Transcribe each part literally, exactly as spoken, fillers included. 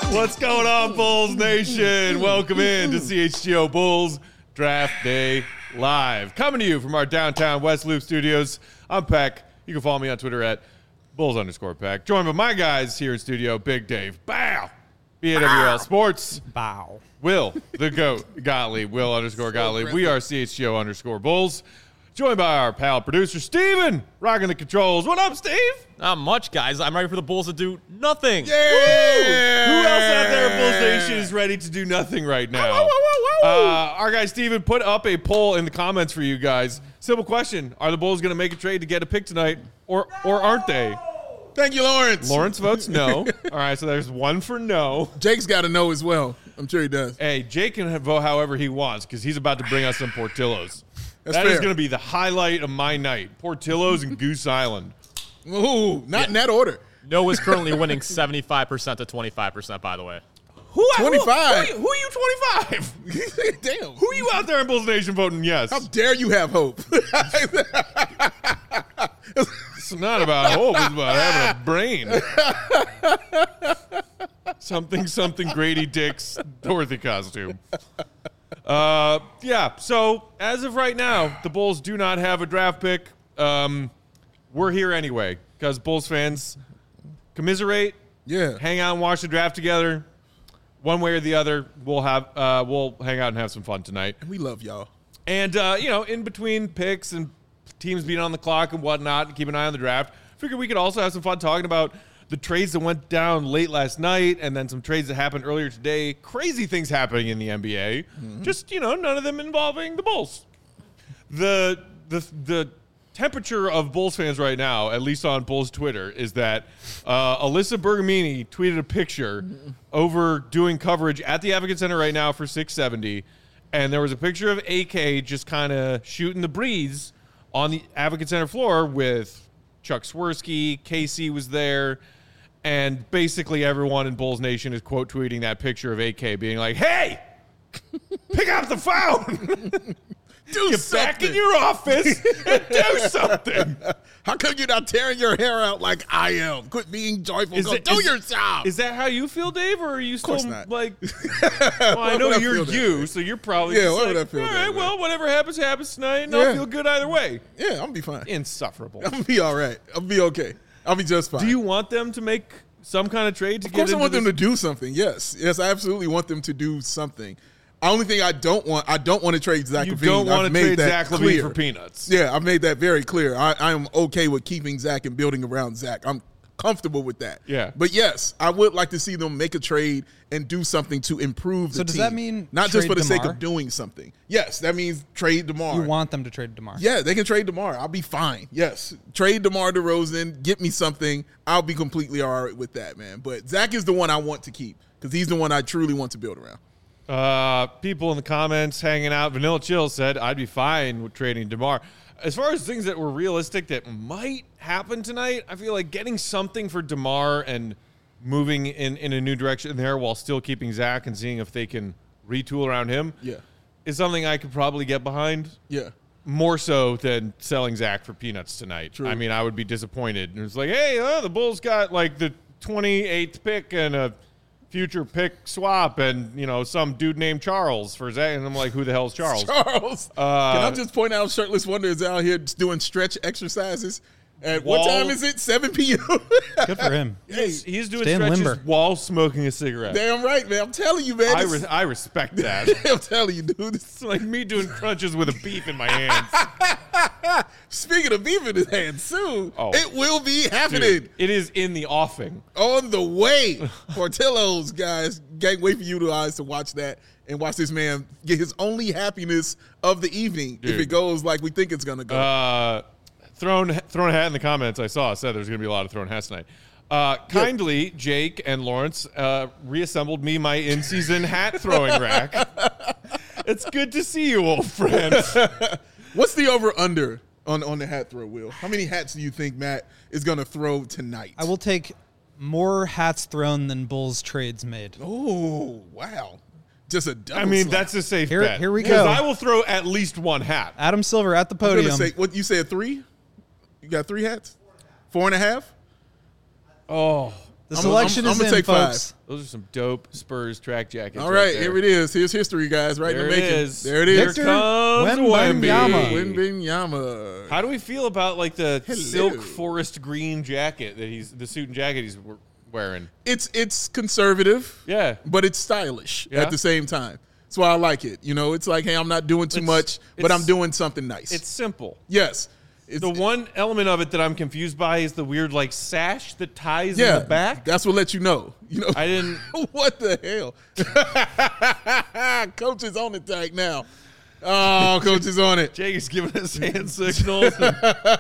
What's going on, Bulls Nation? Welcome in to C H G O Bulls Draft Day Live. Coming to you from our downtown West Loop studios. I'm Peck. You can follow me on Twitter at Bulls underscore Peck. Joined by my guys here in studio, Big Dave. Bow. B A W L Sports. Bow. Will, the GOAT, Gottlieb. Will underscore Gottlieb. We are C H G O underscore Bulls. Joined by our pal producer, Steven, rocking the controls. What up, Steve? Not much, guys. I'm ready for the Bulls to do nothing. Yeah! Woo! Who else out there at Bulls Nation is ready to do nothing right now? Woo, woo, woo, woo. Uh, our guy, Steven, put up a poll in the comments for you guys. Simple question. Are the Bulls going to make a trade to get a pick tonight, or or aren't they? Thank you, Lawrence. Lawrence votes no. All right, so there's one for no. Jake's got to know as well. I'm sure he does. Hey, Jake can vote however he wants because he's about to bring us some Portillos. That's That fair. is going to be the highlight of my night. Portillos and Goose Island. Ooh, not yeah. in that order. No is currently winning seventy-five percent to twenty-five percent, by the way. Who, twenty-five? Who, who, who are you twenty-five? Damn. Who are you out there in Bulls Nation voting yes? How dare you have hope? It's not about hope. It's about having a brain. Something, something Grady Dick's Dorothy costume. Uh, yeah, so as of right now, the Bulls do not have a draft pick. Um, we're here anyway because Bulls fans commiserate, yeah, hang out and watch the draft together. One way or the other, we'll have uh, we'll hang out and have some fun tonight. And we love y'all. And uh, you know, in between picks and teams being on the clock and whatnot, keep an eye on the draft. Figured we could also have some fun talking about the trades that went down late last night and then some trades that happened earlier today. Crazy things happening in the N B A. Mm-hmm. Just, you know, none of them involving the Bulls. The the the temperature of Bulls fans right now, at least on Bulls Twitter, is that uh, Alyssa Bergamini tweeted a picture mm-hmm. over doing coverage at the Advocate Center right now for six seventy, and there was a picture of A K just kind of shooting the breeze on the Advocate Center floor with Chuck Swirsky. Casey was there. And basically everyone in Bulls Nation is quote tweeting that picture of A K being like, hey, pick up the phone. Do Get something. back in your office and do something. How come you're not tearing your hair out like I am? Quit being joyful. Is Go it, do is, your job. Is that how you feel, Dave? Or are you still not. like, well, I know you're you, so you're probably yeah, just why like, would I feel all that right, way? well, whatever happens, happens tonight, and Yeah. I'll feel good either way. Yeah, I'm going to be fine. Insufferable. I'm going to be all right. I'll be okay. I'll be just fine. Do you want them to make some kind of trade to Of get course into I want this? them to do something, yes. Yes, I absolutely want them to do something. The only thing I don't want, I don't want to trade Zach You LaVine. don't want I've to made trade that Zach LaVine clear. for peanuts. Yeah, I've made that very clear. I, I am okay with keeping Zach and building around Zach. I'm comfortable with that. Yeah. But yes, I would like to see them make a trade and do something to improve the So does team. that mean not just trade for the sake DeMar? of doing something? Yes, that means trade DeMar. You want them to trade DeMar? Yeah, they can trade DeMar. I'll be fine. Yes. Trade DeMar DeRozan. Get me something. I'll be completely all right with that, man. But Zach is the one I want to keep because he's the one I truly want to build around. Uh, people in the comments hanging out. Vanilla Chill said, I'd be fine with trading DeMar. As far as things that were realistic that might happen tonight, I feel like getting something for DeMar and moving in, in a new direction there while still keeping Zach and seeing if they can retool around him Yeah. is something I could probably get behind. Yeah. More so than selling Zach for peanuts tonight. True. I mean, I would be disappointed. And it's like, hey, uh, the Bulls got like the twenty-eighth pick and a future pick swap and, you know, some dude named Charles for Zach. And I'm like, who the hell's Charles? Charles. Uh, Can I just point out Shirtless Wonder is out here doing stretch exercises? At Wall- what time is it? seven p.m. Good for him. He's, he's doing Staying stretches limber. while smoking a cigarette. Damn right, man. I'm telling you, man. I, This- re- I respect that. I'm telling you, dude. It's like me doing crunches with a beef in my hands. Speaking of beef in his hands soon, Oh. it will be happening. Dude, it is in the offing. On the way. Portillo's, guys. Can't wait for you guys to watch that and watch this man get his only happiness of the evening Dude. if it goes like we think it's going to go. Uh, thrown, thrown a hat in the comments. I saw said there's going to be a lot of thrown hats tonight. Uh, kindly, Jake and Lawrence uh, reassembled me my in-season hat throwing rack. It's good to see you, old friend. What's the over-under on, on the hat throw, Will? How many hats do you think Matt is going to throw tonight? I will take more hats thrown than Bulls trades made. Oh, wow. Just a double I mean, slap. that's a safe Here- bet. here we 'Cause go. I will throw at least one hat. Adam Silver at the I'm gonna podium. say, what, you said three? You got three hats? Four and a half? Oh, The I'm- selection I'm- is I'm gonna in, take five. folks. Those are some dope Spurs track jackets. All right, there. here it is. Here's history, guys. Right There in the it making. is. There it Here is. Victor comes Wembanyama. Wemby. Wembanyama. How do we feel about like the Hello. silk forest green jacket that he's the suit and jacket he's w- wearing? It's it's conservative, Yeah, but it's stylish Yeah. at the same time. That's why I like it. You know, it's like, hey, I'm not doing too It's- much, but it's- I'm doing something nice. it's simple. yes. It's, The one element of it that I'm confused by is the weird like sash that ties yeah, in the back. That's what let you know. You know, I didn't. what the hell? Coach is on the tag now. Oh, coach is on it. Jake is giving us hand signals. and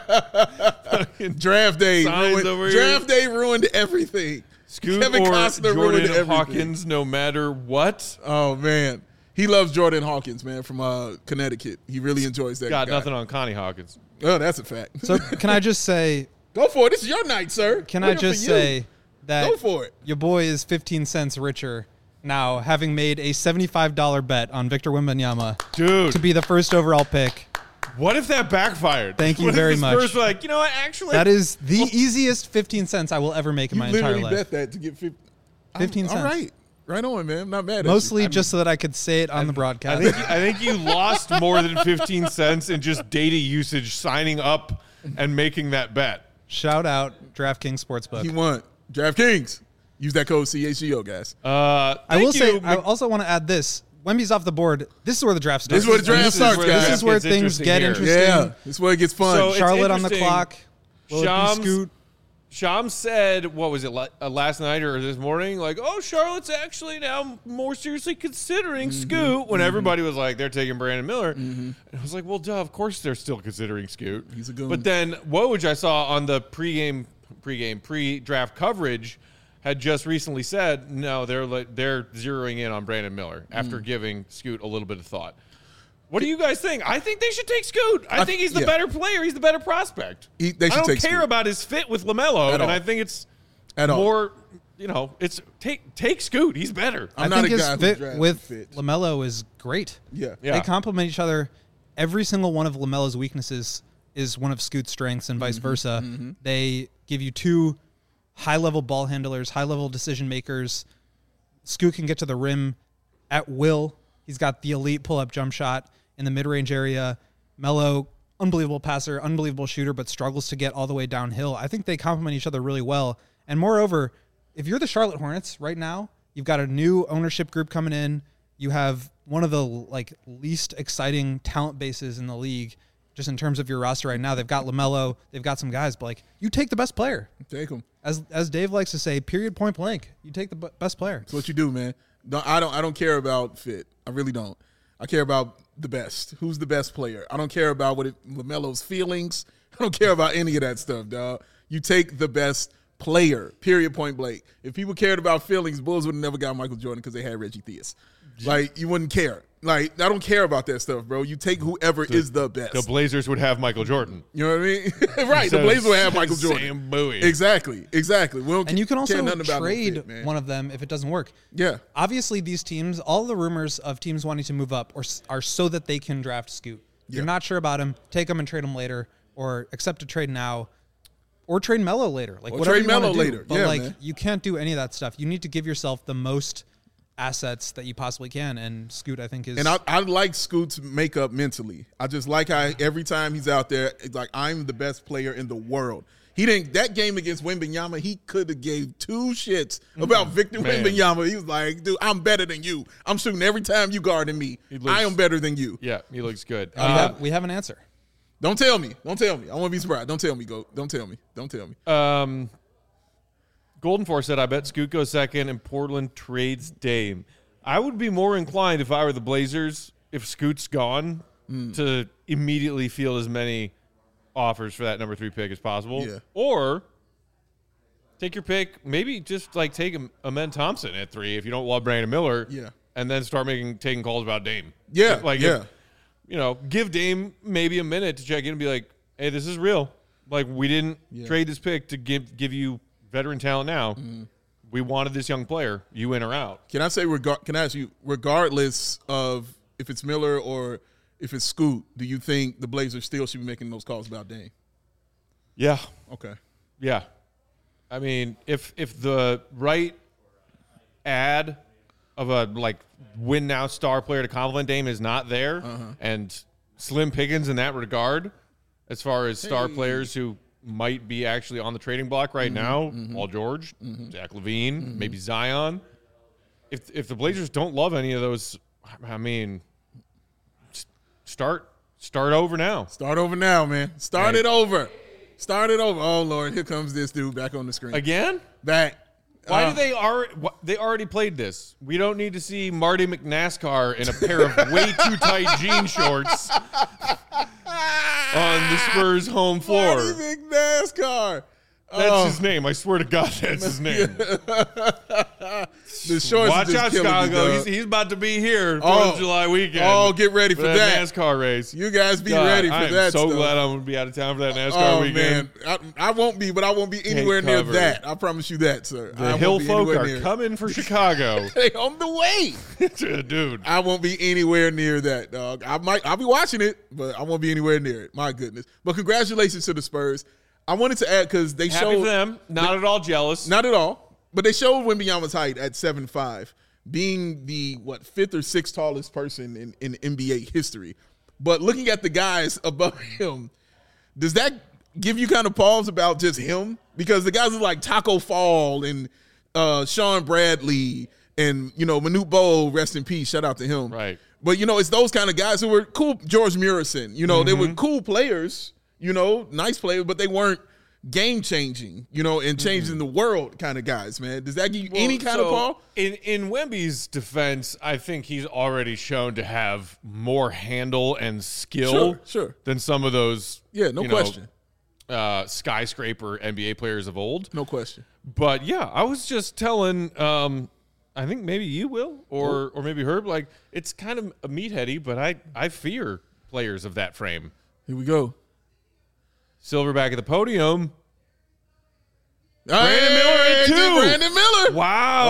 fucking Draft day. Signs Ruined, over here. draft day ruined everything. Scoot Kevin or Costner ruined Jordan everything. Hawkins, no matter what. Oh man, he loves Jordan Hawkins, man, from uh, Connecticut. He really enjoys that. Got guy. nothing on Connie Hawkins. Oh, that's a fact. So can I just say, Go for it. This is your night, sir. can Looking I just for you. say that Go for it. your boy is fifteen cents richer now, having made a seventy-five dollars bet on Victor Wembanyama Dude, to be the first overall pick. what if that backfired? Thank you What if very the much. Spurs were like, you know what, actually. That is the easiest fifteen cents I will ever make in You my entire literally life. bet that to get fifty. fifteen All cents. right. Right on, man. I'm not mad at Mostly you. just so that I could say it on the I broadcast. think, you, I think you lost more than fifteen cents in just data usage signing up and making that bet. Shout out DraftKings Sportsbook. He won. DraftKings. Use that code C H G O, guys. Uh, I thank will say, you, I Mc- also want to add this. Wemby's off the board. This is where the draft starts. This is where the draft This is starts, where the guys. This is where gets things interesting get here. interesting. Yeah. This is where it gets fun. So it's Charlotte on the interesting. clock. Will it be Shams, Scoot? Shams said, what was it, la- uh, last night or this morning? Like, oh, Charlotte's actually now more seriously considering Mm-hmm. Scoot when everybody was like, they're taking Brandon Miller. And I was like, well, duh, of course they're still considering Scoot. He's a goon. But then Woj, I saw on the pregame, pregame, pre-draft coverage, had just recently said, no, they're like, they're zeroing in on Brandon Miller Mm. after giving Scoot a little bit of thought. What do you guys think? I think they should take Scoot. I, I- think he's the yeah. better player. He's the better prospect. He- they I should don't take care Scoot. about his fit with LaMelo, At and all. I think it's At all. more, you know, it's take take Scoot. He's better. I'm I not think a his guy who fit drafts with fit. LaMelo is great. Yeah. Yeah. They complement each other. Every single one of LaMelo's weaknesses is one of Scoot's strengths and vice Mm-hmm. versa. They give you two high-level ball handlers, high-level decision makers. Scoot can get to the rim at will. He's got the elite pull-up jump shot in the mid-range area. Melo, unbelievable passer, unbelievable shooter, but struggles to get all the way downhill. I think they complement each other really well. And moreover, if you're the Charlotte Hornets right now, you've got a new ownership group coming in. You have one of the like least exciting talent bases in the league, just in terms of your roster right now. They've got LaMelo, they've got some guys, but like you take the best player. Take him. As as Dave likes to say, period, point blank. You take the b- best player. That's what you do, man. Don't, I don't. I don't care about fit. I really don't. I care about the best. Who's the best player? I don't care about what it, LaMelo's feelings. I don't care about any of that stuff, dog. You take the best player. Period. Point blank. If people cared about feelings, Bulls would have never got Michael Jordan because they had Reggie Theus. Like you wouldn't care. Like I don't care about that stuff, bro. You take whoever is the best. The Blazers would have Michael Jordan. You know what I mean? Right. So the Blazers would have Michael Sam Jordan. Bowie. Exactly. Exactly. We don't And you can care also nothing about no trade fit, man. one of them if it doesn't work. Yeah. Obviously, these teams, all the rumors of teams wanting to move up or, s- are so that they can draft Scoot. You're Yeah. not sure about him, take him and trade him later, or accept a trade now, or trade Melo later. Like Or whatever trade you wanna Melo do. later. But Yeah, like man. you can't do any of that stuff. You need to give yourself the most assets that you possibly can. And Scoot, I think, is And I, I like Scoot's makeup mentally. I just like how every time he's out there, it's like I'm the best player in the world. He didn't that game against Wembanyama. He could have gave two shits about Victor Man. Wembanyama. He was like, "Dude, I'm better than you. I'm shooting every time you guarding me. He looks- I am better than you." Yeah, he looks good. we, Uh, have, we have an answer. Don't tell me. Don't tell me. I want to be surprised. Don't tell me. Go. Don't tell me. Don't tell me. Um, Golden Force said, I bet Scoot goes second and Portland trades Dame. I would be more inclined if I were the Blazers, if Scoot's gone, Mm. to immediately field as many offers for that number three pick as possible. Yeah. Or take your pick, maybe just like take Am- Amen Thompson at three if you don't love Brandon Miller. Yeah. And then start making taking calls about Dame. Yeah, Like, yeah. if- you know, give Dame maybe a minute to check in and be like, hey, this is real. Like, we didn't Yeah. trade this pick to give give you veteran talent now. Mm-hmm. We wanted this young player. You in or out. Can I say, regar- can I ask you, regardless of if it's Miller or if it's Scoot, do you think the Blazers still should be making those calls about Dame? Yeah. Okay. Yeah. I mean, if if the right ad of a like win now star player to complement Dame is not there, Uh-huh. and slim pickings in that regard, as far as star Hey. players who might be actually on the trading block right now, Mm-hmm. Paul George, Zach LaVine, maybe Zion. If if the Blazers don't love any of those, I mean, s- start start over now. Start over now, man. Start Right. it over. Start it over. Oh Lord, here comes this dude back on the screen. Again? Back. Why Uh, do they already? They already played this. We don't need to see Marty McNASCAR in a pair of way too tight jean shorts on the Spurs home floor. Marty McNASCAR. That's Oh, his name. I swear to God, that's his name. the shorts Watch are just out, killing me, Chicago. dog. He's, he's about to be here for Oh. the July weekend. Oh, get ready for for that. NASCAR race. You guys be God, ready for I am that so stuff. glad I'm going to be out of town for that NASCAR Oh weekend. man, I, I won't be, but I won't be anywhere near cover. that. I promise you that, sir. I The won't hill be folk anywhere are near it. coming for Chicago. They on the way. Dude. I won't be anywhere near that, dog. I might, I'll be watching it, but I won't be anywhere near it. My goodness. But congratulations to the Spurs. I wanted to add because they Happy showed for them. Not at all jealous. not at all, but they showed Wembanyama's height at seven five, being the what fifth or sixth tallest person in, in N B A history. But looking at the guys above him, does that give you kind of pause about just him? Because the guys are like Taco Fall and uh, Sean Bradley and, you know, Manute Bol, rest in peace, shout out to him. Right. But, you know, it's those kind of guys who were cool. George Murison, you know, they Mm-hmm. were cool players, you know, nice players, but they weren't game-changing, you know, and changing the world kind of guys, man. Does that give you Well, any kind so of pause? In in Wemby's defense, I think he's already shown to have more handle and skill Sure, sure. than some of those Yeah, no you know, question. uh, skyscraper N B A players of old. No question. But yeah, I was just telling um, I think maybe you will or or maybe Herb, like it's kind of a meatheady, but I, I fear players of that frame. Here we go. Silverback at the podium. Brandon Miller at two. Brandon Miller. Wow.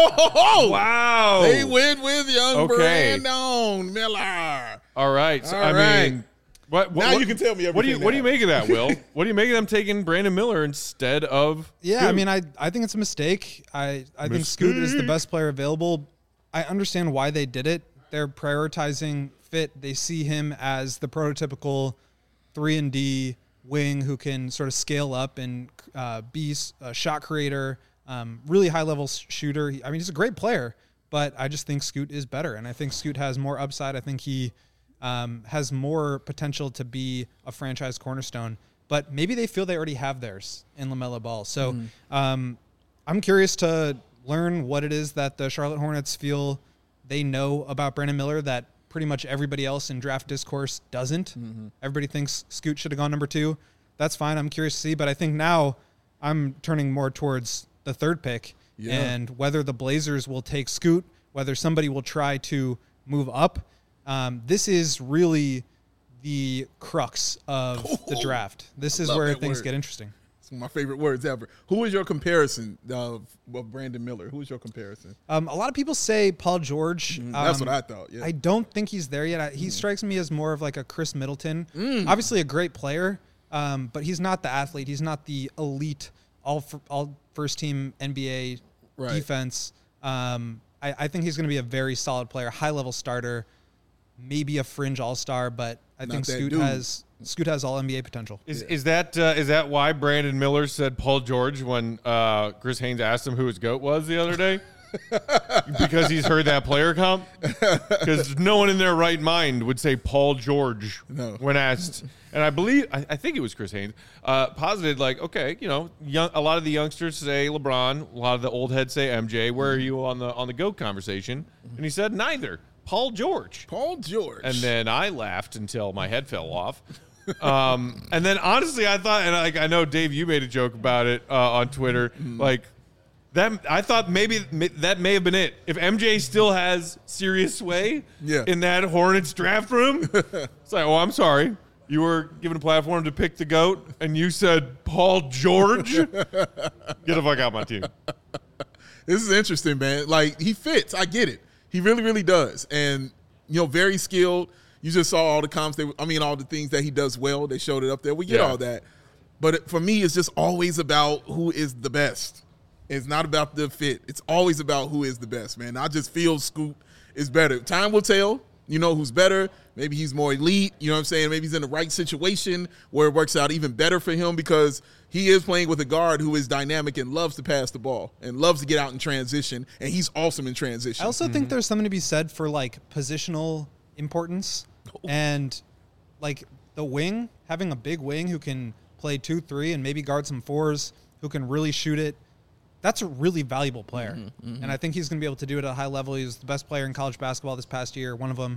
Oh, Wow. They went with young Okay. Brandon Miller. All right. So, All I right. mean, what, what, Now what- you can tell me What do you everything What do you now. make of that, Will? What do you make of them taking Brandon Miller instead of? Yeah, I Scoot? mean, I, I think it's a mistake. I, I think Scoot is the best player available. I understand why they did it. They're prioritizing fit. They see him as the prototypical three and D wing who can sort of scale up and uh, be a shot creator, um, really high level shooter. He- I mean, he's a great player, but I just think Scoot is better, and I think Scoot has more upside. I think he um, has more potential to be a franchise cornerstone. But maybe they feel they already have theirs in LaMelo Ball. So um, I'm curious to learn what it is that the Charlotte Hornets feel they know about Brandon Miller that pretty much everybody else in draft discourse doesn't. Everybody thinks Scoot should have gone number two. That's fine. I'm curious to see. But I think now I'm turning more towards the third pick Yeah. and whether the Blazers will take Scoot, whether somebody will try to move up. Um, this is really the crux of the draft. This is love where that things word. get interesting. It's one of my favorite words ever. Who is your comparison of, of Brandon Miller? Who is your comparison? Um, a lot of people say Paul George. That's Um, what I thought. Yeah. I don't think he's there yet. I, he strikes me as more of like a Chris Middleton. Obviously a great player, um, but he's not the athlete. He's not the elite all f- all first team N B A Right. defense. Um, I, I think he's going to be a very solid player, high level starter, maybe a fringe all star, but I Not think that Scoot dude. has Scoot has all N B A potential. Is is that uh, is that why Brandon Miller said Paul George when uh, Chris Haynes asked him who his GOAT was the other day? Because he's heard that player comp? Because no one in their right mind would say Paul George No. when asked. And I believe, I, I think it was Chris Haynes, uh, posited like, okay, you know, young, a lot of the youngsters say LeBron, a lot of the old heads say M J. Where are you on the on the GOAT conversation? And he said neither. Paul George. Paul George. And then I laughed until my head fell off. Um, and then honestly, I thought, and like I know Dave, you made a joke about it uh, on Twitter, like that. I thought maybe ma- that may have been it. If M J still has serious sway Yeah. in that Hornets draft room, it's like, oh, I'm sorry, you were given a platform to pick the GOAT, and you said Paul George. Get the fuck out my team. This is interesting, man. Like, he fits. I get it. He really, really does. And, you know, very skilled. You just saw all the comps. They, I mean, all the things that he does well. They showed it up there. We get Yeah. all that. But it, for me, it's just always about who is the best. It's not about the fit. It's always about who is the best, man. I just feel Scoot is better. Time will tell, you know, who's better. Maybe he's more elite, you know what I'm saying? Maybe he's in the right situation where it works out even better for him because he is playing with a guard who is dynamic and loves to pass the ball and loves to get out in transition, and he's awesome in transition. I also mm-hmm. think there's something to be said for, like, positional importance and, like, the wing, having a big wing who can play two, three, and maybe guard some fours, who can really shoot it. That's a really valuable player. Mm-hmm, mm-hmm. And I think he's going to be able to do it at a high level. He was the best player in college basketball this past year, one of them.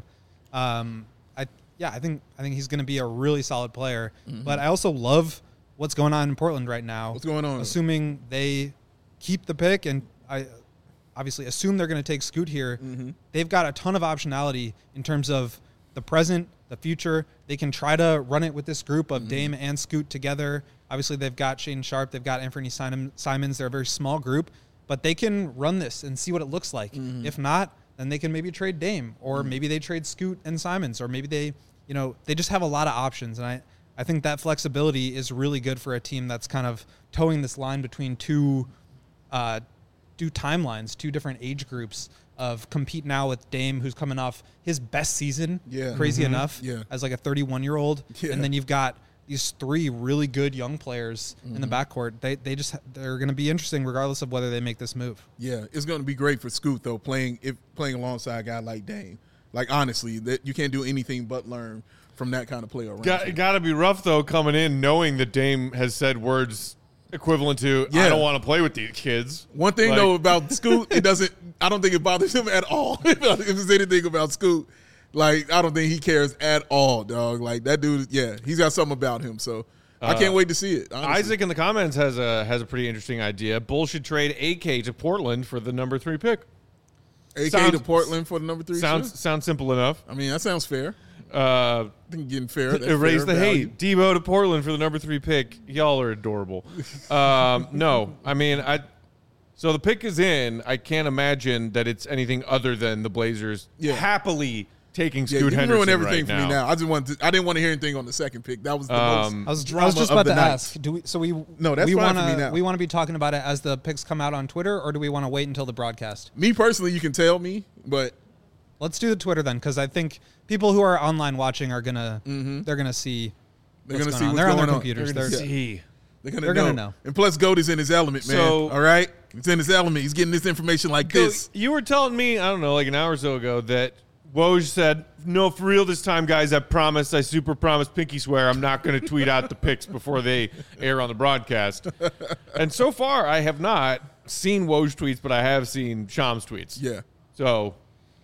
Um, I yeah, I think I think he's going to be a really solid player. Mm-hmm. But I also love what's going on in Portland right now. What's going on? Assuming they keep the pick, and I obviously assume they're going to take Scoot here. Mm-hmm. They've got a ton of optionality in terms of the present, the future. They can try to run it with this group of mm-hmm. Dame and Scoot together. Obviously, they've got Shaedon Sharpe. They've got Anthony Simons. They're a very small group, but they can run this and see what it looks like. Mm-hmm. If not, then they can maybe trade Dame, or mm-hmm. maybe they trade Scoot and Simons, or maybe they, you know, they just have a lot of options. And I, I think that flexibility is really good for a team that's kind of towing this line between two, uh, two timelines, two different age groups of compete now with Dame, who's coming off his best season, yeah. crazy mm-hmm. enough, yeah. as like a thirty-one-year-old. Yeah. And then you've got these three really good young players mm-hmm. in the backcourt. They they just they're going to be interesting regardless of whether they make this move. Yeah, it's going to be great for Scoot though, playing if playing alongside a guy like Dame. Like honestly, that you can't do anything but learn from that kind of player. Around got got to be rough though coming in knowing that Dame has said words equivalent to yeah. I don't want to play with these kids. One thing like, though about Scoot, it doesn't. I don't think it bothers him at all. If there's anything about Scoot. Like, I don't think he cares at all, dog. Like, that dude, yeah, he's got something about him. So, uh, I can't wait to see it. Honestly. Isaac in the comments has a has a pretty interesting idea. Bulls should trade A K to Portland for the number three pick. A K sounds, to Portland for the number three sounds pick? Sounds simple enough. I mean, that sounds fair. Uh, I think getting fair. That's erase fair the value. hate. Debo to Portland for the number three pick. Y'all are adorable. um, no, I mean, I. So the pick is in. I can't imagine that it's anything other than the Blazers yeah. happily taking yeah, Scoot you Henderson ruin everything right for now. me now. I just wanted to, I didn't want to hear anything on the second pick. That was the Um, most I was, drama I was just of about the to night. ask. Do we? So we No, that's we fine wanna, for me now. We want to be talking about it as the picks come out on Twitter, or do we want to wait until the broadcast? Me personally, you can tell me, but Let's do the Twitter then, because I think people who are online watching are gonna mm-hmm. they're gonna see. they're what's going to going see on. what's They're on going their on. computers. They're They're, gonna see. They're going They're to gonna know. know. And plus, Goat is in his element, man. So- All right? It's in his element. He's getting this information like Go- this. You were telling me, I don't know, like an hour or so ago that Woj said, no, for real this time, guys, I promise, I super promise, pinky swear, I'm not going to tweet out the picks before they air on the broadcast. And so far, I have not seen Woj tweets, but I have seen Shams tweets. Yeah. So,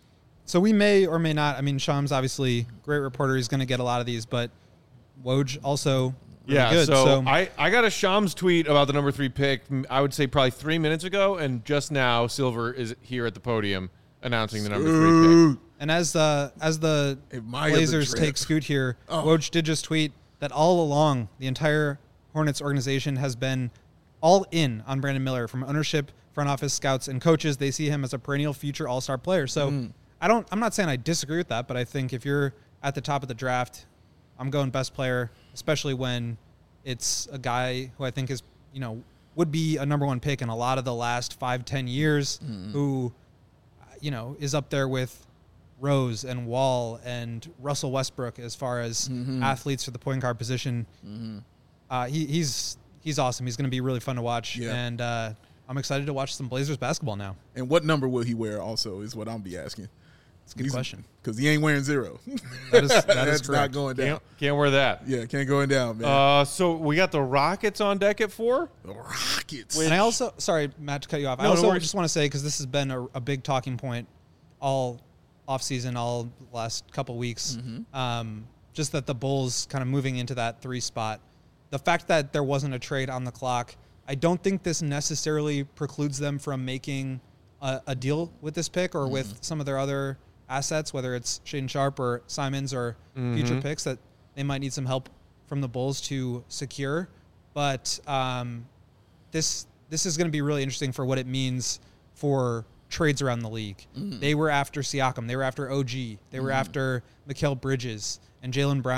So we may or may not. I mean, Shams obviously great reporter. He's going to get a lot of these, but Woj also really yeah, good. so, So, I, I got a Shams tweet about the number three pick, I would say probably three minutes ago, and just now Silver is here at the podium announcing the number three pick. and as the as the Admire the Blazers drip. take Scoot here, Oh. Woj did just tweet that all along the entire Hornets organization has been all in on Brandon Miller, from ownership, front office, scouts, and coaches. They see him as a perennial future All-Star player. So Mm. I don't. I'm not saying I disagree with that, but I think if you're at the top of the draft, I'm going best player, especially when it's a guy who I think is, you know, would be a number one pick in a lot of the last five, ten years, Mm. who, you know, is up there with Rose and Wall and Russell Westbrook as far as Mm-hmm. athletes for the point guard position. Mm-hmm. Uh, he, he's he's awesome. He's going to be really fun to watch, Yeah. and uh, I'm excited to watch some Blazers basketball now. And what number will he wear also is what I'm be asking. It's a good question. Because he ain't wearing zero. That is- that is That's not correct. going down. Can't, can't wear that. Yeah, can't go down, man. Uh, so we got the Rockets on deck at four. the Rockets. And I also, sorry, Matt, to cut you off. I No, no also worries. just want to say, because this has been a, a big talking point all offseason, all last couple weeks, Mm-hmm. um, just that the Bulls kind of moving into that three spot. The fact that there wasn't a trade on the clock, I don't think this necessarily precludes them from making a, a deal with this pick or Mm-hmm. with some of their other assets, whether it's Shaedon Sharpe or Simons or Mm-hmm. future picks that they might need some help from the Bulls to secure. But um, this this is going to be really interesting for what it means for trades around the league. Mm. They were after Siakam. They were after O G. They were after Mikal Bridges and Jaylen Brown.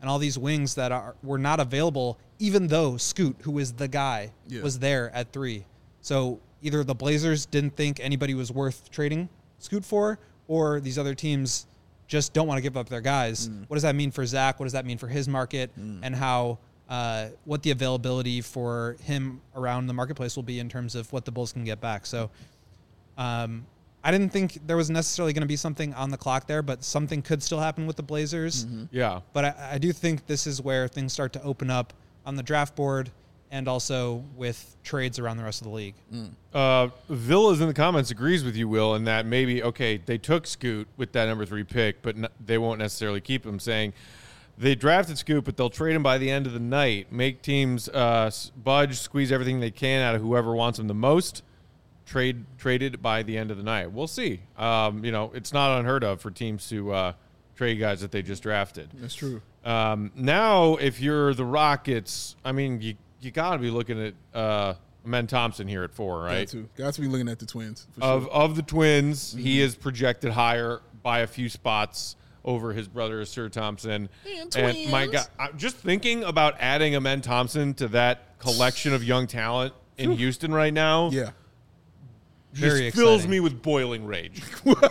and all these wings that are were not available, even though Scoot, who is the guy, Yeah. was there at three. So either the Blazers didn't think anybody was worth trading Scoot for, or these other teams just don't want to give up their guys. Mm. What does that mean for Zach? What does that mean for his market? And how uh, what the availability for him around the marketplace will be in terms of what the Bulls can get back. So um, I didn't think there was necessarily going to be something on the clock there, but something could still happen with the Blazers. Mm-hmm. Yeah. But I, I do think this is where things start to open up on the draft board and also with trades around the rest of the league. Uh, Villas in the comments agrees with you, Will, in that maybe, okay, they took Scoot with that number three pick, but n- they won't necessarily keep him, saying they drafted Scoot, but they'll trade him by the end of the night, make teams uh, s- budge, squeeze everything they can out of whoever wants him the most, trade traded by the end of the night. We'll see. Um, you know, it's not unheard of for teams to uh, trade guys that they just drafted. That's true. Um, now, if you're the Rockets, I mean, you you got to be looking at uh, Amen Thompson here at four, Got right? to. Got to be looking at the Twins. For Of sure. of the Twins, Mm-hmm. he is projected higher by a few spots over his brother Sir Thompson. And And my twins. God, I'm just thinking about adding Amen Thompson to that collection of young talent in Houston right now. Yeah. just Very fills exciting. me with boiling rage.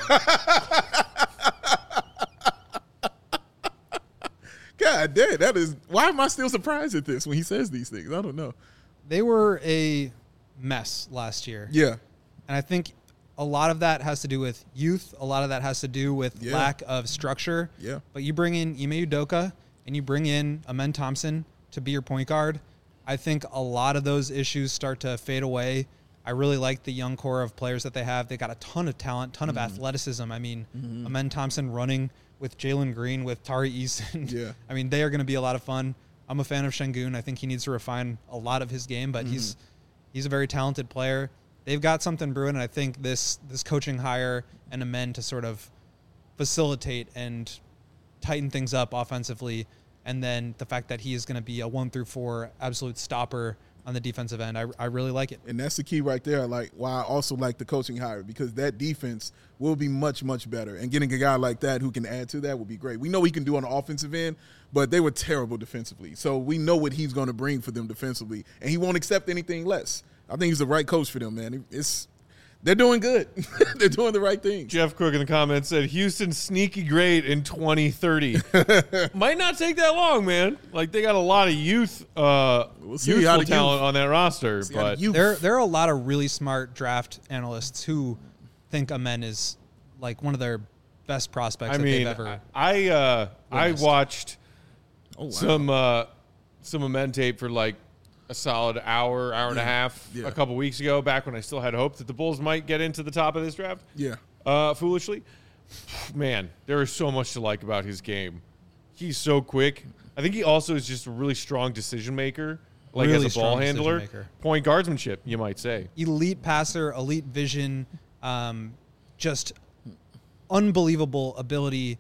God damn, that is. Why am I still surprised at this when he says these things? I don't know. They were a mess last year. Yeah. And I think a lot of that has to do with youth. A lot of that has to do with Yeah. lack of structure. Yeah. But you bring in Ime Udoka and you bring in Amen Thompson to be your point guard. I think a lot of those issues start to fade away. I really like the young core of players that they have. They got a ton of talent, ton of Mm-hmm. athleticism. I mean, Amen Thompson running with Jalen Green, with Tari Eason. Yeah. I mean, they are going to be a lot of fun. I'm a fan of Şengün. I think he needs to refine a lot of his game, but he's he's a very talented player. They've got something brewing, and I think this this coaching hire and Amen to sort of facilitate and tighten things up offensively, and then the fact that he is going to be a one through four absolute stopper on the defensive end. I, I really like it. And that's the key right there. Like, why I also like the coaching hire, because that defense will be much, much better. And getting a guy like that who can add to that would be great. We know he can do on the offensive end, but they were terrible defensively. So we know what he's going to bring for them defensively, and he won't accept anything less. I think he's the right coach for them, man. It's they're doing good. They're doing the right things. Jeff Cook in the comments said, Houston sneaky great in twenty thirty. Might not take that long, man. Like, they got a lot of youth, uh, We'll see how youthful the talent youth- on that roster. See how the But youth- There, there are a lot of really smart draft analysts who think Amen is like one of their best prospects I that mean, they've ever. I uh, I witnessed. watched Oh, wow. some uh, some Amen tape for like a solid hour, hour and a half Yeah. a couple weeks ago, back when I still had hope that the Bulls might get into the top of this draft. Yeah. Uh, foolishly, man, there is so much to like about his game. He's so quick. I think he also is just a really strong decision maker, like Really as a ball strong handler, decision-maker. point guardsmanship, you might say. Elite passer, elite vision, um, just unbelievable ability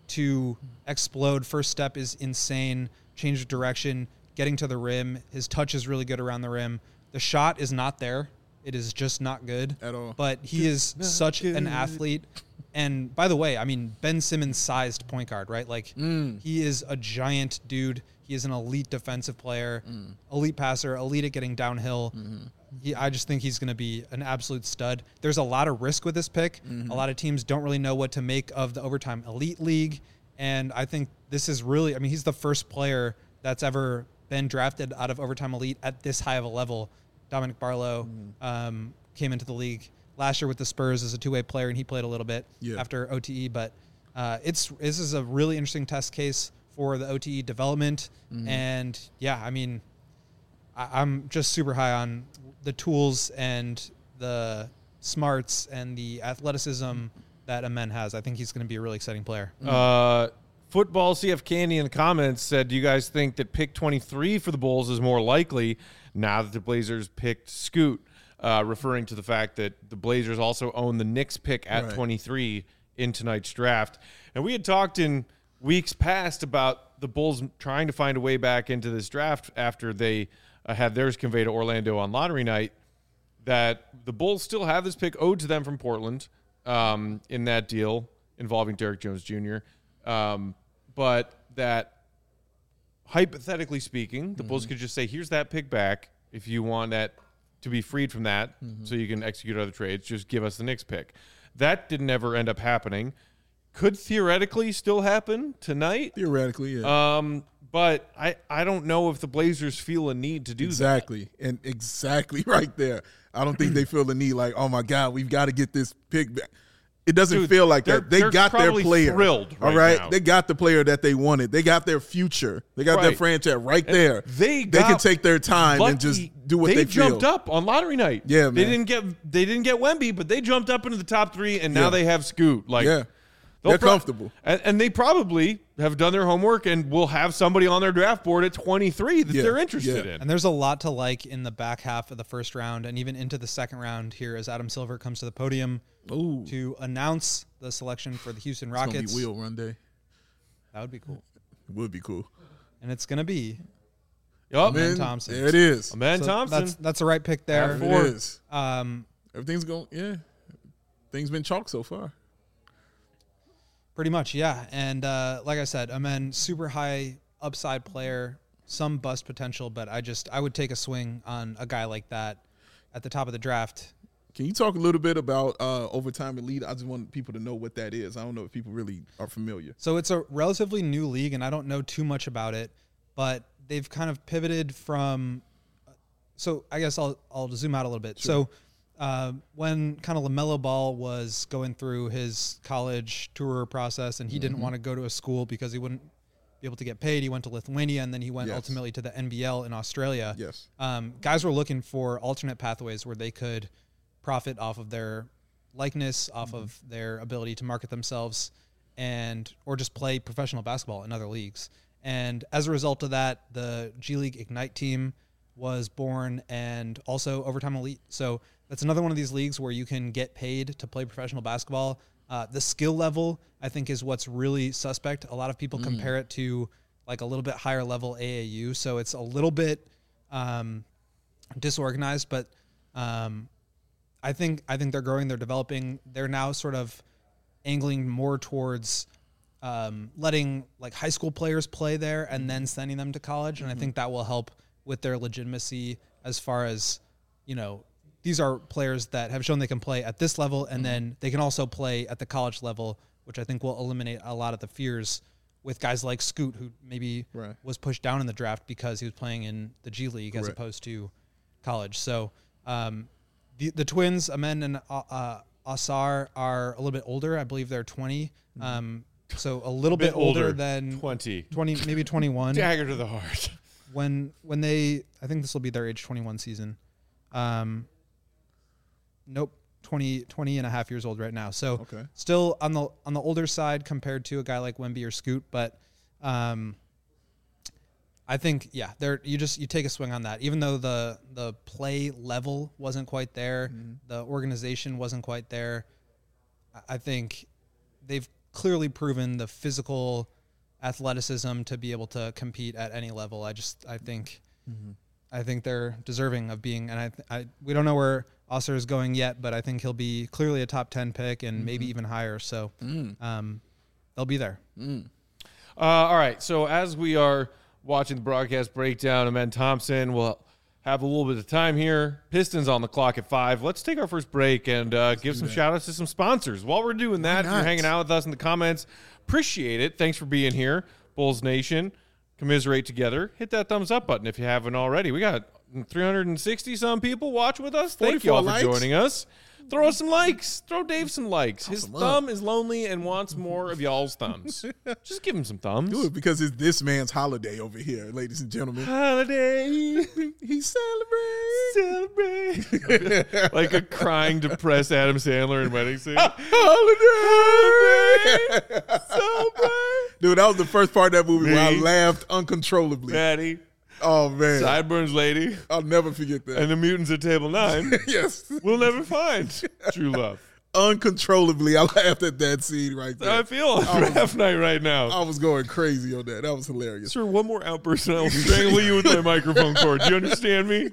to explode. First step is insane. Change of direction, getting to the rim. His touch is really good around the rim. The shot is not there. It is just not good At all. But he is such an athlete. And by the way, I mean, Ben Simmons sized point guard, right? Like he is a giant dude. He is an elite defensive player, elite passer, elite at getting downhill. He, I just think he's going to be an absolute stud. There's a lot of risk with this pick. A lot of teams don't really know what to make of the overtime elite league. And I think this is really, I mean, he's the first player that's ever been drafted out of overtime elite at this high of a level. Dominic Barlow um, came into the league last year with the Spurs as a two-way player, and he played a little bit Yeah. after O T E. But uh, it's this is a really interesting test case for the O T E development. And, yeah, I mean, I, I'm just super high on the tools and the smarts and the athleticism that Amen has. I think he's going to be a really exciting player. Uh, Football C F Candy in the comments said, do you guys think that pick twenty-three for the Bulls is more likely now that the Blazers picked Scoot, uh, referring to the fact that the Blazers also own the Knicks pick at Right. twenty-three in tonight's draft? And we had talked in weeks past about the Bulls trying to find a way back into this draft after they uh, had theirs conveyed to Orlando on lottery night, that the Bulls still have this pick owed to them from Portland um, in that deal involving Derrick Jones Junior Um, but that hypothetically speaking, the mm-hmm. Bulls could just say, here's that pick back if you want that to be freed from that mm-hmm. so you can execute other trades. Just give us the Knicks pick. That didn't ever end up happening. Could theoretically still happen tonight. Theoretically, yeah. Um, but I, I don't know if the Blazers feel a need to do exactly. that. Exactly. And exactly right there. I don't think they feel the need like, oh, my God, we've got to get this pick back. It doesn't Dude, feel like that. They got their player. Thrilled right all right. now. They got the player that they wanted. They got their future. They got right. their franchise right and there. They they can take their time lucky. and just do what they, they feel. They jumped up on lottery night. Yeah, man. They didn't get they didn't get Wemby, but they jumped up into the top three, and now yeah. they have Scoot. Like, yeah. They're pro- comfortable. And, and they probably have done their homework and will have somebody on their draft board at twenty-three that yeah. they're interested yeah. in. And there's a lot to like in the back half of the first round and even into the second round here as Adam Silver comes to the podium Ooh. to announce the selection for the Houston It's Rockets. It's going to be wheel run day. That would be cool. It would be cool. And it's going to be yep. Amen Thompson. There it is. Amen so Thompson. That's, that's the right pick there. It is. Um, Everything's going, yeah. Things been chalk so far. Pretty much, yeah. And uh, like I said, Amen, super high upside player, some bust potential, but I just I would take a swing on a guy like that at the top of the draft. Can you talk a little bit about uh, overtime elite? I just want people to know what that is. I don't know if people really are familiar. So it's a relatively new league, and I don't know too much about it, but they've kind of pivoted from. So I guess I'll I'll zoom out a little bit. Sure. So. Uh, when kind of LaMelo Ball was going through his college tour process and he mm-hmm. didn't want to go to a school because he wouldn't be able to get paid, he went to Lithuania and then he went yes. ultimately to the N B L in Australia. Yes. Um, guys were looking for alternate pathways where they could profit off of their likeness, off mm-hmm. of their ability to market themselves, and or just play professional basketball in other leagues. And as a result of that, the G League Ignite team was born, and also Overtime Elite. So that's another one of these leagues where you can get paid to play professional basketball. Uh, the skill level, I think, is what's really suspect. A lot of people mm. compare it to like a little bit higher level A A U. So it's a little bit um, disorganized, but um, I think I think they're growing, they're developing. They're now sort of angling more towards um, letting like high school players play there and then sending them to college. And mm-hmm. I think that will help with their legitimacy as far as, you know, these are players that have shown they can play at this level, and mm-hmm. then they can also play at the college level, which I think will eliminate a lot of the fears with guys like Scoot, who maybe right. was pushed down in the draft because he was playing in the G League as Correct. opposed to college. So um, the the twins, Amen and uh, uh, Asar, are a little bit older. I believe they're twenty. Mm-hmm. Um, so a little a bit, bit older, older than twenty, twenty, maybe twenty-one. Dagger to the heart. When when they, I think this will be their age twenty-one season. Um, nope, twenty, twenty and a half years old right now. So okay. still on the on the older side compared to a guy like Wemby or Scoot, but um, I think yeah, there you just you take a swing on that. Even though the the play level wasn't quite there, mm-hmm. the organization wasn't quite there, I think they've clearly proven the physical athleticism to be able to compete at any level. I just I think mm-hmm. I think they're deserving of being, and I, I we don't know where Osser is going yet, but I think he'll be clearly a top ten pick and mm-hmm. maybe even higher. So mm. um, they'll be there. Mm. Uh, all right. So as we are watching the broadcast breakdown, Amen Thompson will have a little bit of time here. Pistons on the clock at five. Let's take our first break and uh, give some shout outs to some sponsors. While we're doing that, if you're hanging out with us in the comments, appreciate it. Thanks for being here. Bulls Nation, commiserate together. Hit that thumbs up button if you haven't already. We got three hundred sixty some people watch with us. Thank you all for joining us. Throw us some likes. Throw Dave some likes. His thumb is lonely and wants more of y'all's thumbs. Just give him some thumbs. Do it because it's this man's holiday over here, ladies and gentlemen. Holiday. He celebrates. Celebrate. Like a crying, depressed Adam Sandler in Wedding Scene. Holiday. Celebrate. Dude, that was the first part of that movie Me. where I laughed uncontrollably. Maddie. Oh, man. Sideburns lady. I'll never forget that. And the mutants at table nine. Yes. We'll never find true love. Uncontrollably, I laughed at that scene right there. I feel on draft night right now. I was going crazy on that. That was hilarious. Sir, one more outburst and I will strangle you with my microphone cord. Do you understand me?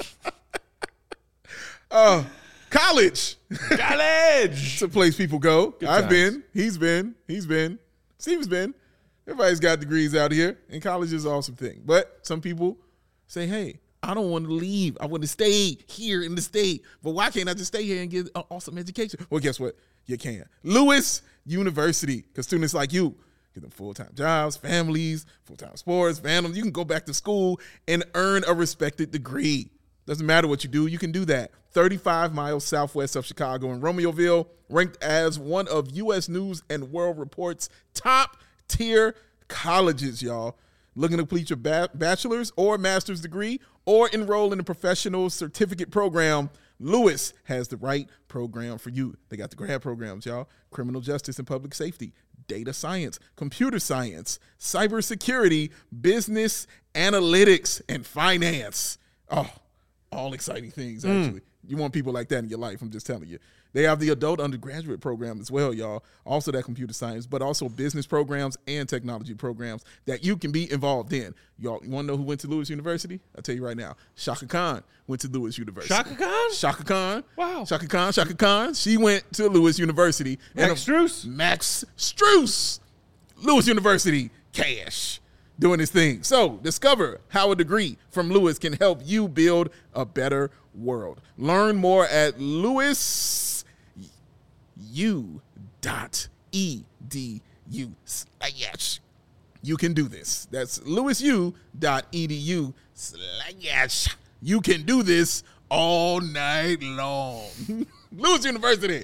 Uh, college. College. It's a place people go. Good I've times. been. He's been. He's been. Steve's been. Everybody's got degrees out here, and college is an awesome thing. But some people say, hey, I don't want to leave. I want to stay here in the state. But why can't I just stay here and get an awesome education? Well, guess what? You can. Lewis University, because students like you get them full-time jobs, families, full-time sports, families. You can go back to school and earn a respected degree. Doesn't matter what you do, you can do that. thirty-five miles southwest of Chicago in Romeoville, ranked as one of U S News and World Report's top-tier colleges, y'all. Looking to complete your ba- bachelor's or master's degree or enroll in a professional certificate program, Lewis has the right program for you. They got the grad programs, y'all. Criminal justice and public safety, data science, computer science, cybersecurity, business analytics, and finance. Oh, all exciting things, actually. Mm. You want people like that in your life, I'm just telling you. They have the adult undergraduate program as well, y'all. Also that computer science, but also business programs and technology programs that you can be involved in. Y'all, you want to know who went to Lewis University? I'll tell you right now. Shaka Khan went to Lewis University. Shaka Khan? Shaka Khan. Wow. Shaka Khan, Shaka Khan. She went to Lewis University. Max Strus? Max Strus. Lewis University. Cash. Doing his thing. So discover how a degree from Lewis can help you build a better world. Learn more at lewis u dot e d u slash you can do this. That's lewis u dot e d u slash you can do this all night long. Lewis University.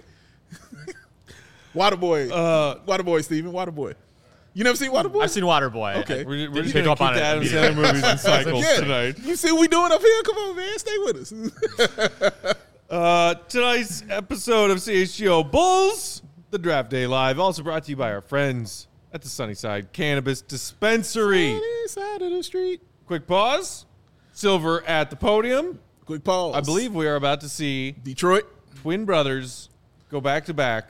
Waterboy. Uh, Waterboy, Steven. Waterboy. You never seen Waterboy? I've seen Waterboy. Okay. We're, we're just Pick going up to on keep it. the Adam Sandler movies in cycles Yeah. tonight. You see what we doing up here? Come on, man. Stay with us. Uh, tonight's episode of C H G O Bulls, the Draft Day Live, also brought to you by our friends at the Sunnyside Cannabis Dispensary. Sunny side of the street. Quick pause. Silver at the podium. Quick pause. I believe we are about to see Detroit. twin brothers go back to back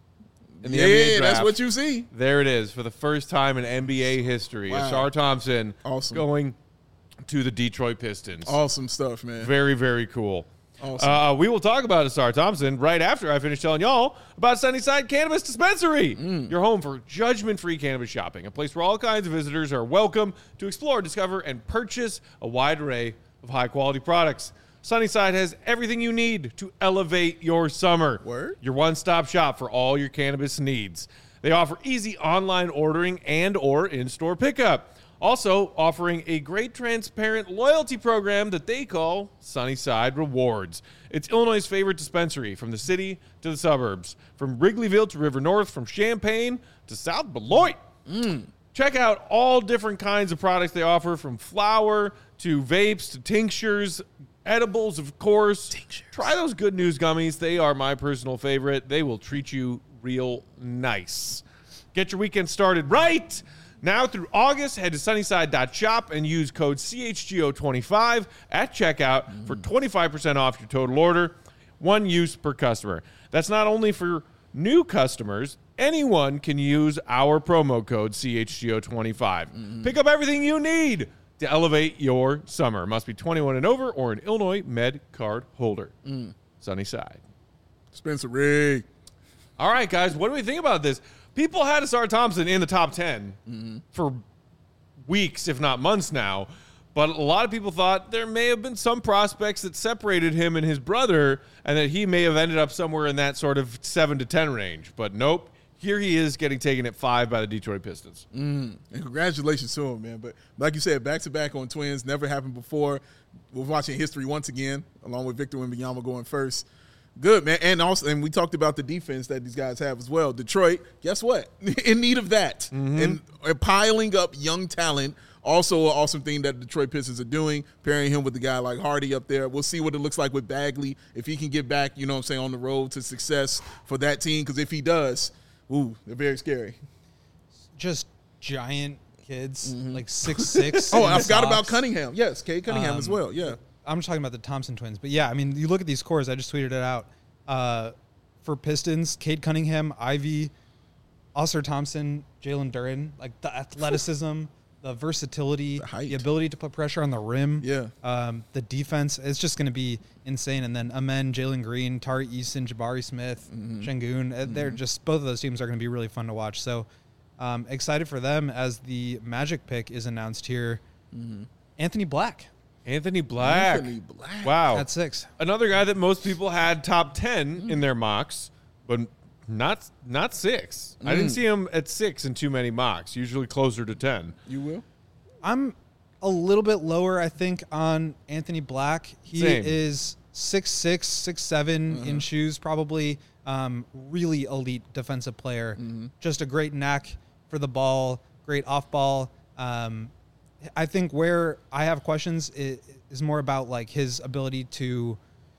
in the Yeah, N B A draft. that's what you see. There it is for the first time in N B A history. Wow. Ashar Thompson Awesome. going to the Detroit Pistons. Awesome stuff, man. Very, very cool. Awesome. Uh, we will talk about Ashar Thompson right after I finish telling y'all about Sunnyside Cannabis Dispensary, Mm. your home for judgment-free cannabis shopping, a place where all kinds of visitors are welcome to explore, discover, and purchase a wide array of high-quality products. Sunnyside has everything you need to elevate your summer. Word? Your one-stop shop for all your cannabis needs. They offer easy online ordering and or in-store pickup. Also offering a great transparent loyalty program that they call Sunnyside Rewards. It's Illinois' favorite dispensary from the city to the suburbs, from Wrigleyville to River North, from Champaign to South Beloit. Mm. Check out all different kinds of products they offer, from flour to vapes to tinctures, edibles, of course. Tinctures. Try those Good News gummies. They are my personal favorite. They will treat you real nice. Get your weekend started right. Now through August, head to sunnyside dot shop and use code C H G O twenty-five at checkout mm. for twenty-five percent off your total order, one use per customer. That's not only for new customers. Anyone can use our promo code C H G O twenty-five. Mm. Pick up everything you need to elevate your summer. Must be twenty-one and over or an Illinois Med card holder. Mm. Sunnyside. Dispensary. All right, guys, what do we think about this? People had Ashar Thompson in the top ten mm-hmm. for weeks, if not months now. But a lot of people thought there may have been some prospects that separated him and his brother and that he may have ended up somewhere in that sort of seven to ten range. But nope, here he is getting taken at five by the Detroit Pistons. Mm. And congratulations to him, man. But like you said, back-to-back on Twins, never happened before. We're watching history once again, along with Victor Wembanyama going first. Good, man. And also, and we talked about the defense that these guys have as well. Detroit, guess what? In need of that. Mm-hmm. And, and piling up young talent, also an awesome thing that the Detroit Pistons are doing, pairing him with a guy like Hardy up there. We'll see what it looks like with Bagley, if he can get back, you know what I'm saying, on the road to success for that team. Because if he does, ooh, they're very scary. Just giant kids, mm-hmm. like six six. Oh, I forgot about Cunningham. Yes, Cade Cunningham um, as well, yeah. I'm just talking about the Thompson twins. But, yeah, I mean, you look at these cores. I just tweeted it out. Uh, for Pistons, Cade Cunningham, Ivy, Ashar Thompson, Jalen Duren, like the athleticism, the versatility, the, the ability to put pressure on the rim, yeah, um, the defense, it's just going to be insane. And then Amen, Jalen Green, Tari Eason, Jabari Smith, mm-hmm. Şengün, mm-hmm. they're just, both of those teams are going to be really fun to watch. So Um, excited for them as the Magic pick is announced here. Mm-hmm. Anthony Black. Anthony Black. Anthony Black. Wow. At six. Another guy that most people had top ten mm. in their mocks, but not not six. Mm. I didn't see him at six in too many mocks, usually closer to ten. You will? I'm a little bit lower, I think, on Anthony Black. He Same. is six six, six seven uh-huh. in shoes, probably. Um, really elite defensive player. Mm-hmm. Just a great knack for the ball, great off ball. Um, I think where I have questions is, is more about like his ability to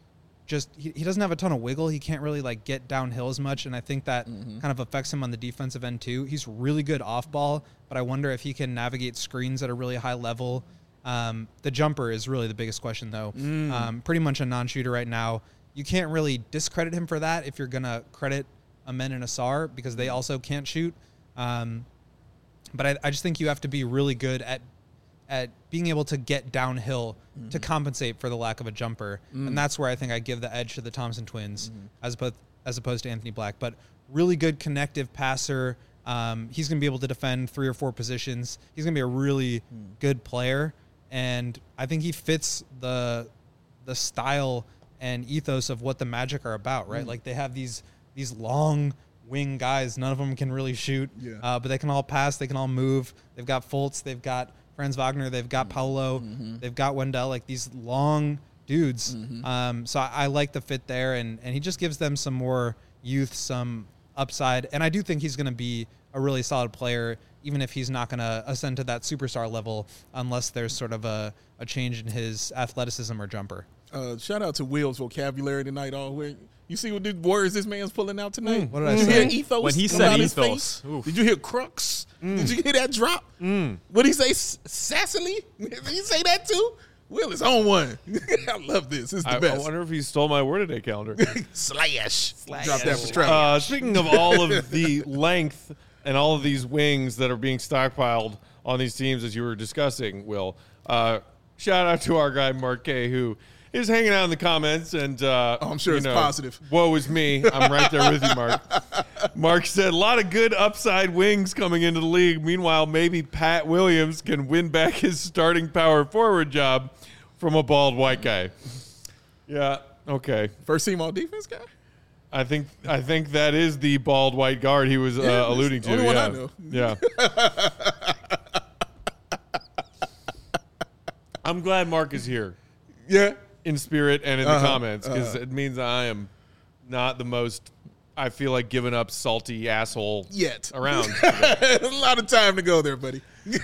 just he, he doesn't have a ton of wiggle. He can't really like get downhill as much, and I think that mm-hmm. kind of affects him on the defensive end too. He's really good off ball, but I wonder if he can navigate screens at a really high level. Um, the jumper is really the biggest question though. Mm. Um, pretty much a non-shooter right now. You can't really discredit him for that if you're gonna credit Amen and Asar because they also can't shoot. Um, but I, I just think you have to be really good at at being able to get downhill mm-hmm. to compensate for the lack of a jumper. Mm. And that's where I think I give the edge to the Thompson twins mm-hmm. as opposed, as opposed to Anthony Black. But really good connective passer. Um, he's going to be able to defend three or four positions. He's going to be a really mm. good player. And I think he fits the the style and ethos of what the Magic are about, right? Mm. Like they have these these long wing guys. None of them can really shoot, yeah. uh, but they can all pass. They can all move. They've got Fultz. They've got Franz Wagner, they've got Paolo, mm-hmm. they've got Wendell, like these long dudes. Mm-hmm. Um, so I, I like the fit there, and, and he just gives them some more youth, some upside. And I do think he's going to be a really solid player, even if he's not going to ascend to that superstar level unless there's sort of a, a change in his athleticism or jumper. Uh, shout out to Will's vocabulary tonight. All where you see what the words this man's pulling out tonight? Mm, what did I did say? You hear ethos When he come said out his ethos. face? Did you hear crux? Mm. Did you hear that drop? Mm. What did he say? S- sassily? Did he say that too? Will is on one. I love this. It's the I, best. I wonder if he stole my word today calendar. Slash. Slash. Drop that for Travis. Uh, speaking of all of the length and all of these wings that are being stockpiled on these teams, as you were discussing, Will, uh, shout out to our guy Mark K, who is hanging out in the comments, and uh, oh, I'm sure you it's know, positive. Woe is me. I'm right there with you, Mark. Mark said, a lot of good upside wings coming into the league. Meanwhile, maybe Pat Williams can win back his starting power forward job from a bald white guy. Yeah, okay. First team all defense guy? I think I think that is the bald white guard he was yeah, uh, alluding to. Only yeah. one I know. Yeah. I'm glad Mark is here. Yeah. In spirit and in uh-huh, the comments, because uh-huh. it means I am not the most, I feel like, giving up salty asshole yet around. A lot of time to go there, buddy.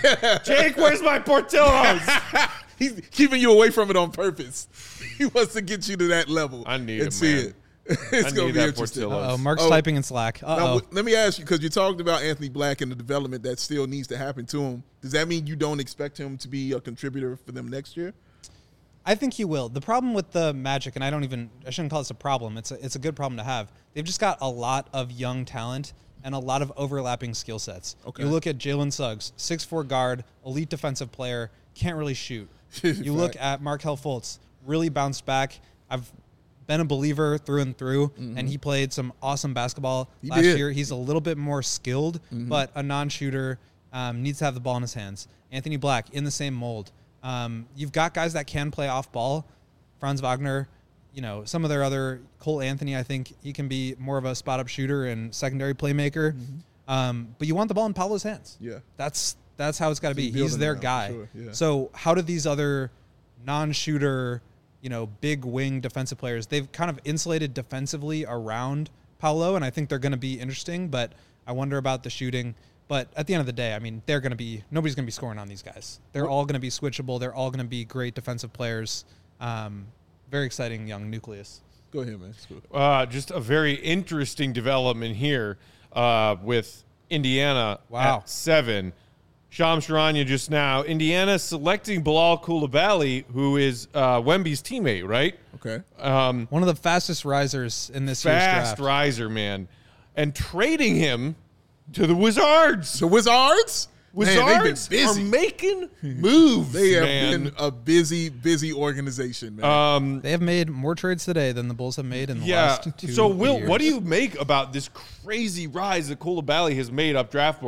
Jake, where's my Portillo's? He's keeping you away from it on purpose. He wants to get you to that level. I need and it, see man. it. It's going to be interesting. Uh-oh, Mark's oh, typing in Slack. Uh-oh. Now, let me ask you, because you talked about Anthony Black and the development that still needs to happen to him. Does that mean you don't expect him to be a contributor for them next year? I think he will. The problem with the Magic, and I don't even, I shouldn't call this a problem. It's a, it's a good problem to have. They've just got a lot of young talent and a lot of overlapping skill sets. Okay. You look at Jalen Suggs, six foot four guard, elite defensive player, can't really shoot. You look at Markelle Fultz, really bounced back. I've been a believer through and through, mm-hmm. and he played some awesome basketball he last did. year. He's a little bit more skilled, mm-hmm. but a non-shooter, um, needs to have the ball in his hands. Anthony Black, in the same mold. Um, you've got guys that can play off ball. Franz Wagner, you know, some of their other, Cole Anthony, I think he can be more of a spot-up shooter and secondary playmaker. Mm-hmm. Um, but you want the ball in Paolo's hands. Yeah. That's that's how it's got to be. He's He's their now, guy. sure. Yeah. So how do these other non-shooter, you know, big wing defensive players, they've kind of insulated defensively around Paolo, and I think they're going to be interesting, but I wonder about the shooting. But at the end of the day, I mean, they're going to be, nobody's going to be scoring on these guys. They're all going to be switchable. They're all going to be great defensive players. Um, very exciting young nucleus. Go ahead, man. Uh, just a very interesting development here uh, with Indiana wow. at seven. Shams Charania just now. Indiana selecting Bilal Coulibaly, who is uh, Wemby's teammate, right? Okay. Um, One of the fastest risers in this year's fast draft. riser, man. And trading him to the Wizards. The Wizards? Wizards man, are making moves, They have man. been a busy, busy organization, man. Um, They have made more trades today than the Bulls have made in the yeah. last two So, Will, years. what do you make about this crazy rise that Coulibaly has made up draft boards?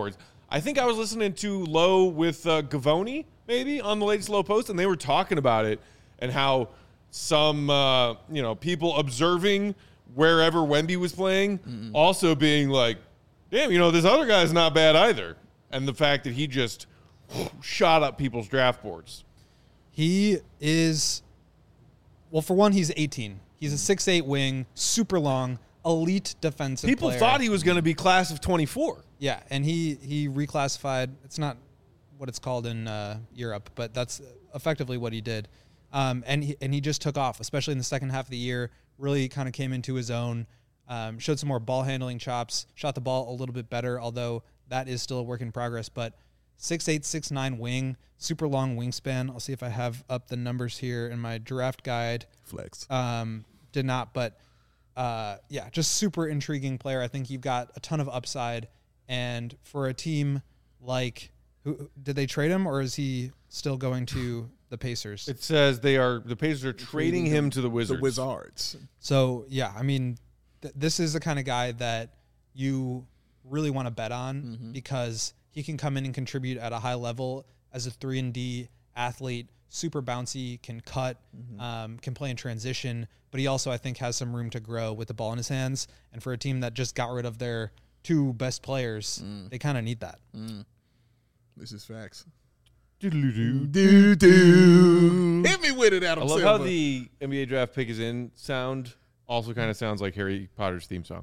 I think I was listening to Low with uh, Gavoni, maybe, on the latest Low Post, and they were talking about it and how some, uh, you know, people observing wherever Wemby was playing mm-hmm. also being like, damn, you know, this other guy's not bad either. And the fact that he just shot up people's draft boards. He is, well, for one, he's eighteen. He's a six eight wing, super long, elite defensive People player. thought he was going to be class of twenty-four. Yeah, and he, he reclassified. It's not what it's called in uh, Europe, but that's effectively what he did. Um, and he, and he just took off, especially in the second half of the year. Really kind of came into his own, um, showed some more ball handling chops, shot the ball a little bit better, although that is still a work in progress. But six eight, six nine wing, super long wingspan. I'll see if I have up the numbers here in my draft guide. Flex. Um, did not, but uh, yeah, just super intriguing player. I think you've got a ton of upside. And for a team like, who did they trade him, or is he still going to the Pacers? It says they are the Pacers are trading him to the Wizards. The Wizards. So yeah, I mean, th- this is the kind of guy that you really want to bet on mm-hmm. because he can come in and contribute at a high level as a three and D athlete, super bouncy, can cut, mm-hmm. um, can play in transition, but he also I think has some room to grow with the ball in his hands. And for a team that just got rid of their two best players, mm. they kind of need that. Mm. This is facts. Doodle-doo. Do, do. Hit me with it, Adam I love Silver. how the N B A draft pick is in sound also kind of sounds like Harry Potter's theme song.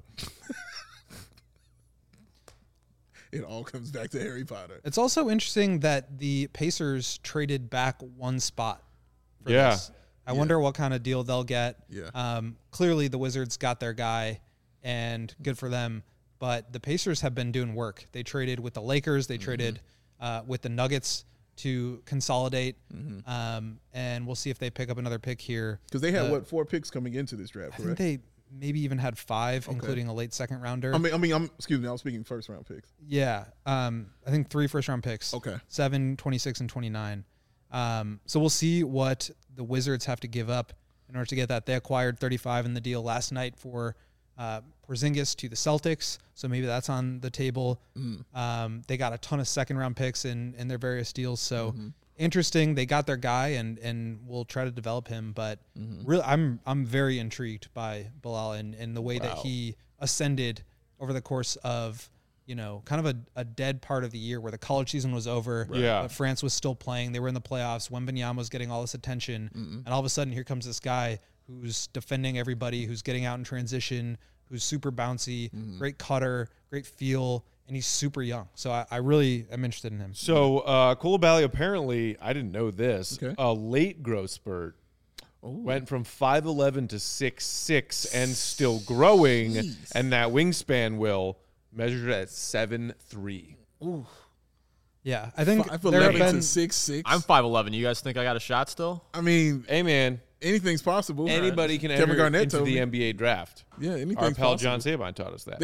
It all comes back to Harry Potter. It's also interesting that the Pacers traded back one spot for yeah. this. I yeah. wonder what kind of deal they'll get. Yeah. Um, clearly, the Wizards got their guy, and good for them. But the Pacers have been doing work. They traded with the Lakers. They mm-hmm. traded uh, with the Nuggets to consolidate. Mm-hmm. Um, and we'll see if they pick up another pick here. Because they had, uh, what, four picks coming into this draft, I correct? think they maybe even had five, okay. including a late second rounder. I mean, I mean, I'm excuse me, I was speaking first round picks. Yeah. Um, I think three first round picks. Okay. Seven, twenty-six, and twenty-nine. Um, so we'll see what the Wizards have to give up in order to get that. They acquired thirty-five in the deal last night for uh, Porzingis to the Celtics, so maybe that's on the table. Mm. Um, they got a ton of second-round picks in, in their various deals, so mm-hmm. interesting. They got their guy, and and we'll try to develop him. But mm-hmm. really, I'm I'm very intrigued by Bilal and, and the way wow. that he ascended over the course of, you know, kind of a, a dead part of the year where the college season was over, right. yeah. but France was still playing. They were in the playoffs. Wembanyama was getting all this attention, mm-hmm. and all of a sudden, here comes this guy who's defending everybody, who's getting out in transition, who's super bouncy, mm-hmm. great cutter, great feel, and he's super young. So I, I really am interested in him. So uh, Coulibaly apparently, I didn't know this, okay. a late growth spurt. Ooh. Went from five eleven to six six and still growing, Jeez. And that wingspan will measured at seven three. Ooh. Yeah, I think five there have eleven been to six six. I'm five eleven. You guys think I got a shot still? I mean, hey man, anything's possible. Anybody can Kevin enter Garnett into the me. N B A draft. Yeah, anything's Our pal possible. John Sabine taught us that.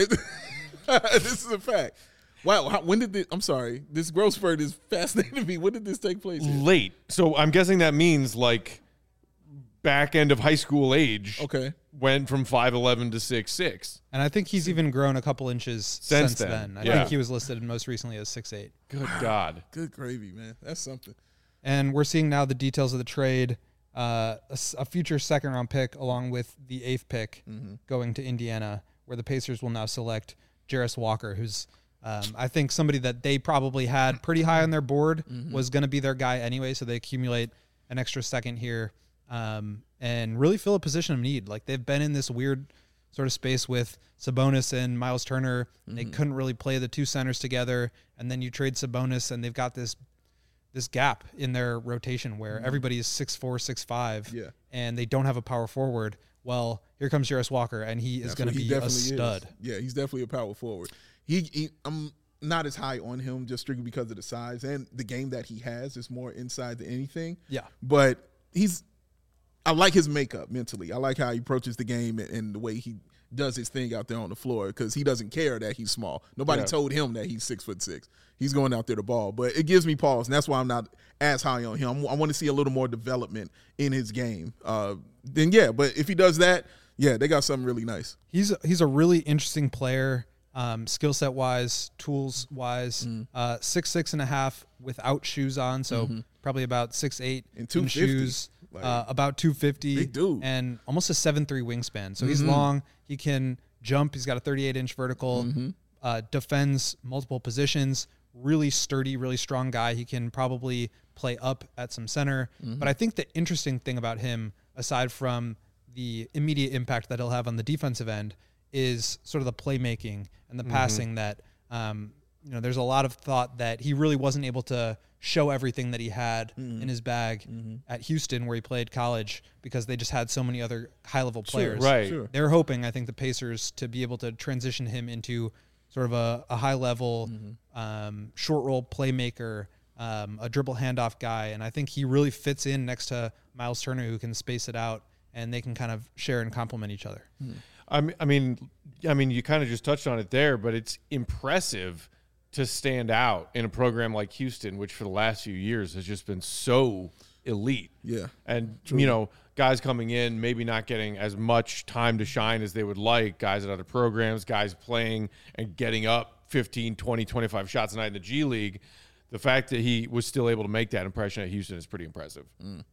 This is a fact. Wow, how, when did this, I'm sorry, this growth spurt is fascinating to me. When did this take place here? Late. So I'm guessing that means like back end of high school age. Okay. Went from five eleven to six six. And I think he's even grown a couple inches since, since then. then. I yeah. think he was listed most recently as six eight. Good God. Good gravy, man. That's something. And we're seeing now the details of the trade. Uh, a, a future second round pick along with the eighth pick mm-hmm. going to Indiana, where the Pacers will now select Jarris Walker, who's um, I think somebody that they probably had pretty high on their board, mm-hmm. was going to be their guy anyway, so they accumulate an extra second here um, and really fill a position of need. Like they've been in this weird sort of space with Sabonis and Miles Turner. Mm-hmm. They couldn't really play the two centers together, and then you trade Sabonis, and they've got this this gap in their rotation where mm-hmm. everybody is six four, six five, yeah. and they don't have a power forward. Well, here comes Jarris Walker, and he is going to be a stud. Is. Yeah, he's definitely a power forward. He, he, I'm not as high on him just strictly because of the size and the game that he has is more inside than anything. Yeah, but he's. I like his makeup mentally. I like how he approaches the game and, and the way he does his thing out there on the floor because he doesn't care that he's small. Nobody yeah. told him that he's six foot six. He's going out there to ball, but it gives me pause, and that's why I'm not as high on him. I want to see a little more development in his game. Uh, then yeah, but if he does that, yeah, they got something really nice. He's he's a really interesting player. Uh, um, skill set wise, tools wise. Mm-hmm. Uh, six six and a half without shoes on, so Mm-hmm. probably about six eight And in two fifty. shoes. Like, uh, about two fifty, big dude. and almost a seven three wingspan. So he's Mhm. long. He can jump. He's got a thirty-eight inch vertical. Mm-hmm. Uh, defends multiple positions. Really sturdy, really strong guy. He can probably play up at some center. Mm-hmm. But I think the interesting thing about him, aside from the immediate impact that he'll have on the defensive end, is sort of the playmaking and the passing that, um, you know, there's a lot of thought that he really wasn't able to show everything that he had in his bag at Houston, where he played college, because they just had so many other high level players. Right. Sure. They're hoping, I think, the Pacers to be able to transition him into sort of a, a high level, um, short roll playmaker, um, a dribble handoff guy. And I think he really fits in next to Miles Turner, who can space it out, and they can kind of share and complement each other. I mean, I mean, I mean, you kind of just touched on it there, but it's impressive to stand out in a program like Houston, which for the last few years has just been so elite. Yeah. And, you know, guys coming in, maybe not getting as much time to shine as they would like, guys at other programs, guys playing and getting up fifteen, twenty, twenty-five shots a night in the G League. The fact that he was still able to make that impression at Houston is pretty impressive.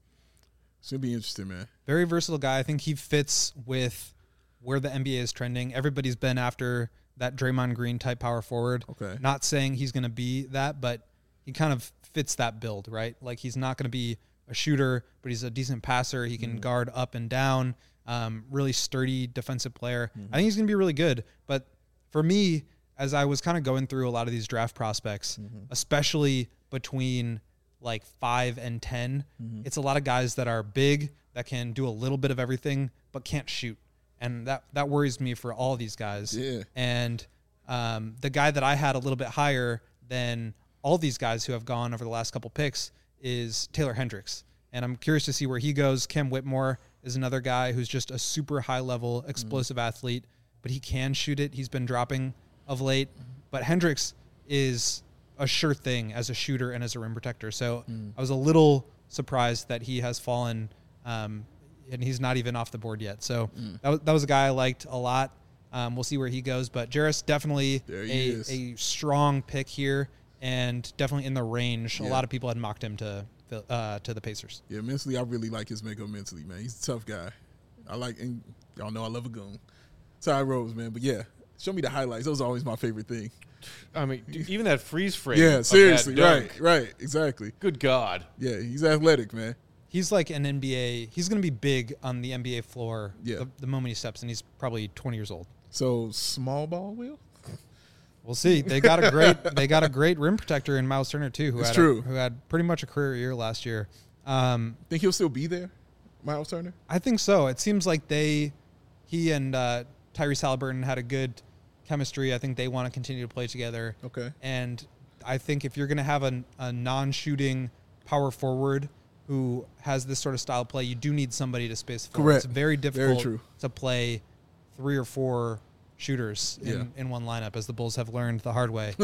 It's going to be interesting, man. Very versatile guy. I think he fits with where the N B A is trending. Everybody's been after that Draymond Green type power forward. Okay. Not saying he's going to be that, but he kind of fits that build, right? Like, he's not going to be a shooter, but he's a decent passer. He can guard up and down. Um, really sturdy defensive player. I think he's going to be really good. But for me, as I was kind of going through a lot of these draft prospects, especially between like five and ten, it's a lot of guys that are big, that can do a little bit of everything, but can't shoot. And that, that worries me for all these guys. Yeah. And um, the guy that I had a little bit higher than all these guys who have gone over the last couple picks is Taylor Hendricks. And I'm curious to see where he goes. Cam Whitmore is another guy who's just a super high-level, explosive athlete, but he can shoot it. He's been dropping of late. But Hendricks is a sure thing as a shooter and as a rim protector. So I was a little surprised that he has fallen, um, and he's not even off the board yet. So that, was, that was a guy I liked a lot. Um, we'll see where he goes. But Jarris, definitely There he a, is. a strong pick here, and definitely in the range. Yeah. A lot of people had mocked him to uh, to the Pacers. Yeah, mentally, I really like his makeup mentally, man. He's a tough guy. I like, and y'all know I love a goon. Ty Rose, man. But yeah, show me the highlights. Those are always my favorite thing. I mean, dude, even that freeze frame. Yeah, of seriously. that dunk, Right, right. Exactly. Good God. Yeah, he's athletic, man. He's like an N B A. He's going to be big on the N B A floor Yeah. the, the moment he steps in. He's probably twenty years old. So, small ball, Will? We'll see. They got a great they got a great rim protector in Miles Turner too, who It's had true. A, who had pretty much a career year last year. Um, Think he'll still be there, Miles Turner? I think so. It seems like they, he and uh, Tyrese Halliburton had a good chemistry. I think they want to continue to play together. Okay. And I think if you're going to have a, a non-shooting power forward who has this sort of style of play, you do need somebody to space the floor. Correct. It's very difficult true. to play three or four shooters in, Yeah. in one lineup, as the Bulls have learned the hard way.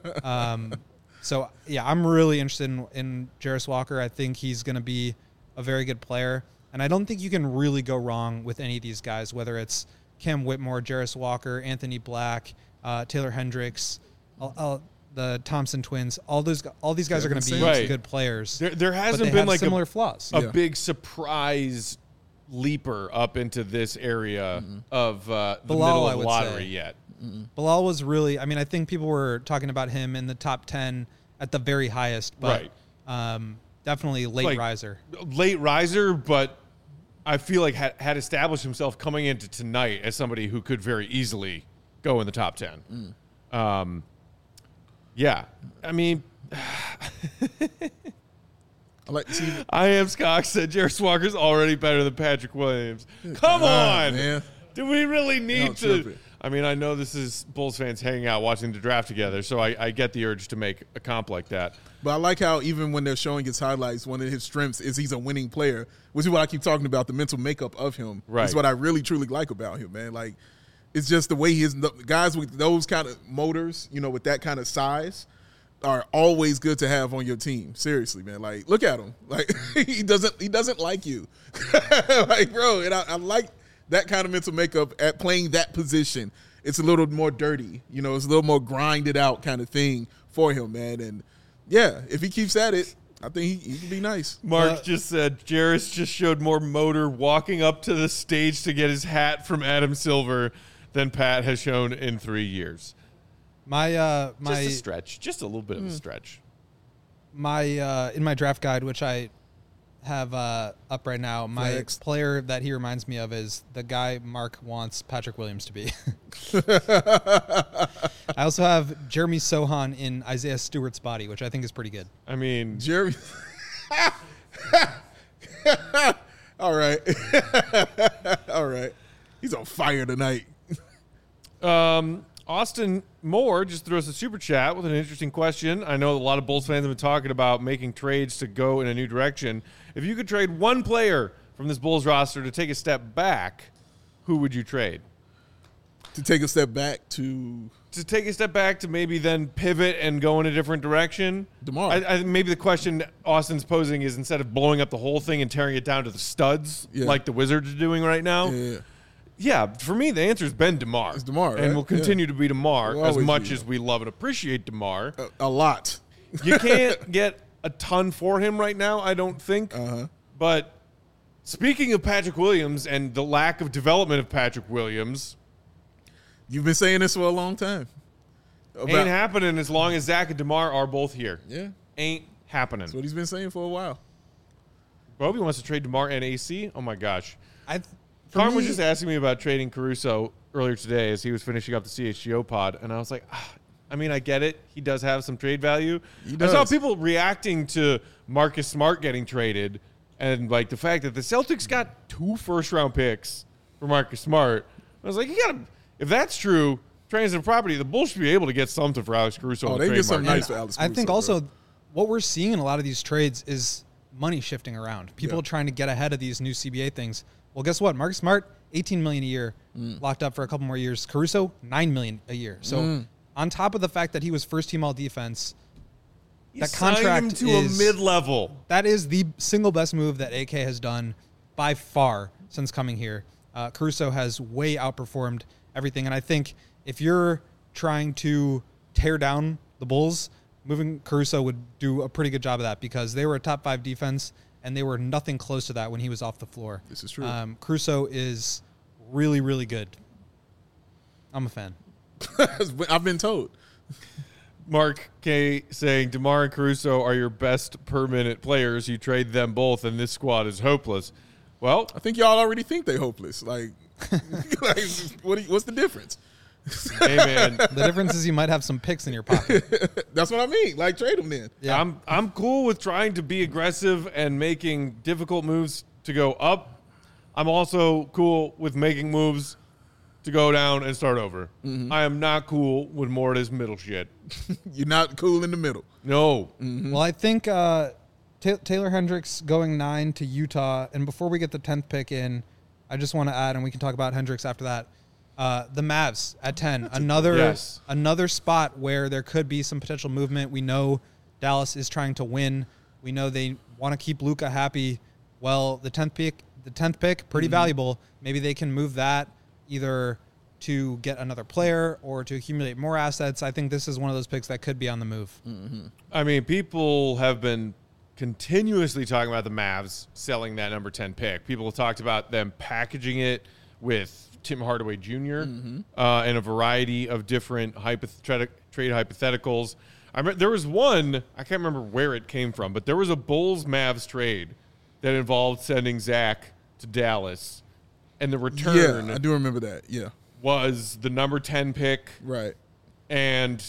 um, so, yeah, I'm really interested in, in Jarris Walker. I think he's going to be a very good player. And I don't think you can really go wrong with any of these guys, whether it's Cam Whitmore, Jarris Walker, Anthony Black, uh, Taylor Hendricks, all, all, the Thompson twins. All those, all these guys are going to be Kevin Samuels. Right. good players. There, there but hasn't they been have like similar a, flaws. a Yeah. big surprise leaper up into this area of uh, the Bilal, middle I of the would lottery say. yet. Bilal was really, I mean, I think people were talking about him in the top ten at the very highest, but um, definitely late Like, riser. Late riser, but I feel like had, had established himself coming into tonight as somebody who could very easily go in the top ten. Um, yeah, I mean, I like to see. I am Scott said Jarris Walker's already better than Patrick Williams. Come God, on, man. do we really need Don't to? trip it. I mean, I know this is Bulls fans hanging out watching the draft together, so I, I get the urge to make a comp like that. But I like how even when they're showing his highlights, one of his strengths is he's a winning player, which is what I keep talking about, the mental makeup of him. Right. It's what I really, truly like about him, man. Like, it's just the way he is. Guys with those kind of motors, you know, with that kind of size, are always good to have on your team. Seriously, man. Like, look at him. Like, he doesn't he doesn't like you. Like, bro, and I, I like that kind of mental makeup at playing that position. it's a little more dirty. You know, it's a little more grinded out kind of thing for him, man. And yeah, if he keeps at it, I think he, he can be nice. Mark Uh, just said Jarris just showed more motor walking up to the stage to get his hat from Adam Silver than Pat has shown in three years. My uh, Just my a stretch, just a little bit of a stretch. my uh, in my draft guide, which I have uh, up right now, my Flex. player that he reminds me of is the guy Mark wants Patrick Williams to be. I also have Jeremy Sohan in Isaiah Stewart's body, which I think is pretty good. I mean, Jeremy. All right. All right. He's on fire tonight. Um, Austin Moore just threw us a super chat with an interesting question. I know a lot of Bulls fans have been talking about making trades to go in a new direction. If you could trade one player from this Bulls roster to take a step back, who would you trade? To take a step back to To take a step back to maybe then pivot and go in a different direction? DeMar. I, I, maybe the question Austin's posing is instead of blowing up the whole thing and tearing it down to the studs Yeah. like the Wizards are doing right now. Yeah. Yeah, for me, the answer has been DeMar. It's DeMar, And right? will continue to be DeMar Will as always much be. as we love and appreciate DeMar. a, a lot. You can't get a ton for him right now, I don't think. Uh-huh. But speaking of Patrick Williams and the lack of development of Patrick Williams, You've been saying this for a long time. About, ain't happening as long as Zach and DeMar are both here. yeah. Ain't happening. That's what he's been saying for a while. Bobby wants to trade DeMar and A C. Oh, my gosh. I for Carm was me- just asking me about trading Caruso earlier today as he was finishing up the C H G O pod, and I was like, ah, I mean, I get it. He does have some trade value. He I saw does. people reacting to Marcus Smart getting traded and, like, the fact that the Celtics got two first-round picks for Marcus Smart. I was like, you got to – if that's true, transitive property, the Bulls should be able to get something for Alex Caruso. Oh, on they the get trade something market. nice for Alex I think Caruso, also bro. what we're seeing in a lot of these trades is money shifting around. People Yeah. trying to get ahead of these new C B A things. Well, guess what? Marcus Smart, eighteen million dollars a year, Mm. locked up for a couple more years. Caruso, nine million dollars a year. So Mm. on top of the fact that he was first team all defense, You that signed him contract to is a mid-level. that is the single best move that A K has done by far since coming here. Uh, Caruso has way outperformed everything. And I think if you're trying to tear down the Bulls, moving Caruso would do a pretty good job of that because they were a top five defense and they were nothing close to that when he was off the floor. This is true. Um, Caruso is really, really good. I'm a fan. I've been told. Mark K saying DeMar and Caruso are your best per minute players. You trade them both, and this squad is hopeless. Well, I think y'all already think they hopeless. Like, like what? do you- What's the difference? hey man, The difference is you might have some picks in your pocket. That's what I mean. Like, trade them then. Yeah. I'm I'm cool with trying to be aggressive and making difficult moves to go up. I'm also cool with making moves to go down and start over. I am not cool with more of this middle shit. You're not cool in the middle. No. Well, I think uh, Ta Taylor Hendricks going nine to Utah. And before we get the tenth pick in, I just want to add, and we can talk about Hendricks after that. Uh, the Mavs at ten, another Yes. another spot where there could be some potential movement. We know Dallas is trying to win. We know they want to keep Luka happy. Well, the tenth pick, the tenth pick, pretty valuable. Maybe they can move that either to get another player or to accumulate more assets. I think this is one of those picks that could be on the move. I mean, people have been continuously talking about the Mavs selling that number ten pick. People have talked about them packaging it with Tim Hardaway Junior Uh, and a variety of different hypothet- trade hypotheticals. I remember, there was one, I can't remember where it came from, but there was a Bulls-Mavs trade that involved sending Zach to Dallas. And the return Yeah, I do remember that. Yeah, was the number ten pick right. and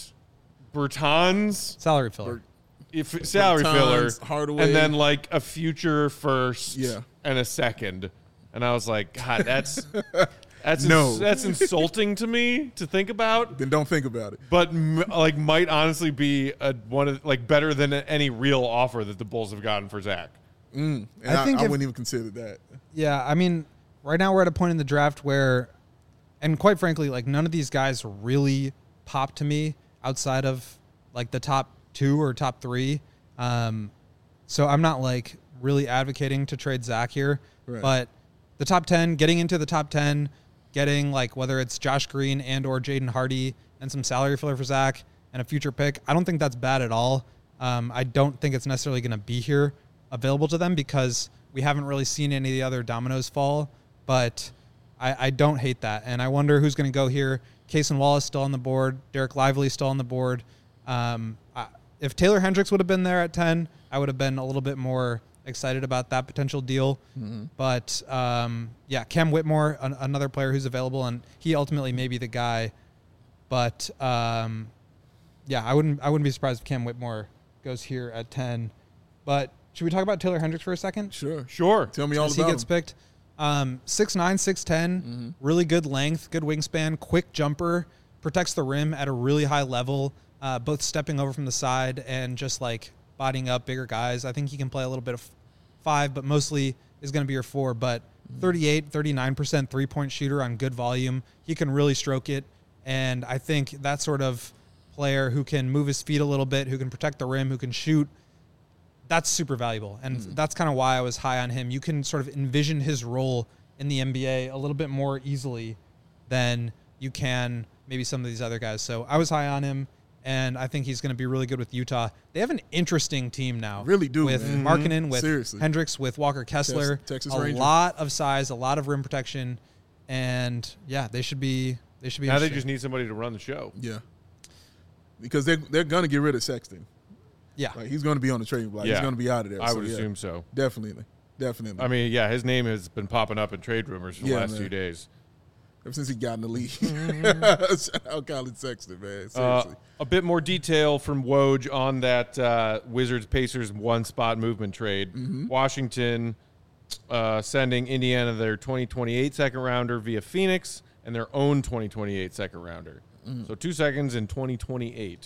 Bertans Salary filler. if salary Bertans, filler, Hardaway. and then like a future first, Yeah. and a second, and I was like, God, that's that's No. ins- that's insulting to me to think about, Then don't think about it. but m- like might honestly be a one of like better than any real offer that the Bulls have gotten for Zach. And I I, think I if- wouldn't even consider that. Yeah, I mean, right now we're at a point in the draft where, and quite frankly, like none of these guys really pop to me outside of like the top two or top three. Um, so I'm not like really advocating to trade Zach here, Right. but the top ten, getting into the top ten, getting like whether it's Josh Green and or Jaden Hardy and some salary filler for Zach and a future pick, I don't think that's bad at all. Um, I don't think it's necessarily going to be here available to them because we haven't really seen any of the other dominoes fall, but I, I don't hate that. And I wonder who's going to go here. Cason Wallace still on the board. Derek Lively still on the board. Um, I, if Taylor Hendricks would have been there at ten, I would have been a little bit more excited about that potential deal. Mm-hmm. But, um, yeah, Cam Whitmore, an, another player who's available, and he ultimately may be the guy. But, um, yeah, I wouldn't I wouldn't be surprised if Cam Whitmore goes here at ten. But should we talk about Taylor Hendricks for a second? Sure. Sure. Tell me all As about he gets him. picked. Um, six nine, six ten, mm-hmm. really good length, good wingspan, quick jumper, protects the rim at a really high level, uh, both stepping over from the side and just like bodying up bigger guys. I think he can play a little bit of five, but mostly is going to be your four. But thirty-eight, thirty-nine percent three-point shooter on good volume. He can really stroke it. And I think that sort of player who can move his feet a little bit, who can protect the rim, who can shoot, that's super valuable. And mm. that's kind of why I was high on him. You can sort of envision his role in the N B A a little bit more easily than you can maybe some of these other guys. So I was high on him, and I think he's going to be really good with Utah. They have an interesting team now. Really do, with man. Markkanen, with Seriously. Hendricks, with Walker Kessler. Texas a Ranger. lot of size, a lot of rim protection, and yeah, they should be they should be Now they interesting. just need somebody to run the show. Yeah. Because they're, they're going to get rid of Sexton. Yeah. Like, he's going to be on the trading block. Yeah. He's going to be out of there. I So, would yeah, assume so. Definitely. Definitely. I mean, yeah, his name has been popping up in trade rumors for the Yeah, last man. few days. Ever since he got in the league. Mm-hmm. Shout out Colin Sexton, man. Uh, Seriously. a bit more detail from Woj on that uh, Wizards-Pacers one-spot movement trade. Mm-hmm. Washington uh, sending Indiana their twenty twenty-eight second-rounder via Phoenix and their own twenty twenty-eight second-rounder. Mm. So two seconds in twenty twenty-eight.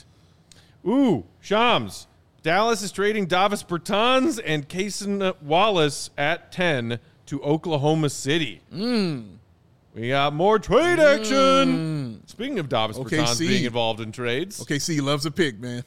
Ooh, Shams. Dallas is trading Davis Bertans and Cason Wallace at ten to Oklahoma City. Mm. We got more trade action. Mm. Speaking of Davis O K C. Bertans being involved in trades. O K C loves a pick, man.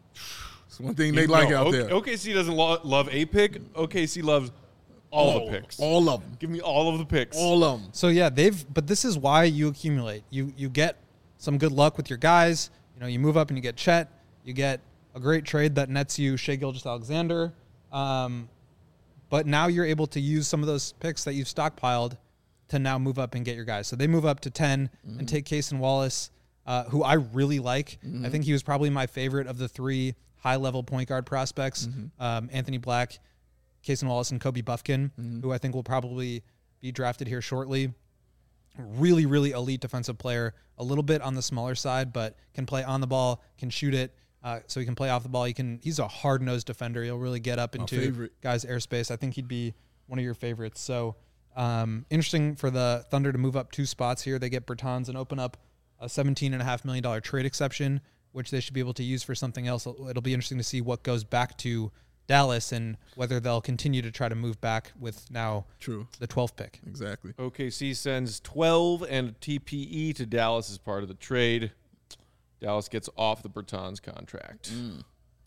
It's one thing they like no, out o- there. O K C doesn't lo- love a pick. O K C loves all, all the picks. All of them. Give me all of the picks. All of them. So yeah, they've but this is why you accumulate. You you get some good luck with your guys. You know, you move up and you get Chet. You get a great trade that nets you Shai Gilgeous-Alexander. Um, but now you're able to use some of those picks that you've stockpiled to now move up and get your guys. So they move up to ten mm-hmm. and take Cason Wallace, uh, who I really like. Mm-hmm. I think he was probably my favorite of the three high-level point guard prospects, mm-hmm. um, Anthony Black, Cason Wallace, and Kobe Buffkin, mm-hmm. who I think will probably be drafted here shortly. Really, really elite defensive player, a little bit on the smaller side, but can play on the ball, can shoot it, uh, so he can play off the ball. He can. He's a hard-nosed defender. He'll really get up into guys' airspace. I think he'd be one of your favorites. So um, interesting for the Thunder to move up two spots here. They get Bertans and open up a seventeen point five million dollars trade exception, which they should be able to use for something else. It'll be interesting to see what goes back to Dallas and whether they'll continue to try to move back with now True. the twelfth pick. Exactly. O K C sends twelve and a T P E to Dallas as part of the trade. Dallas gets off the Bertans contract. Mm.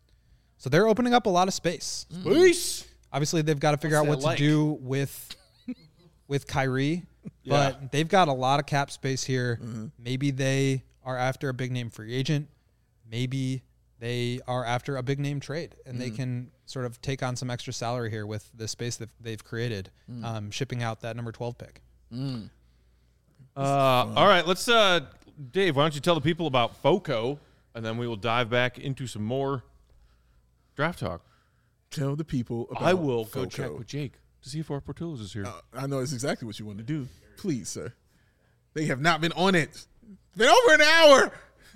So they're opening up a lot of space. Space. Obviously, they've got to figure What's out what that like? to do with with Kyrie, Yeah. but they've got a lot of cap space here. Mm-hmm. Maybe they are after a big name free agent. Maybe they are after a big name trade, and mm. they can sort of take on some extra salary here with the space that they've created, mm. um, shipping out that number twelve pick. Mm. Uh, all right, let's, uh, Dave, why don't you tell the people about FOCO, and then we will dive back into some more draft talk. Tell the people about I will go FOCO. check with Jake to see if our Portillo's is here. Uh, I know it's exactly what you want to do. Please, sir. They have not been on it. It's been over an hour.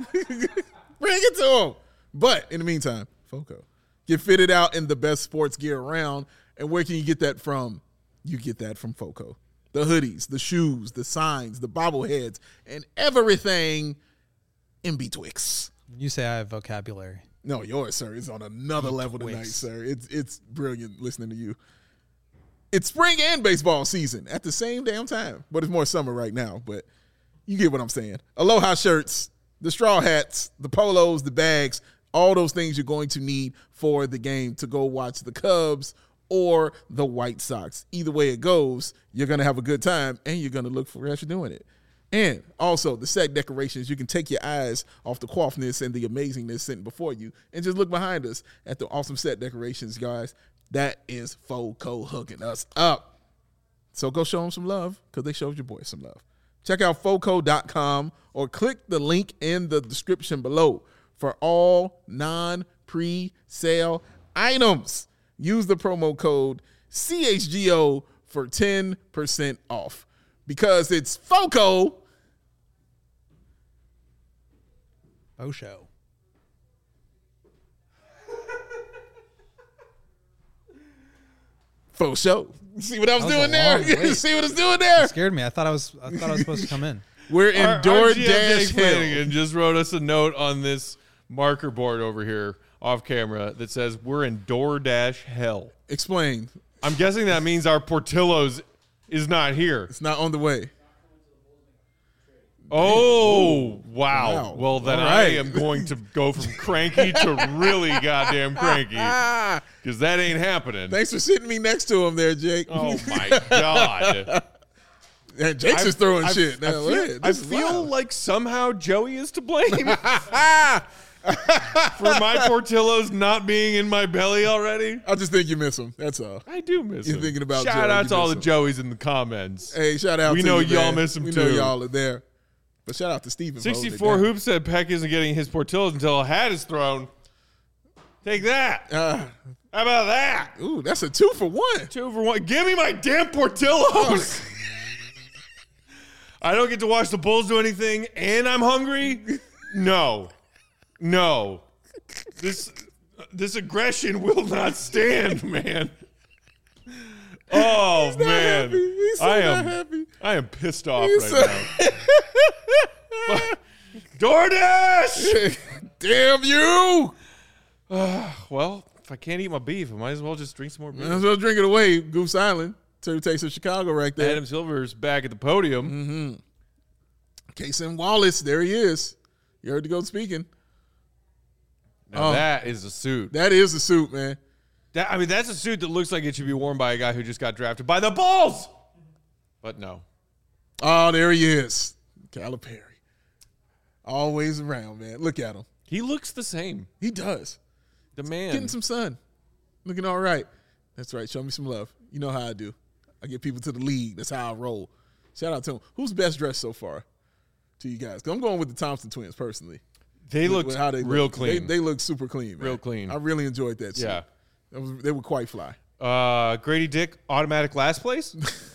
Bring it to them. But in the meantime, FOCO. Get fitted out in the best sports gear around. And where can you get that from? You get that from FOCO. The hoodies, the shoes, the signs, the bobbleheads, and everything in betwixt. You say I have vocabulary. No, yours, sir, is on another level tonight, Betwixt. sir. It's it's brilliant listening to you. It's spring and baseball season at the same damn time, but it's more summer right now. But you get what I'm saying. Aloha shirts, the straw hats, the polos, the bags, all those things you're going to need for the game to go watch the Cubs or the White Sox. Either way it goes, you're going to have a good time and you're going to look fresh doing it. And also the set decorations, you can take your eyes off the quaffness and the amazingness sitting before you and just look behind us at the awesome set decorations, guys. That is FOCO hooking us up. So go show them some love because they showed your boy some love. Check out foco dot com or click the link in the description below for all non-pre-sale items. Use the promo code C H G O for ten percent off because it's FOCO. Oh, show. Faux show. See what I was, That was doing a there? long wait. See what I was doing there? It scared me. I thought I was. I thought I was supposed to come in. We're in Our- our G M DoorDash Jake hell. Flanagan just wrote us a note on this marker board over here off camera that says we're in DoorDash hell. Explain. I'm guessing that means our Portillo's is not here. It's not on the way. Oh, wow. Wow. Well, then All I right. am going to go from cranky to really goddamn cranky Ah, because that ain't happening. thanks for sitting me next to him there, Jake. Oh, my God. And Jake's I- just throwing I- shit. I Now, feel, yeah, I this is feel wild. like somehow Joey is to blame for my Portillo's not being in my belly already. I just think you miss him. That's all. I do miss You're him. thinking about Shout Joey, out you to all miss the him. Joeys in the comments. Hey, shout out We to know you, y'all man. miss him we know too. y'all are there. But shout out to Steven. for holding it sixty-four down. Hoops said Peck isn't getting his Portillo's until a hat is thrown. Take that. Uh, How about that? ooh, that's a two for one. Two for one. Give me my damn Portillo's. I don't get to watch the Bulls do anything, and I'm hungry. No, no. This this aggression will not stand, man. Oh man, happy. He's so I not am. happy. I am pissed off He's right so- now. DoorDash. Damn you. Well, if I can't eat my beef, I might as well just drink some more beef. Might as well drink it away. Goose Island. Two Taste of Chicago right there. Adam Silver's back at the podium. Mm-hmm. Kason Wallace, there he is. You heard the goat speaking. Now Oh. that is a suit. That is the suit, man. That, I mean, that's a suit that looks like it should be worn by a guy who just got drafted by the Bulls. But no. Oh, there he is. Calipari. Always around, man. Look at him. He looks the same. He does. The man. Getting some sun. Looking all right. That's right. Show me some love. You know how I do. I get people to the league. That's how I roll. Shout out to him. Who's best dressed so far to you guys? 'Cause I'm going with the Thompson twins personally. they With- looked with how they real look. clean. They, they look super clean, man. Real clean. I really enjoyed that. Suit. Yeah. That was, they were quite fly. uh, Grady Dick, automatic last place.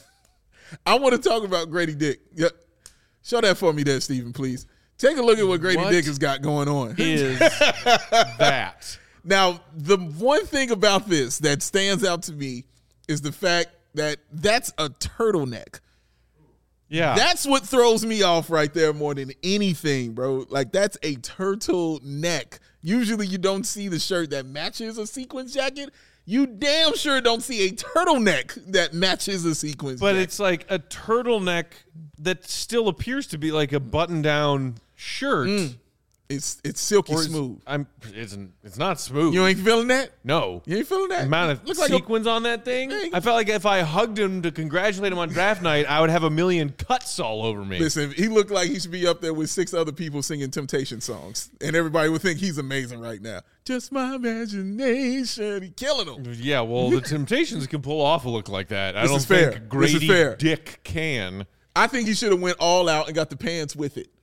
I want to talk about Grady Dick. Yep. Show that for me there, Stephen, please. Take a look at what Grady What Dick has got going on. is that? Now, the one thing about this that stands out to me is the fact that that's a turtleneck. Yeah. That's what throws me off right there more than anything, bro. Like, that's a turtleneck. Usually you don't see the shirt that matches a sequins jacket. You damn sure don't see a turtleneck that matches a sequins but jacket. it's like a turtleneck that still appears to be like a button-down shirt. It's it's silky Or is- smooth. I'm. It's it's not smooth. You ain't feeling that? no. You ain't feeling that? Amount of Looks like a- sequins on that thing. Hey. I felt like if I hugged him to congratulate him on draft night, I would have a million cuts all over me. Listen, he looked like he should be up there with six other people singing Temptation songs, and everybody would think he's amazing right now. Just my imagination. He killing them. Yeah, well, the Temptations can pull off a look like that. I This don't is fair. think This is Grady fair. Dick can. I think he should have went all out and got the pants with it.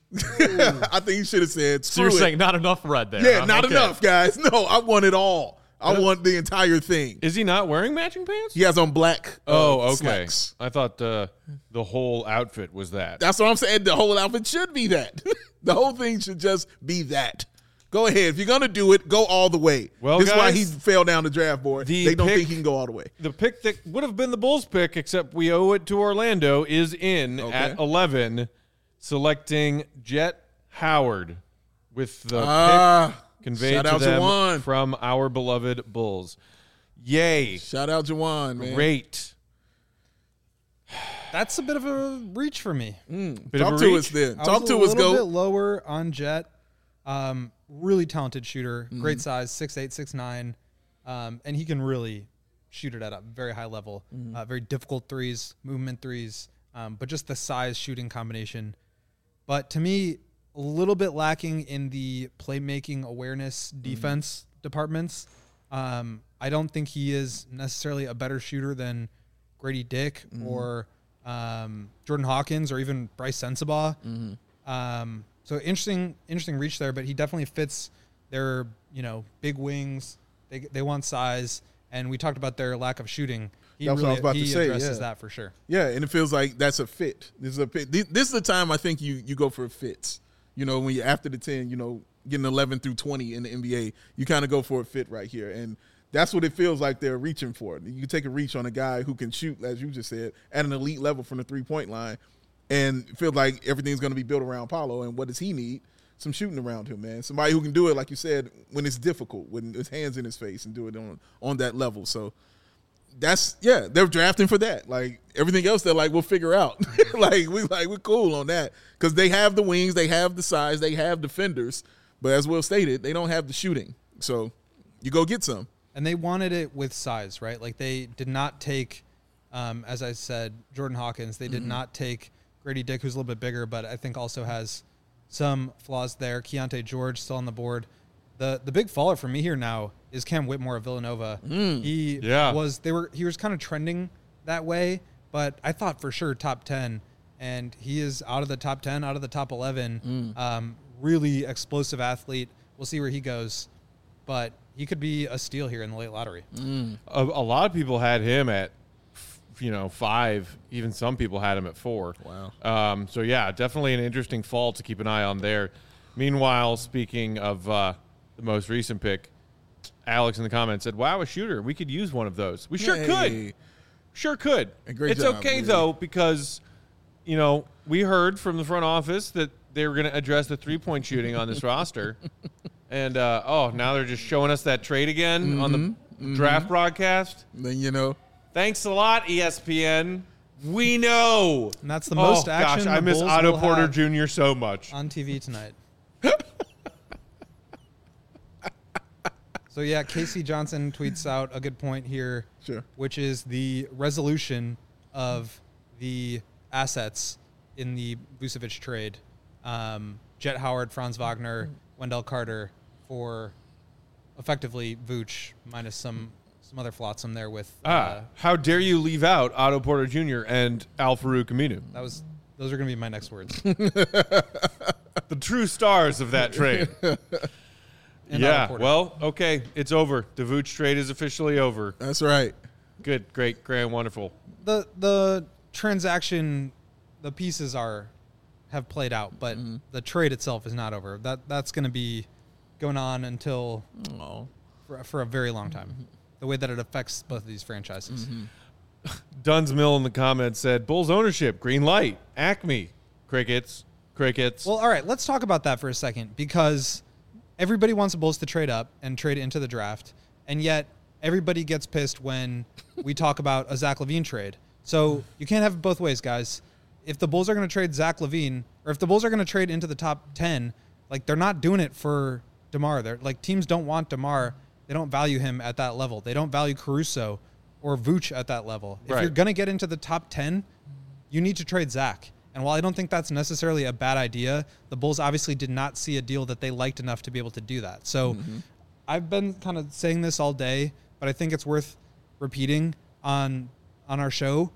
I think he should have said, So screw you're it. saying not enough red there. yeah, huh? not Okay. enough, guys. No, I want it all. I want the entire thing. Is he not wearing matching pants? He has on black uh, Oh, okay. slacks. I thought uh, the whole outfit was that. That's what I'm saying. The whole outfit should be that. The whole thing should just be that. Go ahead. If you're going to do it, go all the way. Well, this is why guys, he fell down the draft board. the They don't pick- think he can go all the way. The pick that would have been the Bulls pick, except we owe it to Orlando, is in Okay. at eleven, selecting Jet Howard with the Ah, pick conveyed shout to out them Jawan. from our beloved Bulls. Yay. Shout out Jawan, man. Great. That's a bit of a reach for me. Bit Talk of a to reach. us then. I Talk was to a us, little bit go. lower on Jet. Um, really talented shooter, Mm-hmm. great size, six eight, six nine, um, and he can really shoot it at a very high level. Mm-hmm. Uh, very difficult threes, movement threes. um, but just the size shooting combination. But to me, a little bit lacking in the playmaking awareness defense mm-hmm. departments. Um, I don't think he is necessarily a better shooter than Grady Dick mm-hmm. or um, Jordan Hawkins or even Bryce Sensabaugh. Mm-hmm. Um, so interesting, interesting reach there, but he definitely fits their, you know, big wings. They they want size, and we talked about their lack of shooting. He that's really, what I was about he to say. addresses Yeah. that for sure. Yeah, and it feels like that's a fit. This is a fit. This is the time I think you you go for fits. You know, when you after the ten, you know, getting eleven through twenty in the N B A, you kind of go for a fit right here, and that's what it feels like they're reaching for. You can take a reach on a guy who can shoot, as you just said, at an elite level from the three-point line, and feel like everything's going to be built around Paolo. And what does he need? Some shooting around him, man. Somebody who can do it, like you said, when it's difficult, when his hands in his face, and do it on on that level. So that's yeah, they're drafting for that. Like everything else, they're like, we'll figure out. like we like we're cool on that because they have the wings, they have the size, they have defenders, but as Will stated, they don't have the shooting. So you go get some. And they wanted it with size, right? Like they did not take, um, as I said, Jordan Hawkins. They did mm-hmm. not take Grady Dick, who's a little bit bigger, but I think also has some flaws there. Keontae George still on the board. The the big faller for me here now is Cam Whitmore of Villanova. Mm. He yeah. was they were he was kind of trending that way, but I thought for sure top ten, and he is out of the top ten, out of the top eleven. Mm. Um, really explosive athlete. We'll see where he goes, but he could be a steal here in the late lottery. Mm. A, a lot of people had him at, you know, five. Even some people had him at four. Wow. Um, so, yeah, definitely an interesting fall to keep an eye on there. Meanwhile, speaking of uh, the most recent pick, Alex in the comments said, wow, a shooter. We could use one of those. We sure Yay. could. Sure could. A great it's job, okay, Lee. though, because, you know, we heard from the front office that they were going to address the three-point shooting on this roster. And, uh, oh, now they're just showing us that trade again mm-hmm, on the mm-hmm. draft broadcast. Then, you know. Thanks a lot, E S P N. We know. And that's the most oh, action gosh, I the miss Bulls Otto will Porter have Junior so much. on T V tonight. So, yeah, Casey Johnson tweets out a good point here, sure. which is the resolution of the assets in the Vucevic trade. Um, Jet Howard, Franz Wagner, Wendell Carter for effectively Vooch minus some some other flotsam there with. Ah, uh, how dare you leave out Otto Porter Junior and Al Farouk Aminu? That was those are going to be my next words. The true stars of that trade. And yeah, well, okay, it's over. The Vooch trade is officially over. That's right. Good, great, grand, wonderful. The the transaction, the pieces are have played out, but mm-hmm. the trade itself is not over. That that's going to be going on until oh. for, for a very long time. Mm-hmm. The way that it affects both of these franchises. Mm-hmm. Duns Mill in the comments said, Bulls ownership, green light, Acme, crickets, crickets. Well, all right, let's talk about that for a second because everybody wants the Bulls to trade up and trade into the draft, and yet everybody gets pissed when we talk about a Zach LaVine trade. So you can't have it both ways, guys. If the Bulls are going to trade Zach LaVine, or if the Bulls are going to trade into the top ten, like they're not doing it for DeMar. They're like teams don't want DeMar. They don't value him at that level. They don't value Caruso or Vooch at that level. If right. you're going to get into the top ten, you need to trade Zach. And while I don't think that's necessarily a bad idea, the Bulls obviously did not see a deal that they liked enough to be able to do that. So mm-hmm. I've been kind of saying this all day, but I think it's worth repeating on on our show.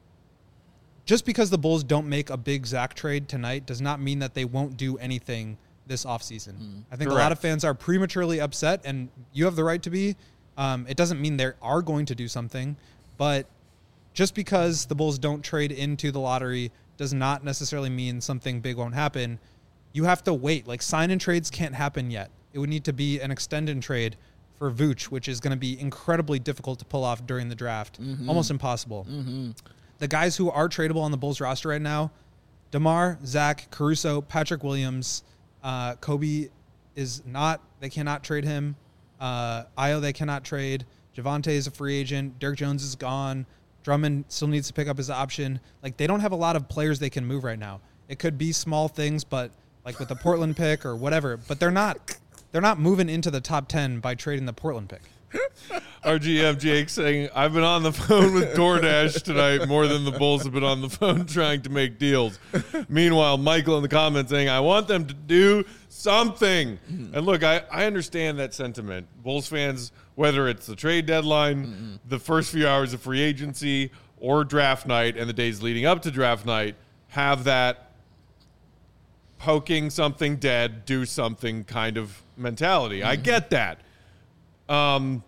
Just because the Bulls don't make a big Zach trade tonight does not mean that they won't do anything this offseason. Mm, I think correct. A lot of fans are prematurely upset, and you have the right to be. Um, it doesn't mean they are going to do something, but just because the Bulls don't trade into the lottery does not necessarily mean something big won't happen. You have to wait. Like, sign-in trades can't happen yet. It would need to be an extend-in trade for Vooch, which is going to be incredibly difficult to pull off during the draft. Mm-hmm. Almost impossible. Mm-hmm. The guys who are tradable on the Bulls roster right now, DeMar, Zach, Caruso, Patrick Williams, uh, Kobe is not, they cannot trade him. Uh, Ayo, they cannot trade. Javonte is a free agent. Derek Jones is gone. Drummond still needs to pick up his option. Like, they don't have a lot of players they can move right now. It could be small things, but like with the Portland pick or whatever, but they're not, they're not moving into the top ten by trading the Portland pick. Our G M Jake saying, I've been on the phone with DoorDash tonight more than the Bulls have been on the phone trying to make deals. Meanwhile, Michael in the comments saying, I want them to do something. Mm-hmm. And look, I, I understand that sentiment. Bulls fans, whether it's the trade deadline, mm-hmm. the first few hours of free agency, or draft night and the days leading up to draft night, have that poking something dead, do something kind of mentality. Mm-hmm. I get that. Um,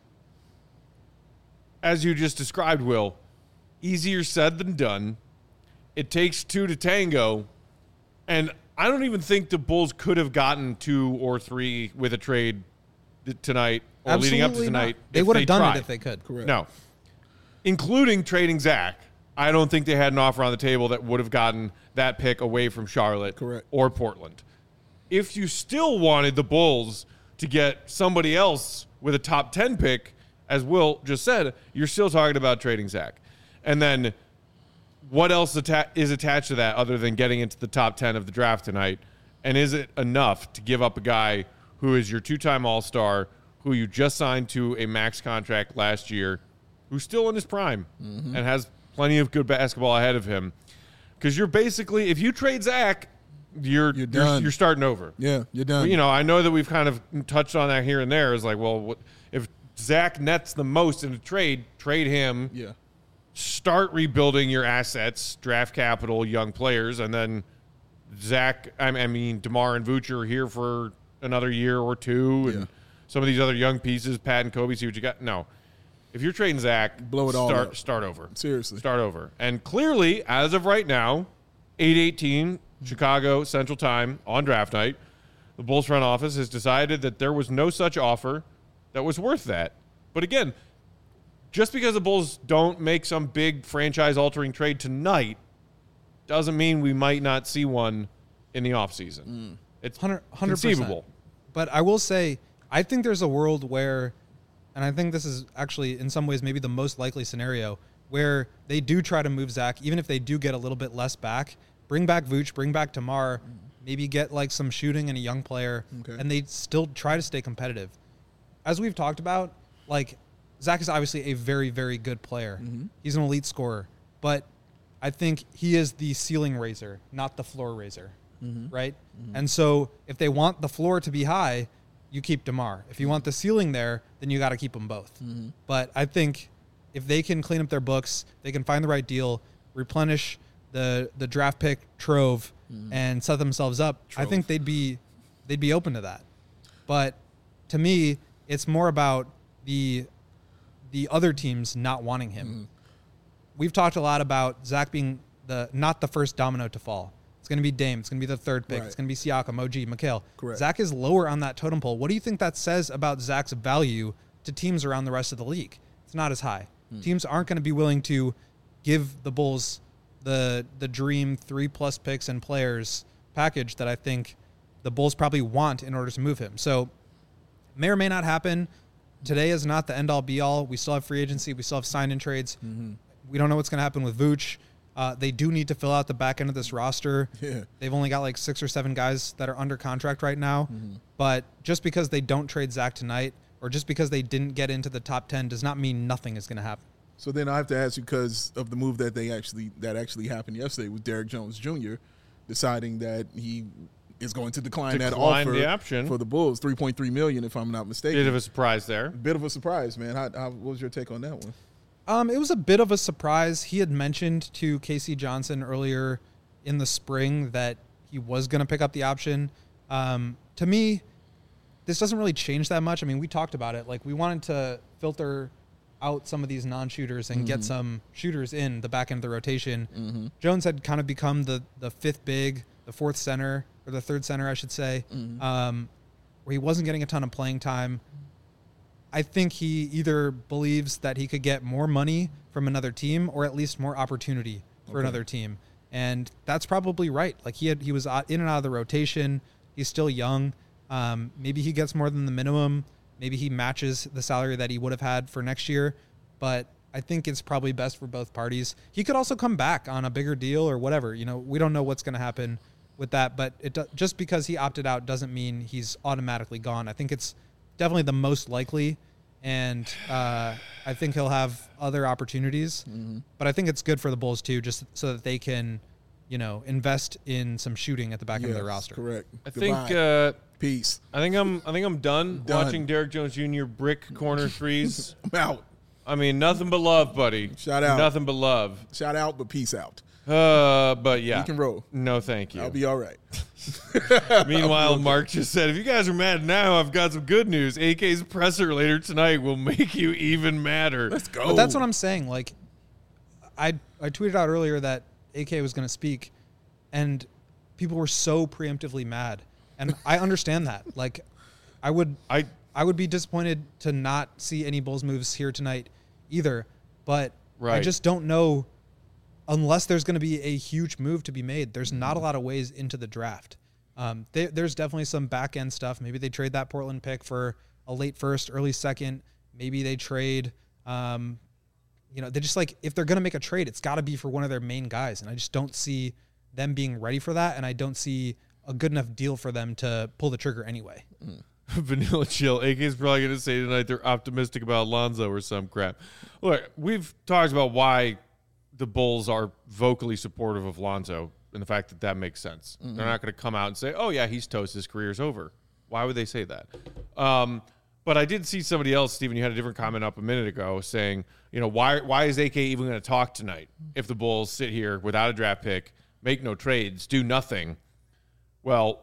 as you just described, Will, easier said than done. It takes two to tango, and I don't even think the Bulls could have gotten two or three with a trade th- tonight or Absolutely leading up to tonight. Not. They would have done tried. it if they could. Correct. No, including trading Zach. I don't think they had an offer on the table that would have gotten that pick away from Charlotte Correct. or Portland. If you still wanted the Bulls to get somebody else with a top ten pick, as Will just said, you're still talking about trading Zach. And then what else atta- is attached to that other than getting into the top ten of the draft tonight? And is it enough to give up a guy who is your two-time All-Star, who you just signed to a max contract last year, who's still in his prime mm-hmm. and has plenty of good basketball ahead of him? Because you're basically, if you trade Zach, you're you're, done. you're you're starting over. Yeah, you're done. Well, you know, I know that we've kind of touched on that here and there. Is like, well, what, if Zach nets the most in a trade, trade him. Yeah. Start rebuilding your assets, draft capital, young players, and then Zach. I mean, DeMar and Vooch are here for another year or two, and yeah. some of these other young pieces, Pat and Kobe. See what you got. No, if you're trading Zach, blow it all start, up. Start over. Seriously, start over. And clearly, as of right now, eight eighteen Chicago Central Time on draft night, the Bulls front office has decided that there was no such offer that was worth that. But again, just because the Bulls don't make some big franchise-altering trade tonight doesn't mean we might not see one in the offseason. Mm. It's one hundred percent conceivable. But I will say, I think there's a world where, and I think this is actually in some ways maybe the most likely scenario, where they do try to move Zach, even if they do get a little bit less back. Bring back Vooch, bring back DeMar, maybe get like some shooting and a young player, okay. and they still try to stay competitive. As we've talked about, like, Zach is obviously a very, very good player. Mm-hmm. He's an elite scorer, but I think he is the ceiling raiser, not the floor raiser, mm-hmm. right? Mm-hmm. And so if they want the floor to be high, you keep DeMar. If you want the ceiling there, then you got to keep them both. Mm-hmm. But I think if they can clean up their books, they can find the right deal, replenish the the draft pick trove, mm-hmm. and set themselves up, trove. I think they'd be they'd be open to that. But to me, it's more about the the other teams not wanting him. Mm-hmm. We've talked a lot about Zach being the not the first domino to fall. It's going to be Dame. It's going to be the third pick. Right. It's going to be Siakam, O G, Mikal. Correct. Zach is lower on that totem pole. What do you think that says about Zach's value to teams around the rest of the league? It's not as high. Mm. Teams aren't going to be willing to give the Bulls the the dream three-plus picks and players package that I think the Bulls probably want in order to move him. So may or may not happen. Today is not the end-all, be-all. We still have free agency. We still have sign-in trades. Mm-hmm. We don't know what's going to happen with Vooch. Uh, they do need to fill out the back end of this roster. Yeah. They've only got like six or seven guys that are under contract right now. Mm-hmm. But just because they don't trade Zach tonight or just because they didn't get into the top ten does not mean nothing is going to happen. So then I have to ask you, because of the move that they actually that actually happened yesterday with Derrick Jones Junior deciding that he is going to decline, decline that offer the option for the Bulls, three point three million dollars if I'm not mistaken. Bit of a surprise there. Bit of a surprise, man. How, how, what was your take on that one? Um, it was a bit of a surprise. He had mentioned to K C Johnson earlier in the spring that he was going to pick up the option. Um, to me, this doesn't really change that much. I mean, we talked about it. Like, we wanted to filter out some of these non-shooters and mm-hmm. get some shooters in the back end of the rotation. Mm-hmm. Jones had kind of become the the fifth big, the fourth center, or the third center, I should say, mm-hmm. um, where he wasn't getting a ton of playing time. I think he either believes that he could get more money from another team or at least more opportunity for okay. another team. And that's probably right. Like, he had, he was in and out of the rotation. He's still young. Um, maybe he gets more than the minimum. Maybe he matches the salary that he would have had for next year. But I think it's probably best for both parties. He could also come back on a bigger deal or whatever. You know, we don't know what's going to happen with that. But it do, just because he opted out doesn't mean he's automatically gone. I think it's definitely the most likely and uh, I think he'll have other opportunities. Mm-hmm. But I think it's good for the Bulls too, just so that they can, you know, invest in some shooting at the back Yes, end of their roster. Correct. I Goodbye. think uh, Peace. I think I'm I think I'm done, Done. watching Derrick Jones Junior brick corner threes. I'm out. I mean, nothing but love, buddy. Shout out. Nothing but love. Shout out, but peace out. Uh, but yeah, You can roll. No, thank you. I'll be all right. Meanwhile, Mark just said, if you guys are mad now, I've got some good news. A K's presser later tonight will make you even madder. Let's go. But that's what I'm saying. Like, I I tweeted out earlier that A K was going to speak, and people were so preemptively mad, and I understand that. Like, I would I I would be disappointed to not see any Bulls moves here tonight, either. But I Right. just don't know. Unless there's going to be a huge move to be made, there's not a lot of ways into the draft. Um, they, there's definitely some back end stuff. Maybe they trade that Portland pick for a late first, early second. Maybe they trade, um, you know, they just like, if they're going to make a trade, it's got to be for one of their main guys. And I just don't see them being ready for that. And I don't see a good enough deal for them to pull the trigger anyway. Mm. Vanilla Chill. A K's probably going to say tonight they're optimistic about Lonzo or some crap. Look, we've talked about why the Bulls are vocally supportive of Lonzo and the fact that that makes sense. Mm-hmm. They're not going to come out and say, oh, yeah, he's toast. His career's over. Why would they say that? Um, but I did see somebody else, Steven, you had a different comment up a minute ago saying, you know, why why is A K even going to talk tonight if the Bulls sit here without a draft pick, make no trades, do nothing? Well,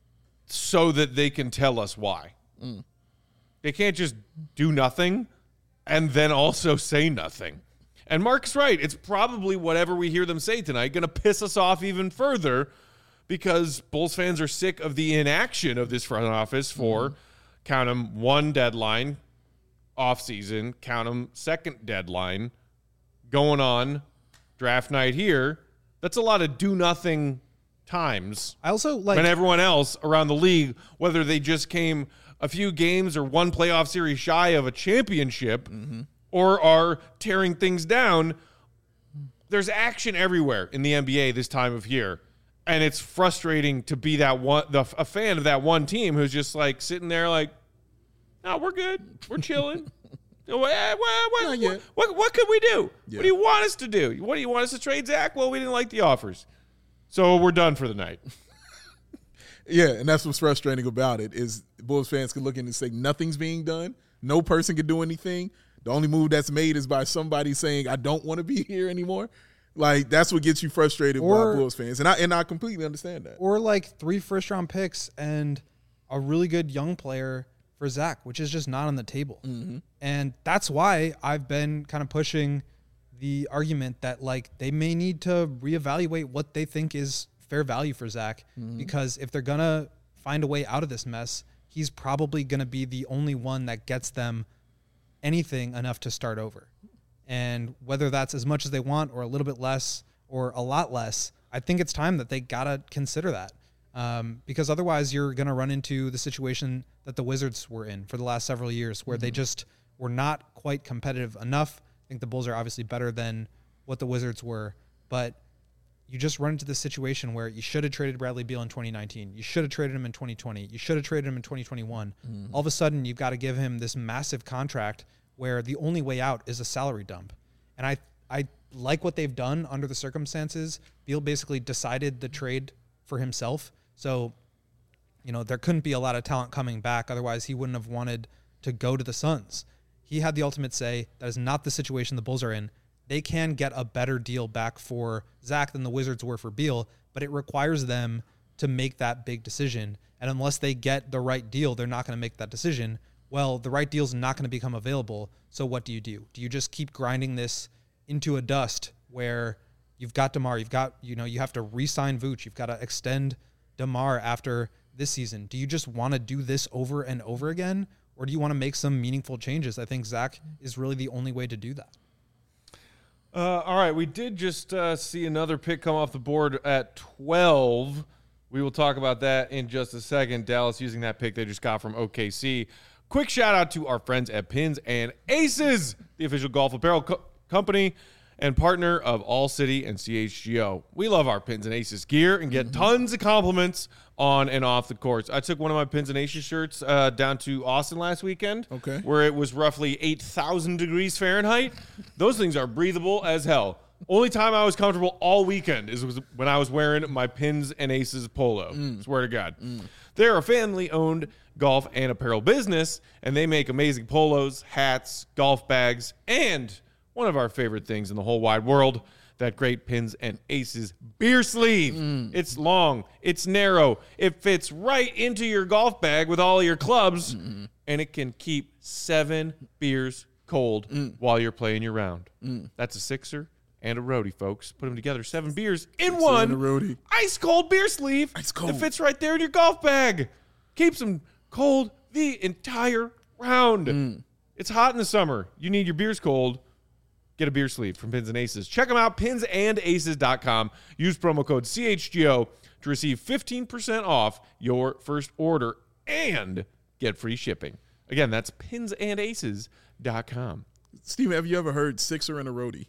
so that they can tell us why. Mm. They can't just do nothing and then also say nothing. And Mark's right. It's probably whatever we hear them say tonight going to piss us off even further because Bulls fans are sick of the inaction of this front office for, mm-hmm. count them, one deadline, offseason, count them, second deadline, going on, draft night here. That's a lot of do-nothing times. I also like... when everyone else around the league, whether they just came a few games or one playoff series shy of a championship, mm-hmm. or are tearing things down, there's action everywhere in the N B A this time of year. And it's frustrating to be that one, the, a fan of that one team who's just like sitting there like, no, we're good. We're chilling. what, what, what, what, what, what could we do? Yeah. What do you want us to do? What do you want us to trade, Zach? Well, we didn't like the offers. So we're done for the night. Yeah, and that's what's frustrating about it is Bulls fans can look in and say nothing's being done. No person can do anything. The only move that's made is by somebody saying, I don't want to be here anymore. Like, that's what gets you frustrated or, by Bulls fans. And I and I completely understand that. Or, like, three first-round picks and a really good young player for Zach, which is just not on the table. Mm-hmm. And that's why I've been kind of pushing the argument that, like, they may need to reevaluate what they think is fair value for Zach. Mm-hmm. Because if they're going to find a way out of this mess, he's probably going to be the only one that gets them anything enough to start over. And whether that's as much as they want or a little bit less or a lot less, I think it's time that they got to consider that. Um, because otherwise you're going to run into the situation that the Wizards were in for the last several years where mm-hmm. they just were not quite competitive enough. I think the Bulls are obviously better than what the Wizards were, but you just run into this situation where you should have traded Bradley Beal in twenty nineteen. You should have traded him in twenty twenty. You should have traded him in twenty twenty-one. Mm-hmm. All of a sudden, you've got to give him this massive contract where the only way out is a salary dump. And I I like what they've done under the circumstances. Beal basically decided the trade for himself. So, you know, there couldn't be a lot of talent coming back. Otherwise, he wouldn't have wanted to go to the Suns. He had the ultimate say. That is not the situation the Bulls are in. They can get a better deal back for Zach than the Wizards were for Beal, but it requires them to make that big decision. And unless they get the right deal, they're not going to make that decision. Well, the right deal is not going to become available. So what do you do? Do you just keep grinding this into a dust where you've got DeMar, you've got, you know, you have to re-sign Vooch, you've got to extend DeMar after this season? Do you just want to do this over and over again? Or do you want to make some meaningful changes? I think Zach is really the only way to do that. Uh, all right, we did just uh, see another pick come off the board at twelve. We will talk about that in just a second. Dallas using that pick they just got from O K C. Quick shout out to our friends at Pins and Aces, the official golf apparel co- company. and partner of All City and C H G O. We love our Pins and Aces gear and get tons of compliments on and off the courts. I took one of my Pins and Aces shirts uh, down to Austin last weekend, Okay. where it was roughly eight thousand degrees Fahrenheit. Those things are breathable as hell. Only time I was comfortable all weekend is was when I was wearing my Pins and Aces polo. Swear to God. They're a family-owned golf and apparel business, and they make amazing polos, hats, golf bags, and one of our favorite things in the whole wide world, that great Pins and Aces beer sleeve. Mm. It's long, it's narrow, it fits right into your golf bag with all your clubs, Mm-hmm. and it can keep seven beers cold Mm. while you're playing your round. That's a sixer and a roadie, folks. Put them together, seven beers in one and a roadie. ice cold beer sleeve. Ice cold. That fits right there in your golf bag. Keeps them cold the entire round. Mm. It's hot in the summer. You need your beers cold. Get a beer sleeve from Pins and Aces. Check them out, pins and aces dot com. Use promo code C H G O to receive fifteen percent off your first order and get free shipping. Again, that's pins and aces dot com. Steven, have you ever heard sixer and a roadie?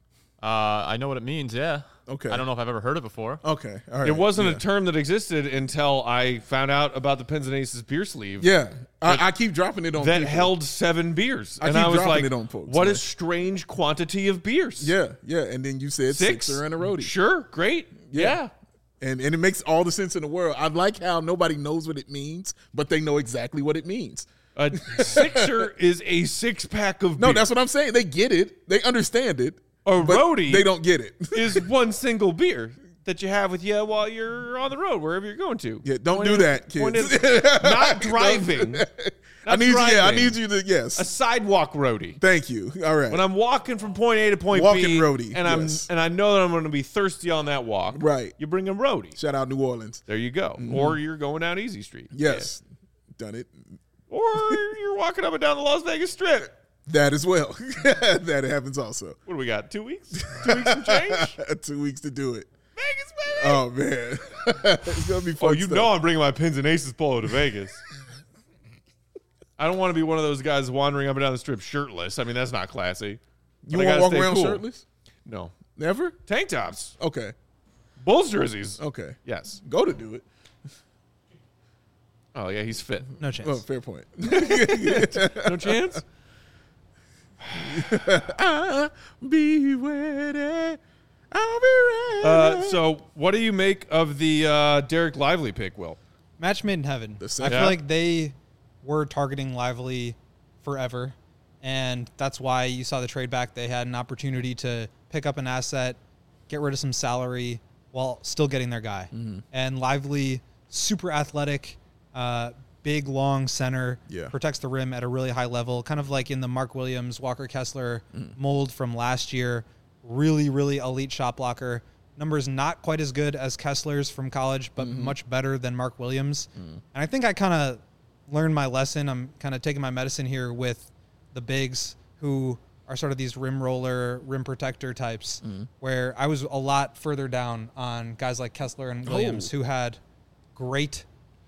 Uh, I know what it means, yeah. Okay. I don't know if I've ever heard it before. Okay. All right. It wasn't yeah. a term that existed until I found out about the Pins and Aces beer sleeve. Yeah. I, I keep dropping it on That people. held seven beers. I and keep I was dropping like, it on folks, what man. a strange quantity of beers. Yeah. Yeah. And then you said Six? sixer and a roadie. Sure, great. Yeah. And and it makes all the sense in the world. I like how nobody knows what it means, but they know exactly what it means. A sixer is a six pack of No, beer. that's what I'm saying. They get it. They understand it. A but roadie they don't get it. is one single beer that you have with you while you're on the road, wherever you're going to. Yeah, don't Point do is- that, point kids. is not driving. I need you. Yeah, I driving. need you to. Yes. A sidewalk roadie. Thank you. All right. When I'm walking from point A to point Walking B, roadie, and I'm yes. and I know that I'm going to be thirsty on that walk, Right. You bring a roadie. Shout out New Orleans. There you go. Or you're going down Easy Street. Yes. Done it. Yeah. Or you're walking up and down the Las Vegas Strip. That as well. That happens also. What do we got? Two weeks? Two weeks and change? Two weeks to do it. Vegas, baby. Oh man, it's gonna be fun. Oh, you stuff. know I'm bringing my Pins and Aces polo to Vegas. I don't want to be one of those guys wandering up and down the strip shirtless. I mean, that's not classy. You But I want to gotta walk stay around cool. shirtless? No. Never. Tank tops. Okay. Bulls jerseys. Okay. Yes. Go to do it. Oh, yeah, he's fit. No chance. Oh, fair point. No chance? I'll be ready. I'll be ready. Uh, so, what do you make of the uh, Derek Lively pick, Will? Match made in heaven. The I same. feel Yeah. like they were targeting Lively forever, and that's why you saw the trade back. They had an opportunity to pick up an asset, get rid of some salary while still getting their guy. Mm-hmm. And Lively, super athletic, uh, big, long center, Yeah. protects the rim at a really high level, kind of like in the Mark Williams, Walker Kessler Mm. mold from last year. Really, really elite shot blocker. Numbers not quite as good as Kessler's from college, but Mm-hmm. much better than Mark Williams. Mm. And I think I kind of learned my lesson. I'm kind of taking my medicine here with the bigs who are sort of these rim roller, rim protector types, Mm. where I was a lot further down on guys like Kessler and Williams Oh. who had great,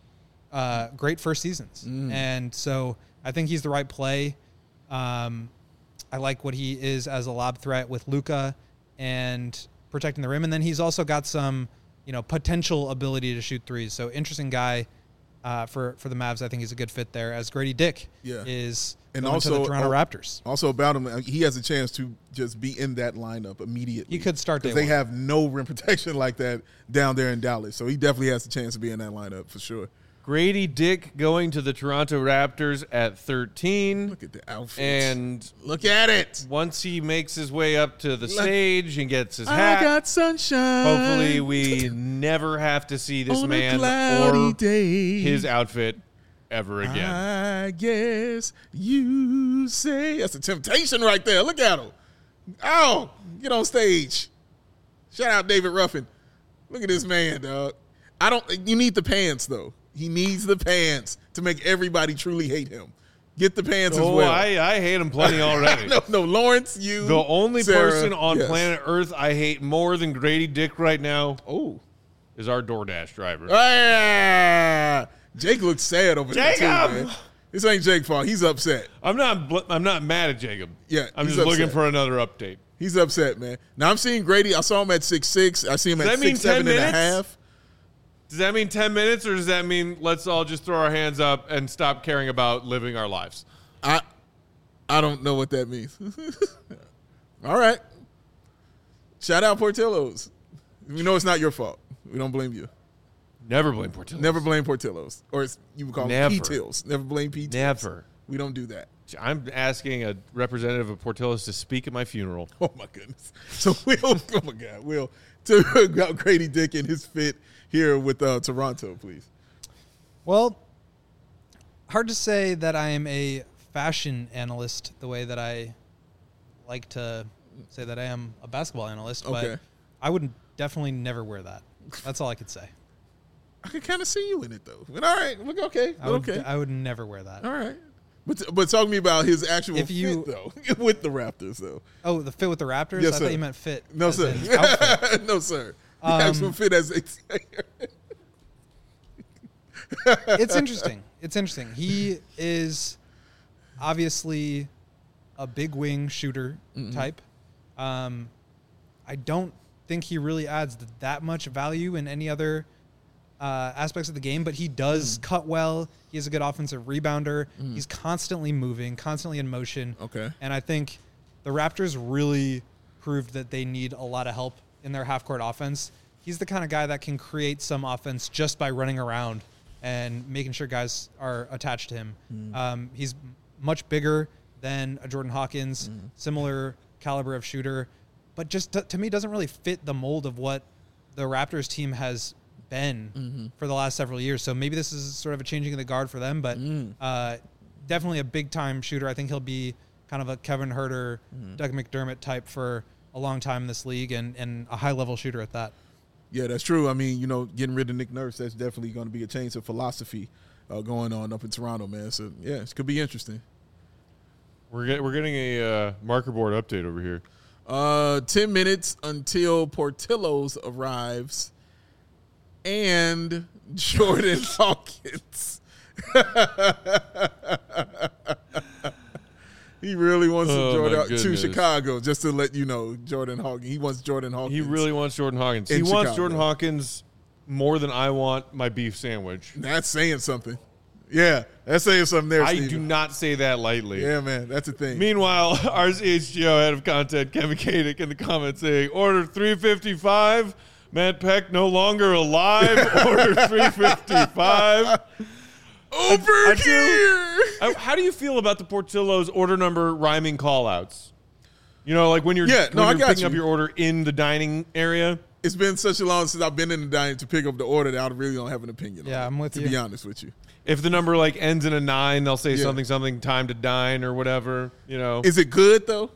uh, great first seasons. Mm. And so I think he's the right play. Um, I like what he is as a lob threat with Luka and protecting the rim. And then he's also got some, you know, potential ability to shoot threes. So interesting guy uh, for, for the Mavs. I think he's a good fit there, as Grady Dick Yeah. is And going to also- the Toronto oh, Raptors. Also about him, uh, he has a chance to just be in that lineup immediately. He could start day because they one. have no rim protection like that down there in Dallas. So he definitely has a chance to be in that lineup for sure. Grady Dick going to the Toronto Raptors at thirteen. Look at the outfit. And look at it. once he makes his way up to the stage and gets his I hat, got sunshine. hopefully we never have to see this on a man cloudy or day. his outfit ever again. I guess you say that's a temptation right there. Look at him. Oh, get on stage. Shout out David Ruffin. Look at this man, dog. I don't. You need the pants though. He needs the pants to make everybody truly hate him. Get the pants as Oh, well. I, I hate him plenty already. no, no, Lawrence, you. The only Sarah, person on yes. planet Earth I hate more than Grady Dick right now Oh. is our DoorDash driver. Ah, Jake looks sad over there too, Jacob! man. This ain't Jake's fault. He's upset. I'm not bl- I'm not mad at Jacob. Yeah, I'm he's just looking upset. for another update. He's upset, man. Now I'm seeing Grady. I saw him at six six. I see him Does at that mean six seven ten and a minutes? half. Does that mean ten minutes, or does that mean let's all just throw our hands up and stop caring about living our lives? I I don't know what that means. All right. Shout out Portillo's. We know it's not your fault. We don't blame you. Never blame Portillo's. Never blame Portillo's. Or it's, you would call Never. them P-Tills. Never blame P-Tills. Never. We don't do that. I'm asking a representative of Portillo's to speak at my funeral. Oh, my goodness. So, Will, oh, my God, Will, to about Grady Dick and his fit here with uh, Toronto, please. Well, hard to say that I am a fashion analyst the way that I like to say that I am a basketball analyst, Okay. but I would definitely never wear that. That's all I could say. I can kind of see you in it, though. But all right. Look, okay. I would, okay. I would never wear that. All right. But, but talk to me about his actual If you- fit, though, with the Raptors, though. Oh, the fit with the Raptors? Yes, I sir. thought you meant fit. No, as sir. in outfit. No, sir. The Um, actual fit, as they say. It's interesting. It's interesting. He is obviously a big wing shooter type. Um, I don't think he really adds that much value in any other uh, aspects of the game, but he does cut well. He is a good offensive rebounder. He's constantly moving, constantly in motion. Okay. And I think the Raptors really proved that they need a lot of help in their half-court offense. He's the kind of guy that can create some offense just by running around and making sure guys are attached to him. Um, he's much bigger than a Jordan Hawkins, similar caliber of shooter, but just to, to me doesn't really fit the mold of what the Raptors team has been Mm-hmm. for the last several years. So maybe this is sort of a changing of the guard for them, but uh, definitely a big-time shooter. I think he'll be kind of a Kevin Huerter, Doug McDermott type for a long time in this league, and, and a high-level shooter at that. Yeah, that's true. I mean, you know, getting rid of Nick Nurse, that's definitely going to be a change of philosophy uh, going on up in Toronto, man. So, yeah, it could be interesting. We're get, we're getting a uh, marker board update over here. Uh, ten minutes until Portillo's arrives and Jordan Hawkins. He really wants Oh, to, my Jordan, to goodness. Chicago, just to let you know, Jordan Hawkins. He wants Jordan Hawkins. He really wants Jordan Hawkins. In He wants Chicago. Jordan Hawkins more than I want my beef sandwich. That's saying something. Yeah, that's saying something there, I Steven. do not say that lightly. Yeah, man, that's a thing. Meanwhile, R C H G O head of content, Kevin Kadick, in the comments saying, order three fifty-five. Matt Peck no longer alive. Order three fifty-five. Over I do- here. Uh, How do you feel about the Portillo's order number rhyming callouts? You know, like when you're, Yeah, when no, I you're got picking you. up your order in the dining area. It's been such a long since I've been in the dining to pick up the order that I really don't have an opinion on Yeah, it, I'm with to you. be honest with you. If the number like ends in a nine, they'll say Yeah. something, something, time to dine or whatever. You know, Is it good, though?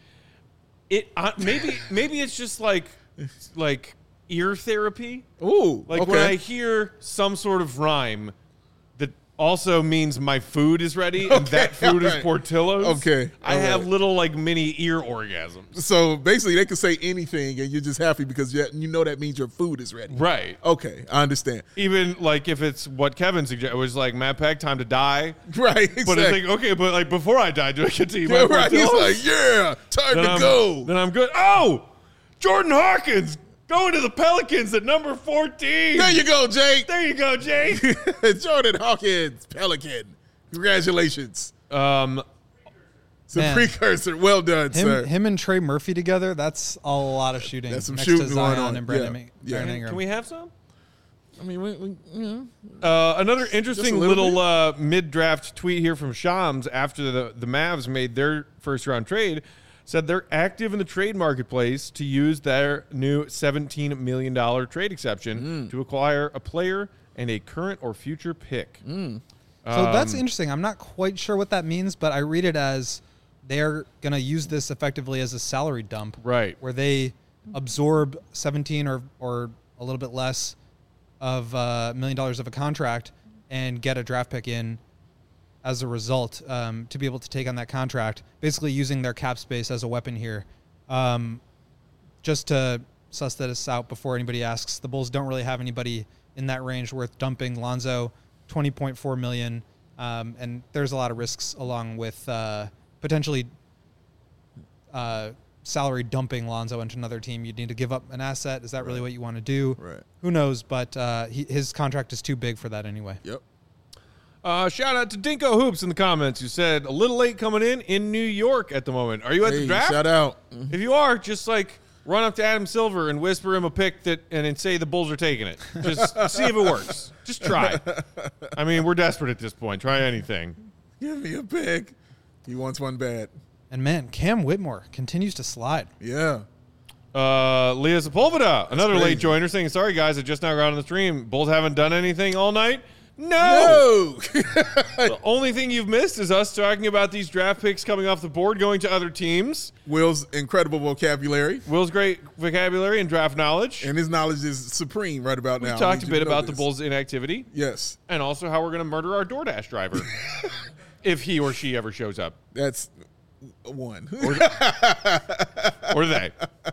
it uh, maybe maybe it's just like like ear therapy. Ooh, Like okay. when I hear some sort of rhyme that also means my food is ready and Okay, that food is alright. Portillo's. Okay, I have alright. little like mini ear orgasms. So basically, they can say anything, and you're just happy because you you know that means your food is ready. Right. Okay, I understand. Even like if it's what Kevin suggested, it was like Matt Peck, time to die. Right, exactly. But it's like, okay, but like before I die, do I get to eat my yeah, right. He's Portillo's? like, yeah, time then to I'm, go. Then I'm good. Oh, Jordan Hawkins going to the Pelicans at number fourteen. There you go, Jake. There you go, Jake. Jordan Hawkins, Pelican. Congratulations. um, It's a Man. precursor. Well done, Him, sir. him and Trey Murphy together, that's a lot of shooting. That's some next shooting to going Zion on. and Brandon, Yeah. Ma- Yeah. Brandon can, Ingram. can we have some? I mean, we, we, you know. Uh, another interesting little little, uh, mid-draft tweet here from Shams after the, the Mavs made their first-round trade said they're active in the trade marketplace to use their new seventeen million dollars trade exception to acquire a player and a current or future pick. So that's Um, interesting. I'm not quite sure what that means, but I read it as they're going to use this effectively as a salary dump. Right. Where they absorb seventeen or, or a little bit less of a uh, million dollars of a contract and get a draft pick in as a result um, to be able to take on that contract, basically using their cap space as a weapon here. Um, just to suss this out before anybody asks, the Bulls don't really have anybody in that range worth dumping. Lonzo, twenty point four million dollars, um, and there's a lot of risks along with uh, potentially uh, salary dumping Lonzo into another team. You'd need to give up an asset. Is that right. really what you want to do? Right. Who knows? But uh, he, his contract is too big for that anyway. Yep. Uh, shout out to Dinko Hoops in the comments who said, a little late coming in in New York at the moment. Are you at Hey, the draft? shout out. If you are, just like run up to Adam Silver and whisper him a pick that, and then say the Bulls are taking it. Just see if it works. Just try. I mean, we're desperate at this point. Try anything. Give me a pick. He wants one bad. And man, Cam Whitmore continues to slide. Yeah. Uh, Leah Sepulveda, another crazy. late joiner, saying, sorry, guys, I just now got on the stream. Bulls haven't done anything all night? No. No. The only thing you've missed is us talking about these draft picks coming off the board, going to other teams. Will's incredible vocabulary. Will's great vocabulary and draft knowledge. And his knowledge is supreme right about We now. talked I a need you bit to know about the this. Bulls' inactivity Yes. and also how we're going to murder our DoorDash driver if he or she ever shows up. That's one. Or they.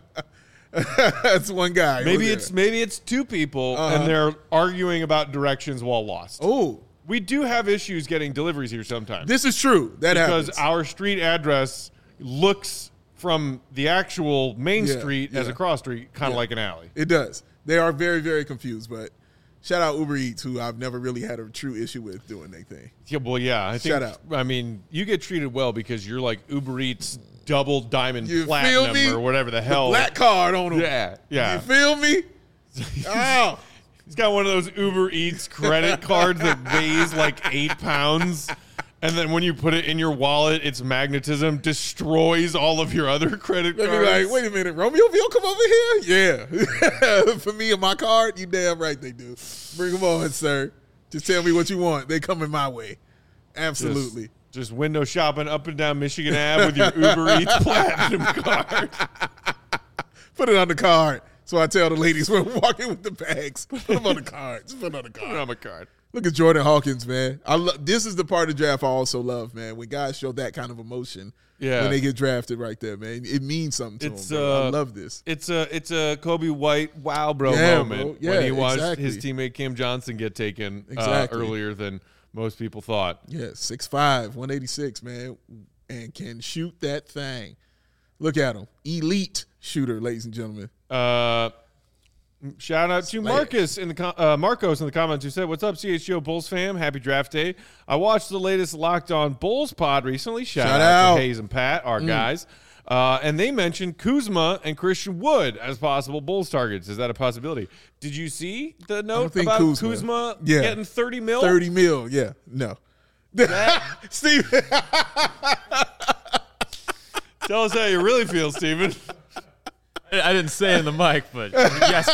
That's one guy. Maybe over it's there. maybe it's two people Uh-huh. and they're arguing about directions while lost. Oh, We do have issues getting deliveries here sometimes. this is true. That because happens. our street address looks from the actual main Yeah, street as yeah. a cross street, kind of Yeah. like an alley. It does. They are very, very confused, but shout out Uber Eats, who I've never really had a true issue with doing their thing. Yeah, well, yeah. I think, Shout out. I mean, you get treated well because you're like Uber Eats double diamond You feel platinum me? or whatever the The hell. black card on them. Yeah, yeah. You feel me? Oh. He's got one of those Uber Eats credit cards that weighs like eight pounds. And then when you put it in your wallet, its magnetism destroys all of your other credit They'd cards. be like, wait a minute, Romeoville come over here? Yeah. For me and my card, you damn right they do. Bring them on, sir. Just tell me what you want. They coming my way. Absolutely. Just, just window shopping up and down Michigan Avenue with your Uber Eats platinum card. Put it on the card. So I tell the ladies when we're walking with the bags, put them on the card. Just put it on the Put it card. on my card. Look at Jordan Hawkins, man. I lo- This is the part of the draft I also love, man. When guys show that kind of emotion Yeah. when they get drafted right there, man. It means something to It's, them. Bro. I uh, love this. It's a it's a Kobe White wow bro Yeah, moment bro. when Yeah, he watched exactly. his teammate Cam Johnson get taken uh, Exactly. earlier than most people thought. Yeah, six five, one eighty-six, man, and can shoot that thing. Look at him. Elite shooter, ladies and gentlemen. Uh, shout out to Slash. Marcus in the com- uh, Marcos in the comments who said, "What's up, C H G O Bulls fam? Happy draft day! I watched the latest Locked On Bulls pod recently. Shout, Shout out, out. to Hayes and Pat, our guys." Uh, and they mentioned Kuzma and Christian Wood as possible Bulls targets. Is that a possibility? Did you see the note think about Kuzma- Kuzma, Yeah. getting thirty mil? thirty mil, yeah. No. Steve. Tell us how you really feel, Steven. I I didn't say it in the mic, but yes.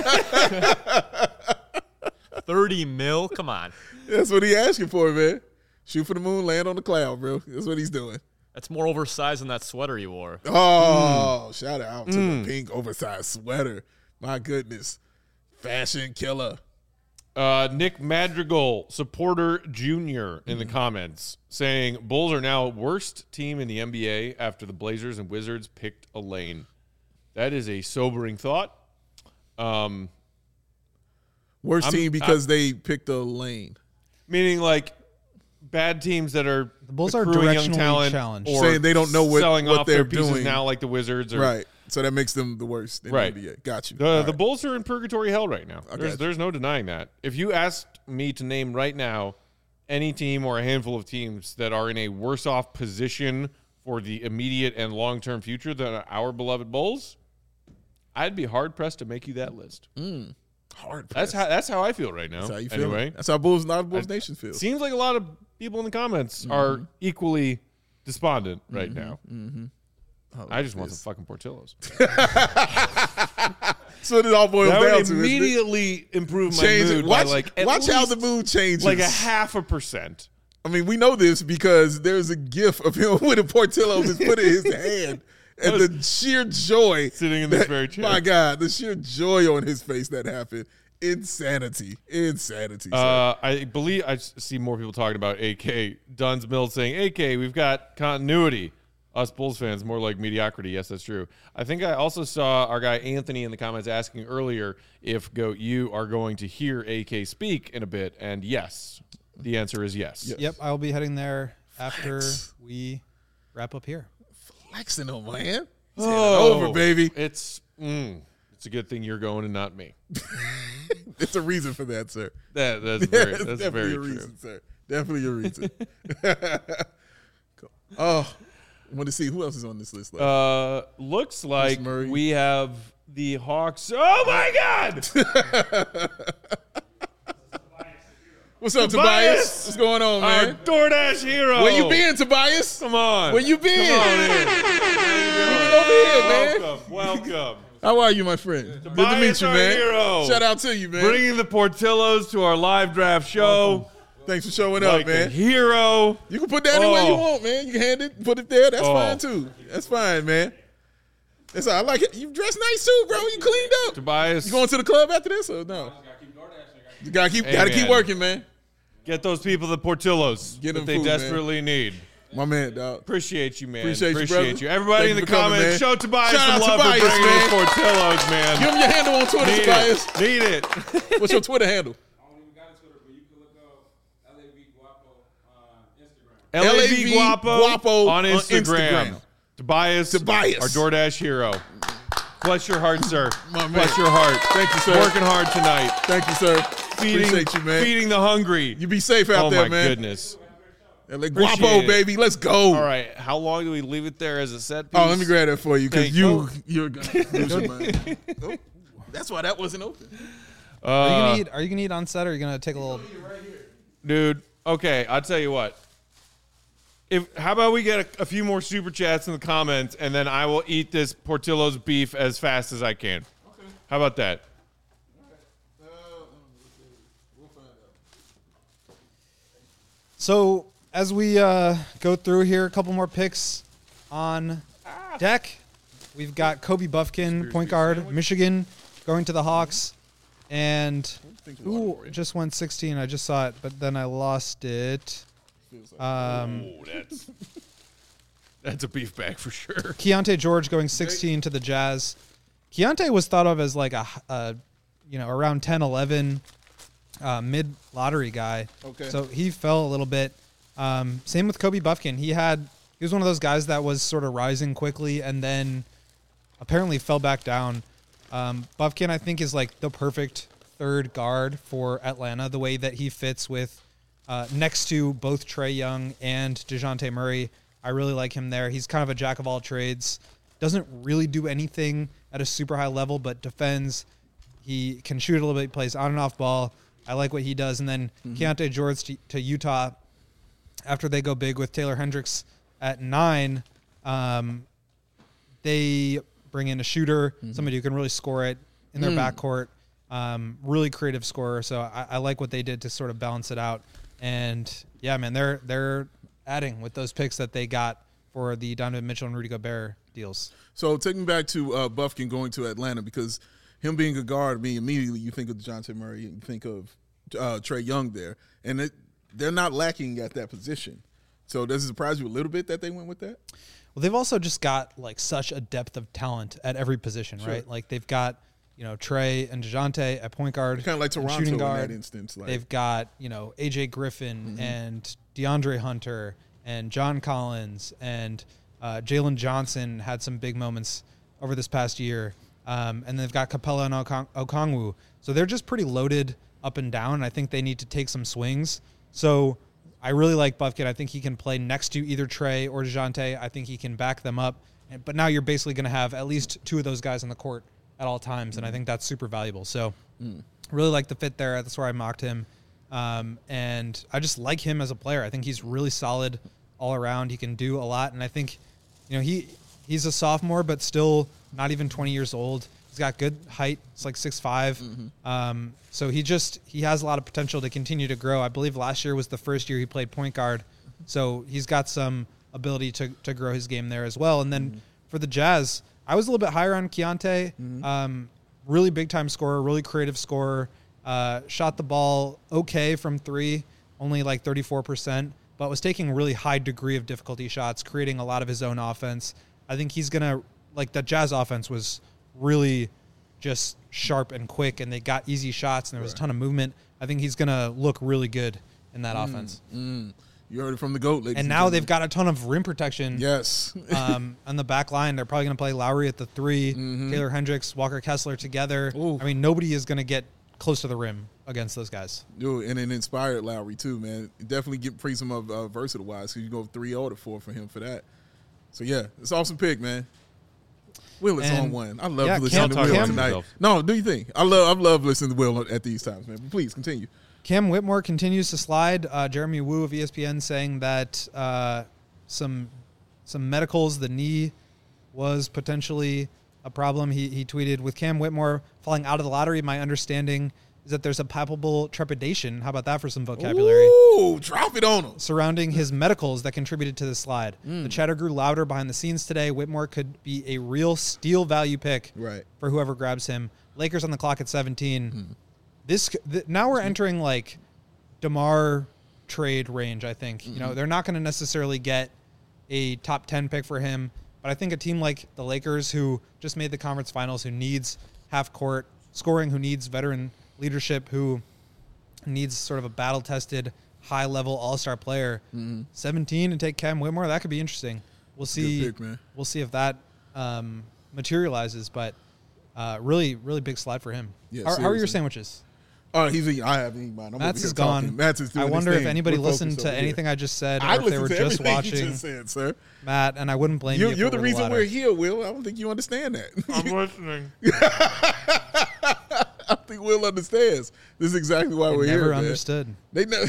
thirty mil? Come on. That's what he asking for, man. Shoot for the moon, land on the cloud, bro. That's what he's doing. That's more oversized than that sweater you wore. Oh, shout out to the pink oversized sweater. My goodness. Fashion killer. Uh, Nick Madrigal, supporter junior, in the comments saying Bulls are now worst team in the N B A after the Blazers and Wizards picked a lane. That is a sobering thought. Um, Worst I'm- team because they picked a lane. meaning like bad teams that are The Bulls are accruing young directionally talent challenged. or Saying they don't know what- selling what off they're their pieces doing. now, like the Wizards. Or, Right. So that makes them the worst in Right. the N B A. Got you. The, All the right. Bulls are in purgatory hell right now. got There's, you. there's no denying that. If you asked me to name right now any team or a handful of teams that are in a worse off position for the immediate and long term future than our beloved Bulls, I'd be hard pressed to make you that list. Hard. That's how that's how I feel right now. That's how you feel. Anyway, That's how Bulls, not Bulls Nation feels. seems like a lot of people in the comments are equally despondent right now. I just want this. some fucking Portillos. That's what it all boils That down would to. isn't it? immediately improve my Change mood it. Watch, by like at watch how least the mood changes. like a half a percent. I mean, we know this because there's a gif of him with a Portillo just put in his hand. And the sheer joy. Sitting in this that- very chair. My God, the sheer joy on his face that happened. Insanity. Insanity. sir. Uh, I believe I s- see more people talking about A K. Duns Mills saying, A K, we've got continuity. Us Bulls fans, more like mediocrity. Yes, that's true. I think I also saw our guy Anthony in the comments asking earlier if Goat, you are going to hear A K speak in a bit. And yes, the answer is yes. Yep, I will be heading there after we wrap up here. Flexing him, man. Oh, over, baby. It's mm, it's a good thing you're going and not me. It's a reason for that, sir. That that's very It's that's definitely very a true. reason, sir. Definitely a reason. Cool. Oh, I want to see who else is on this list. Left. Uh, looks like Murray. we have the Hawks. Oh my God! What's up, Tobias? Tobias? What's going on, Our man? DoorDash hero. Where you been, Tobias? Come on. Where you been? Come on in. You been over here, man. Welcome, welcome. How are you, my friend? Good to Tobias, meet you, our man. hero. Shout out to you, man. Bringing the Portillos to our live draft show. Thanks for showing Like up, man. a hero. You can put that anywhere you Oh. want, man. You can hand it, put it there. That's Oh. fine too. That's fine, man. That's all. I like it. You dressed nice too, bro. You cleaned up. Tobias, You going to the club after this or no? You gotta keep, Hey, gotta keep man. working, man. get those people the Portillos Get that them they food, man. desperately need. My man, dog. Appreciate you, man. Appreciate you, brother. Everybody Thank in the you for coming, comments, man. show Tobias Shout some out love Tobias, for bringing man. us Portillos, man. Give him your handle on Twitter, Need Tobias. it. Need it. What's your Twitter handle? I don't even got a Twitter, but you can look up L A V Guapo on Instagram. L A V Guapo, Guapo on on Instagram. Instagram. Tobias, Tobias. our DoorDash hero. Bless your heart, sir. My man. Bless your heart. Thank you, sir. Working hard tonight. Thank you, sir. Feeding, Appreciate you, man. feeding the hungry. You be safe out oh there, my man. goodness. L A Appreciate Guapo, it. baby. Let's go. All right. How long do we leave it there as a set piece? Oh, let me grab that for you because Thank- you, oh. you're gonna lose your mind. Oh, that's why that wasn't open. Are you Uh, gonna eat? Are you gonna eat on set, or are you gonna take a little? dude, okay. I'll tell you what. If how about we get a, a few more super chats in the comments, and then I will eat this Portillo's beef as fast as I can. Okay. How about that? Uh, we'll find out. So as we uh, go through here, a couple more picks on deck. We've got Kobe Buffkin, point guard, Michigan, going to the Hawks, and who just went sixteen? I just saw it, but then I lost it. Um, Oh, that's that's a beef bag for sure. Keontae George going sixteen to the Jazz. Keontae was thought of as like a, a you know, around ten, eleven uh, mid lottery guy. Okay. So he fell a little bit. Um, same with Kobe Buffkin. He had he was one of those guys that was sort of rising quickly and then apparently fell back down. Um, Buffkin, I think, is like the perfect third guard for Atlanta. The way that he fits with uh, next to both Trae Young and DeJounte Murray. I really like him there. He's kind of a jack of all trades. Doesn't really do anything at a super high level, but defends. He can shoot a little bit. He plays on and off ball. I like what he does. And then mm-hmm. Keontae George to, to Utah after they go big with Taylor Hendricks at nine. Um, they bring in a shooter, mm-hmm. somebody who can really score it in their mm. backcourt. Um, really creative scorer. So I, I like what they did to sort of balance it out. And yeah, man, they're they're adding with those picks that they got for the Donovan Mitchell and Rudy Gobert deals. So take me back to uh, Buffkin going to Atlanta because him being a guard, I mean, immediately you think of DeJounte Murray and you think of uh, Trae Young there. And it, they're not lacking at that position. So does it surprise you a little bit that they went with that? Well, they've also just got like such a depth of talent at every position, Sure. right? Like they've got, you know, Trae and DeJounte at point guard. Kind of like and Toronto shooting guard. in that instance. Like. They've got, you know, A J Griffin Mm-hmm. and DeAndre Hunter and John Collins and uh, Jalen Johnson had some big moments over this past year. Um, and they've got Capella and Okong- Okongwu. So they're just pretty loaded up and down. And I think they need to take some swings. So I really like Buffkin. I think he can play next to either Trae or DeJounte. I think he can back them up. And, but now you're basically going to have at least two of those guys on the court at all times. Mm. And I think that's super valuable. So mm. really like the fit there. That's where I mocked him. Um, and I just like him as a player. I think he's really solid all around. He can do a lot. And I think, you know, he he's a sophomore, but still not even twenty years old. He's got good height. It's like six five. Mm-hmm. Um, so he just, he has a lot of potential to continue to grow. I believe last year was the first year he played point guard. So he's got some ability to, to grow his game there as well. And then mm-hmm. for the Jazz, I was a little bit higher on Keontae. Mm-hmm. Um, really big time scorer, really creative scorer. Uh, shot the ball okay from three, only like thirty-four percent, but was taking really high degree of difficulty shots, creating a lot of his own offense. I think he's going to, like the Jazz offense was really just sharp and quick, and they got easy shots, and there was right. a ton of movement. I think he's going to look really good in that mm, offense. Mm. You heard it from the GOAT, ladies. And now they've got a ton of rim protection. Yes. um, on the back line, they're probably going to play Lowry at the three, Mm-hmm. Taylor Hendricks, Walker Kessler together. Ooh. I mean, nobody is going to get close to the rim against those guys. Dude, and an inspired Lowry, too, man. Definitely get praise him of uh, versatile-wise, because you go three oh to four for him for that. So, yeah, it's an awesome pick, man. Will is And- on one. I love yeah, listening Cam- to Will Cam- tonight. No, do you think? I love I love listening to Will at these times, man. But please, continue. Cam Whitmore continues to slide. Uh, Jeremy Woo of E S P N saying that uh, some some medicals, the knee was potentially a problem. He he tweeted, with Cam Whitmore falling out of the lottery, my understanding is that there's a palpable trepidation. How about that for some vocabulary? Ooh, drop it on him. Surrounding his medicals that contributed to the slide. Mm. The chatter grew louder behind the scenes today. Whitmore could be a real steal value pick Right. for whoever grabs him. Lakers on the clock at seventeen. Mm. This th- now we're entering like DeMar trade range, I think. You know, they're not going to necessarily get a top ten pick for him, but I think a team like the Lakers, who just made the conference finals, who needs half court scoring, who needs veteran leadership, who needs sort of a battle tested high level all-star player, seventeen and take Cam Whitmore, that could be interesting. We'll see. pick, man. We'll see if that um, materializes, but uh, really, really big slide for him. Yeah, how, how are your seriously. sandwiches? Oh, he's eating. I haven't eaten mine. I'm Matt's over here is gone. talking. Matt's is doing I his wonder if thing. anybody We're listened focused to over anything here. I just said, I or if they were listened to just everything watching you just said, sir. Matt, and I wouldn't blame You, you. if you're it the were reason latter. we're here, Will. I don't think you understand that. I'm listening. I think Will understands. This is exactly why I we're never here. man. understood. They know.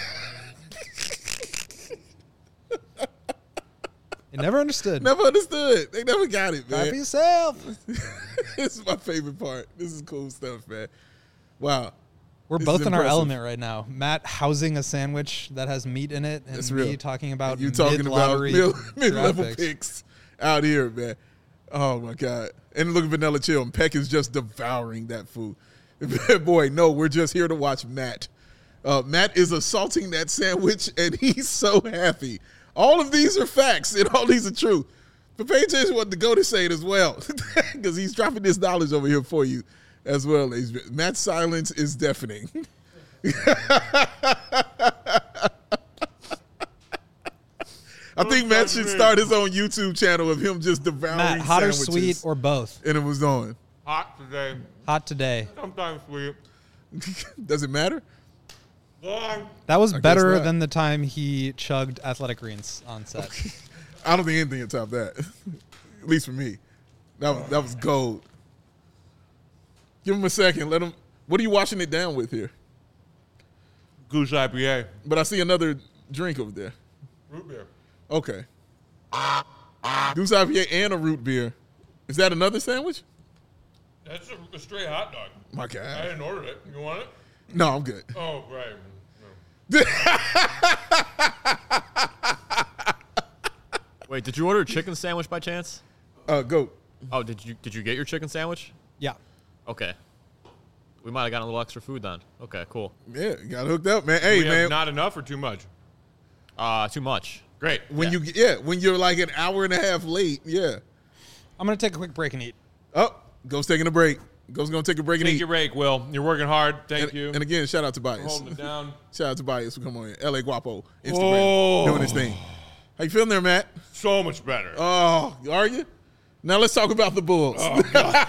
I never understood. Never understood. They never got it, Clap for man. yourself. This is my favorite part. This is cool stuff, man. Wow. We're This both is in our impressive. element right now. Matt housing a sandwich that has meat in it, and That's me real. talking about You talking about mid-lottery mid, draft mid-level picks. picks out here, man. Oh my God! And look at Vanilla Chill. And Peck is just devouring that food. Boy, no, we're just here to watch Matt. Uh, Matt is assaulting that sandwich, and he's so happy. All of these are facts, and all these are true. But pay attention to what the GOAT is saying as well, because he's dropping this knowledge over here for you as well. ladies. Matt's silence is deafening. I think Matt should start his own YouTube channel of him just devouring Matt, hot or sandwiches. sweet or both? And it was on. Hot today. Hot today. Sometimes sweet. Does it matter? Long. That was I guess better not. than the time he chugged Athletic Greens on set. I don't think anything can top that. At least for me. That was, that was gold. Give him a second. Let him. What are you washing it down with here? Goose I P A. But I see another drink over there. Root beer. Okay. Goose I P A and a root beer. Is that another sandwich? That's a, a straight hot dog. My I God. didn't order it. You want it? No, I'm good. Oh, right. No. Wait, did you order a chicken sandwich by chance? Uh, go. Oh, did you did you get your chicken sandwich? Yeah. Okay. We might have gotten a little extra food then. Okay, cool. Yeah, you got hooked up, man. Hey, we have man. not enough or too much? Uh, too much. Great. when yeah. you yeah, when you're like an hour and a half late, yeah. I'm going to take a quick break and eat. Oh, Ghost taking a break. Ghost gonna take a break and Take eat. your break, Will. You're working hard. Thank and, you. and again, shout out to Bias. Holding it down. Shout out to Bias for coming on in. L A Guapo, Instagram, Oh. doing his thing. How you feeling there, Matt? So much better. Oh, are you? Now let's talk about the Bulls. Oh,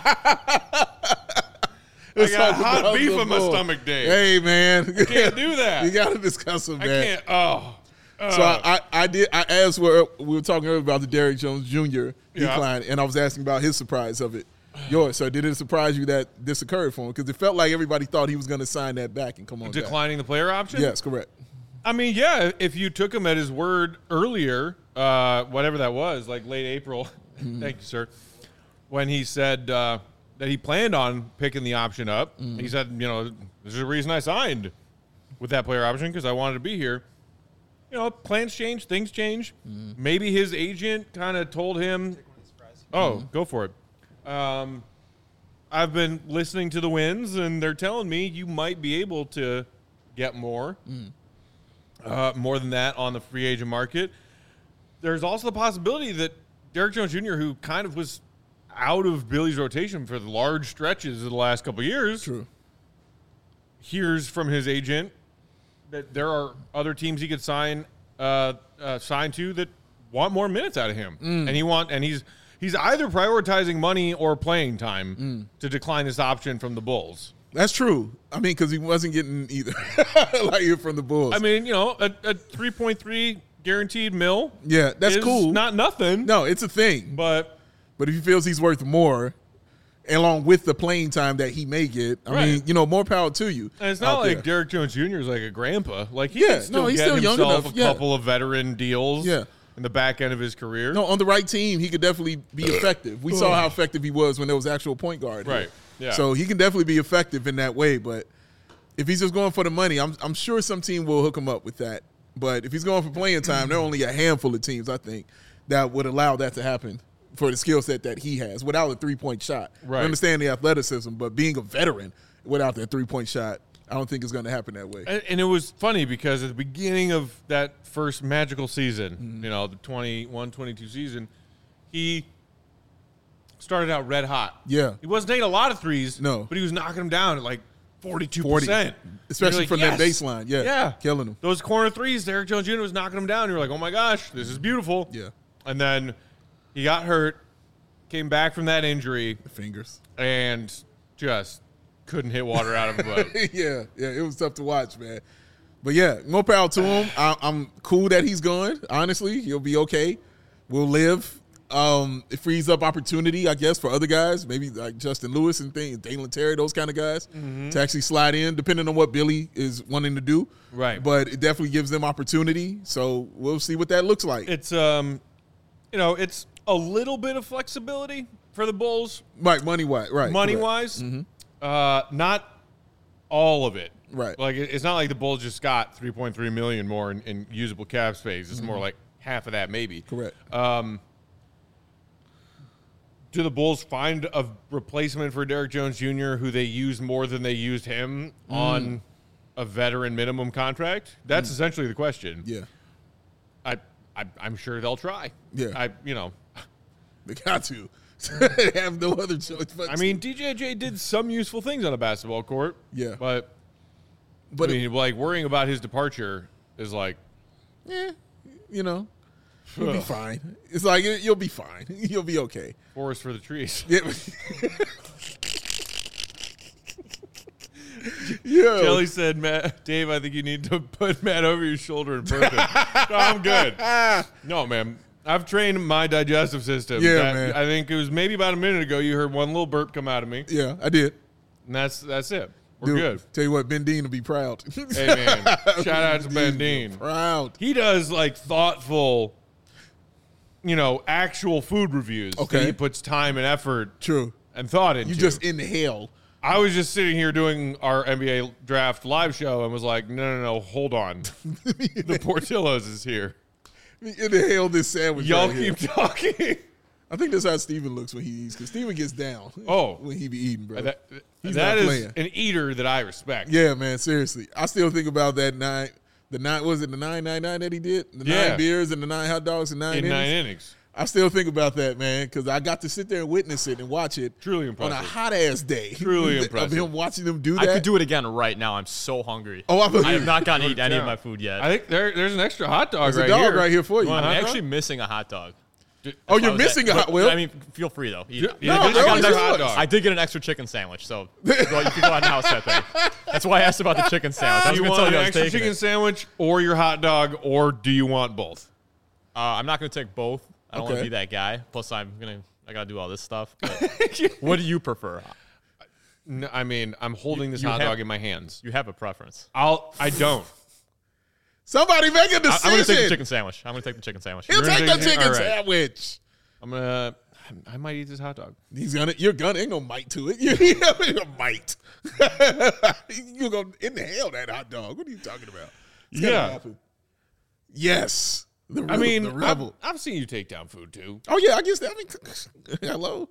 Let's I got talk hot about beef the on my Bulls. stomach, Dave. Hey, man. Can't do that. You got to discuss them, I man. can't. Oh. Oh. So I, I, I did. I asked where we were talking earlier about the Derrick Jones Junior Yeah. decline, and I was asking about his surprise of it. Yours. So did it surprise you that this occurred for him? Because it felt like everybody thought he was going to sign that back and come on. back. Declining the player option? Yes, correct. I mean, yeah, if you took him at his word earlier, uh, whatever that was, like late April, thank you, sir, when he said uh, that he planned on picking the option up, he said, you know, this is the reason I signed with that player option because I wanted to be here. You know, plans change, things change. Maybe his agent kind of told him, oh, go for it. Um, I've been listening to the Winds, and they're telling me you might be able to get more. Uh, more than that on the free agent market. There's also the possibility that Derrick Jones Junior, who kind of was out of Billy's rotation for the large stretches of the last couple of years, True. hears from his agent that there are other teams he could sign uh, uh, signed to that want more minutes out of him, Mm. and he want and he's he's either prioritizing money or playing time Mm. to decline this option from the Bulls. That's true. I mean, because he wasn't getting either like here from the Bulls. I mean, you know, a, a three point three guaranteed mil. yeah, that's is cool. Not nothing. no, it's a thing. but But if he feels he's worth more, along with the playing time that he may get, I Right. mean, you know, more power to you. and it's not out like there. Derrick Jones Junior is like a grandpa. Like he Yeah, can still no, he's get still young himself enough. a Yeah. couple of veteran deals. Yeah. in the back end of his career. No, on the right team, he could definitely be effective. We saw how effective he was when there was actual point guard. here. Right, yeah. So he can definitely be effective in that way. But if he's just going for the money, I'm I'm sure some team will hook him up with that. But if he's going for playing time, there are only a handful of teams, I think, that would allow that to happen for the skill set that he has without a three-point shot. Right. I understand the athleticism, but being a veteran without that three-point shot, I don't think it's going to happen that way. And, and it was funny because at the beginning of that first magical season, Mm-hmm. you know, the twenty-one twenty-two season, he started out red hot. Yeah. He wasn't taking a lot of threes, No. but he was knocking them down at like forty-two percent. Especially You're from like, that yes. baseline. Yeah. Yeah. Killing them. Those corner threes, Derrick Jones Junior was knocking them down. You're like, oh my gosh, this is beautiful. Yeah. And then he got hurt, came back from that injury, Fingers. and just couldn't hit water out of a boat. yeah, yeah, it was tough to watch, man. But yeah, more power to him. I, I'm cool that he's gone. Honestly, he'll be okay. We'll live. Um, it frees up opportunity, I guess, for other guys, maybe like Justin Lewis and things, Dalen Terry, those kind of guys, Mm-hmm. to actually slide in, depending on what Billy is wanting to do. Right. But it definitely gives them opportunity. So we'll see what that looks like. It's um, you know, it's a little bit of flexibility for the Bulls, right, money wise, right? money correct. wise. Uh, not all of it. Right. Like it- it's not like the Bulls just got three point three million more in, in usable cap space. It's more like half of that, maybe. Correct. Um, do the Bulls find a replacement for Derrick Jones Junior who they use more than they used him on a veteran minimum contract? That's essentially the question. Yeah, I, I, I'm sure they'll try. Yeah. I, you know, they got to. They have no other choice. But I mean, D J J did some useful things on a basketball court. Yeah. But, but I mean, like worrying about his departure is like, eh, you know, you'll be fine. It's like you'll be fine. You'll be okay. forest for the trees. Yeah. Yo. Kelly said, Matt, Dave, I think you need to put Matt over your shoulder and burp him. No, I'm good. No, man. I've trained my digestive system. Yeah, That- man. I think it was maybe about a minute ago you heard one little burp come out of me, Yeah, I did. and that's that's it. We're Dude, good. Tell you what, Ben Dean will be proud. Hey, man. Shout out to Ben Dean. Proud. He does, like, thoughtful, you know, actual food reviews. that Okay. he puts time and effort True. and thought into. You just inhale. I was just sitting here doing our N B A draft live show and was like, no, no, no, hold on. The Portillo's is here. Inhale this sandwich. Y'all right here. keep talking. I think that's how Steven looks when he eats, because Steven gets down. Oh. when he be eating, bro. That, He's that not is playing. an eater that I respect. Yeah, man, seriously. I still think about that nine, the nine, was it the nine nine nine that he did? The Yeah. nine beers and the nine hot dogs and nine In innings? nine innings. I still think about that, man, because I got to sit there and witness it and watch it. Truly on impressive. a hot ass day. Truly of impressive. him watching them do I that. could do it again right now. I'm so hungry. Oh, I I believe have not gotten to Put eat it any of down. my food yet. I think there, there's an extra hot dog There's a right dog here. right here for you. Want a I'm hot actually dog? missing a hot dog. Oh, you're I was at- missing a but- hot. Well, I mean, feel free though. Eat it. Yeah, No, there's no, an it's extra hot yours. dog. I did get an extra chicken sandwich, so well, you can go ahead and house that thing. That's why I asked about the chicken sandwich. I Do was you going to want tell an you I was extra taking chicken it. sandwich or your hot dog, or do you want both? Uh, I'm not going to take both. I don't want Okay. to be that guy. Plus, I'm gonna. I got to do all this stuff. But what do you prefer? No, I mean, I'm holding this you hot have- dog in my hands. You have a preference. I'll. I don't. somebody make a I, decision. I'm going to take the chicken sandwich. I'm going to take the chicken sandwich. He'll You're take gonna the take- chicken all right. sandwich. I'm gonna. I might eat this hot dog. He's gonna. You're gonna. Ain't no might to it. You're a might. You're gonna inhale that hot dog. What are you talking about? It's gonna Yeah. happen. Yes. The, I mean, the I've, rebel. I've seen you take down food too. Oh yeah, I guess that. I mean, hello.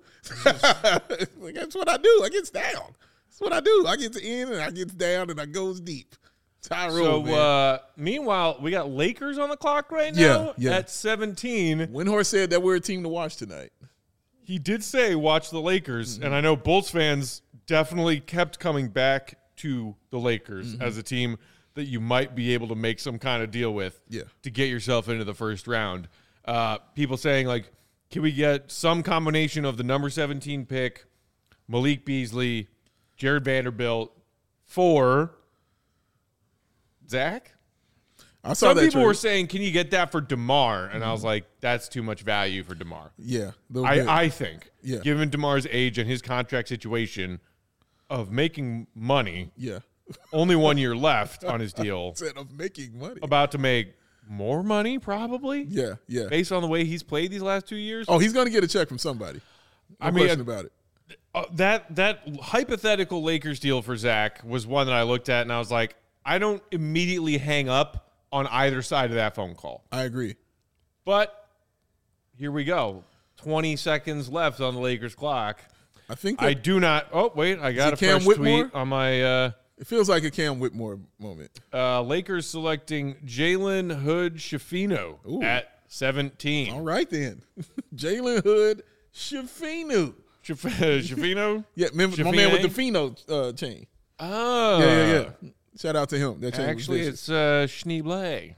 Like, that's what I do. I gets down. That's what I do. I gets in and I gets down and I goes deep. That's how I roll, So, man. uh, meanwhile, we got Lakers on the clock right Yeah, now yeah. at seventeen. Windhorst said that we're a team to watch tonight. He did say watch the Lakers, Mm-hmm. and I know Bulls fans definitely kept coming back to the Lakers Mm-hmm. as a team that you might be able to make some kind of deal with Yeah. to get yourself into the first round. Uh, people saying, like, can we get some combination of the number seventeen pick, Malik Beasley, Jared Vanderbilt, for Zach? I saw Some that people trade. were saying, can you get that for DeMar? And I was like, that's too much value for DeMar. Yeah, a little bit. I, I think, Yeah. given DeMar's age and his contract situation of making money, yeah. only one year left on his deal, Instead of making money. about to make more money probably, Yeah, yeah. based on the way he's played these last two years. Oh, he's going to get a check from somebody. No I mean, question uh, about it. Uh, that that hypothetical Lakers deal for Zach was one that I looked at and I was like, I don't immediately hang up on either side of that phone call. I agree. But here we go. twenty seconds left on the Lakers clock. I think I that do not. Oh, wait. I got a it Cam fresh Whitmore? tweet on my uh, it feels like a Cam Whitmore moment. uh, Lakers selecting Jalen Hood Shafino Ooh. at seventeen. All right, then. Jalen Hood Shafinu. Shaf- Shafino? Yeah, remember, my man with the Shafine? Fino uh, chain. Oh. Yeah, yeah, yeah. Shout out to him. That chain Actually, was it's uh, Schneeble.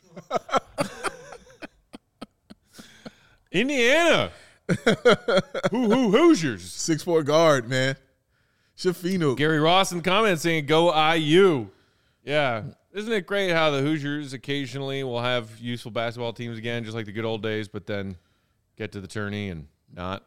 Indiana. Hoo hoo Hoosiers. six four guard, man. Shafino. Gary Ross in the comments saying, go I U. Yeah. Isn't it great how the Hoosiers occasionally will have useful basketball teams again, just like the good old days, but then get to the tourney and not?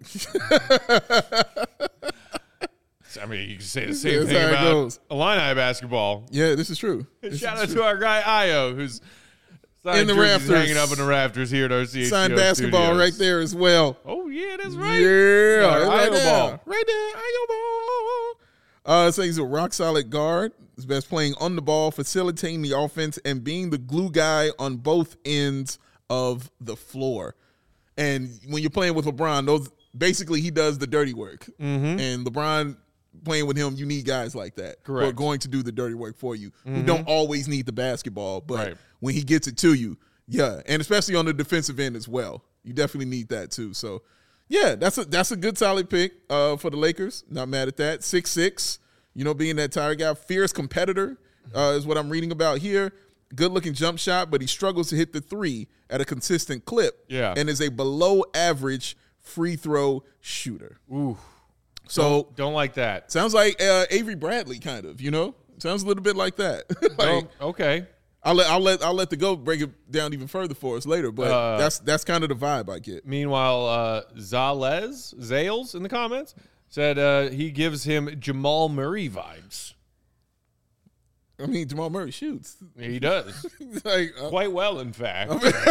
I mean, you can say the same That's thing how it about goes. Illini basketball. Yeah, this is true. This Shout is out true. to our guy Io, who's signed In the jerseys rafters. hanging up in the rafters here at our C H G O Signed basketball studios. right there as well. Oh yeah, that's right. Yeah, Our right Io there. ball. Right there, Io ball. Uh, so he's a rock solid guard. He's best playing on the ball, facilitating the offense, and being the glue guy on both ends of the floor. And when you're playing with LeBron, those basically he does the dirty work. Mm-hmm. And LeBron playing with him, you need guys like that who are Correct. going to do the dirty work for you. Who don't always need the basketball, but Right. when he gets it to you, yeah, and especially on the defensive end as well, you definitely need that too. So, yeah, that's a that's a good solid pick uh, for the Lakers. Not mad at that. Six six, you know, being that tire guy, fierce competitor uh, is what I'm reading about here. Good looking jump shot, but he struggles to hit the three at a consistent clip. Yeah. and is a below average free throw shooter. Ooh, So don't like that. sounds like uh, Avery Bradley, kind of. You know, sounds a little bit like that. Like, Oh, okay. I'll let I'll let I'll let the GOAT break it down even further for us later, but Uh, that's that's kind of the vibe I get. Meanwhile, uh, Zales, Zales in the comments said uh, he gives him Jamal Murray vibes. I mean, Jamal Murray shoots He does. like, uh, Quite well, in fact.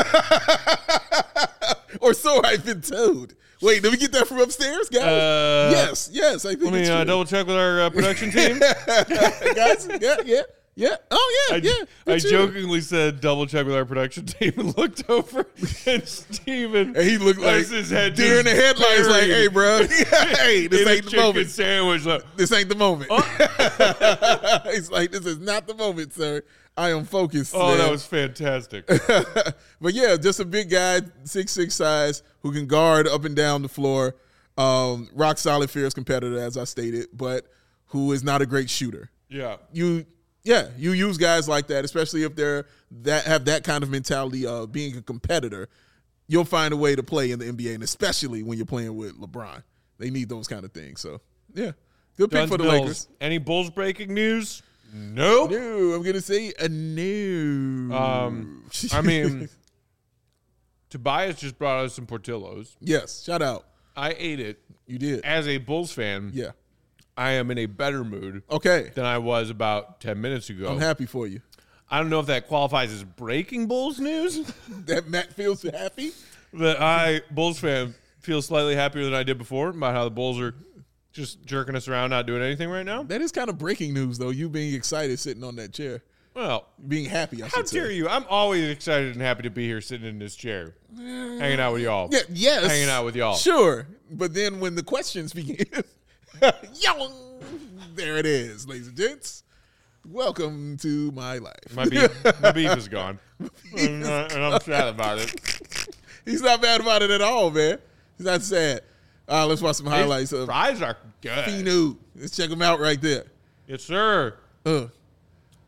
or so I've been told. Wait, did we get that from upstairs, guys? Uh, yes, yes. I think Let me it's uh, true. double check with our uh, production team. guys. Yeah, yeah, yeah. Oh yeah, I, yeah. I for sure. jokingly said double check with our production team and looked over and Steven And he looked like has his head deer in the just headlights, like, buried "Hey, bro, hey, this in a ain't the chicken moment. sandwich. Like, This ain't the moment." Oh. He's like, "This is not the moment, sir. I am focused." oh, man." that was fantastic. But yeah, just a big guy, six six size, who can guard up and down the floor. Um, rock solid, fierce competitor, as I stated, but who is not a great shooter. Yeah. You, yeah, you use guys like that, especially if they're that have that kind of mentality of being a competitor. You'll find a way to play in the N B A, and especially when you're playing with LeBron, they need those kind of things. So yeah, good pick Guns for the Bills. Lakers. Any Bulls breaking news? Nope. No, I'm gonna say a no. Um, I mean, Tobias just brought us some Portillo's. yes, shout out. I ate it. You did. As a Bulls fan, Yeah. I am in a better mood Okay. than I was about ten minutes ago. I'm happy for you. I don't know if that qualifies as breaking Bulls news. That Matt feels happy. That I, Bulls fan, feel slightly happier than I did before about how the Bulls are just jerking us around, not doing anything right now. That is kind of breaking news, though. You being excited sitting on that chair, Well, being happy. I how should say. dare you? I'm always excited and happy to be here sitting in this chair, hanging out with y'all. Yeah. Yes. Hanging out with y'all. Sure, but then when the questions begin, yo, there it is, ladies and gents. Welcome to my life. My beef, my beef is gone, and, uh, and I'm sad about it. He's not bad about it at all, man. He's not sad. All right, let's watch some highlights His of fries are good. Finu. Let's check him out right there. Yes, sir. Uh,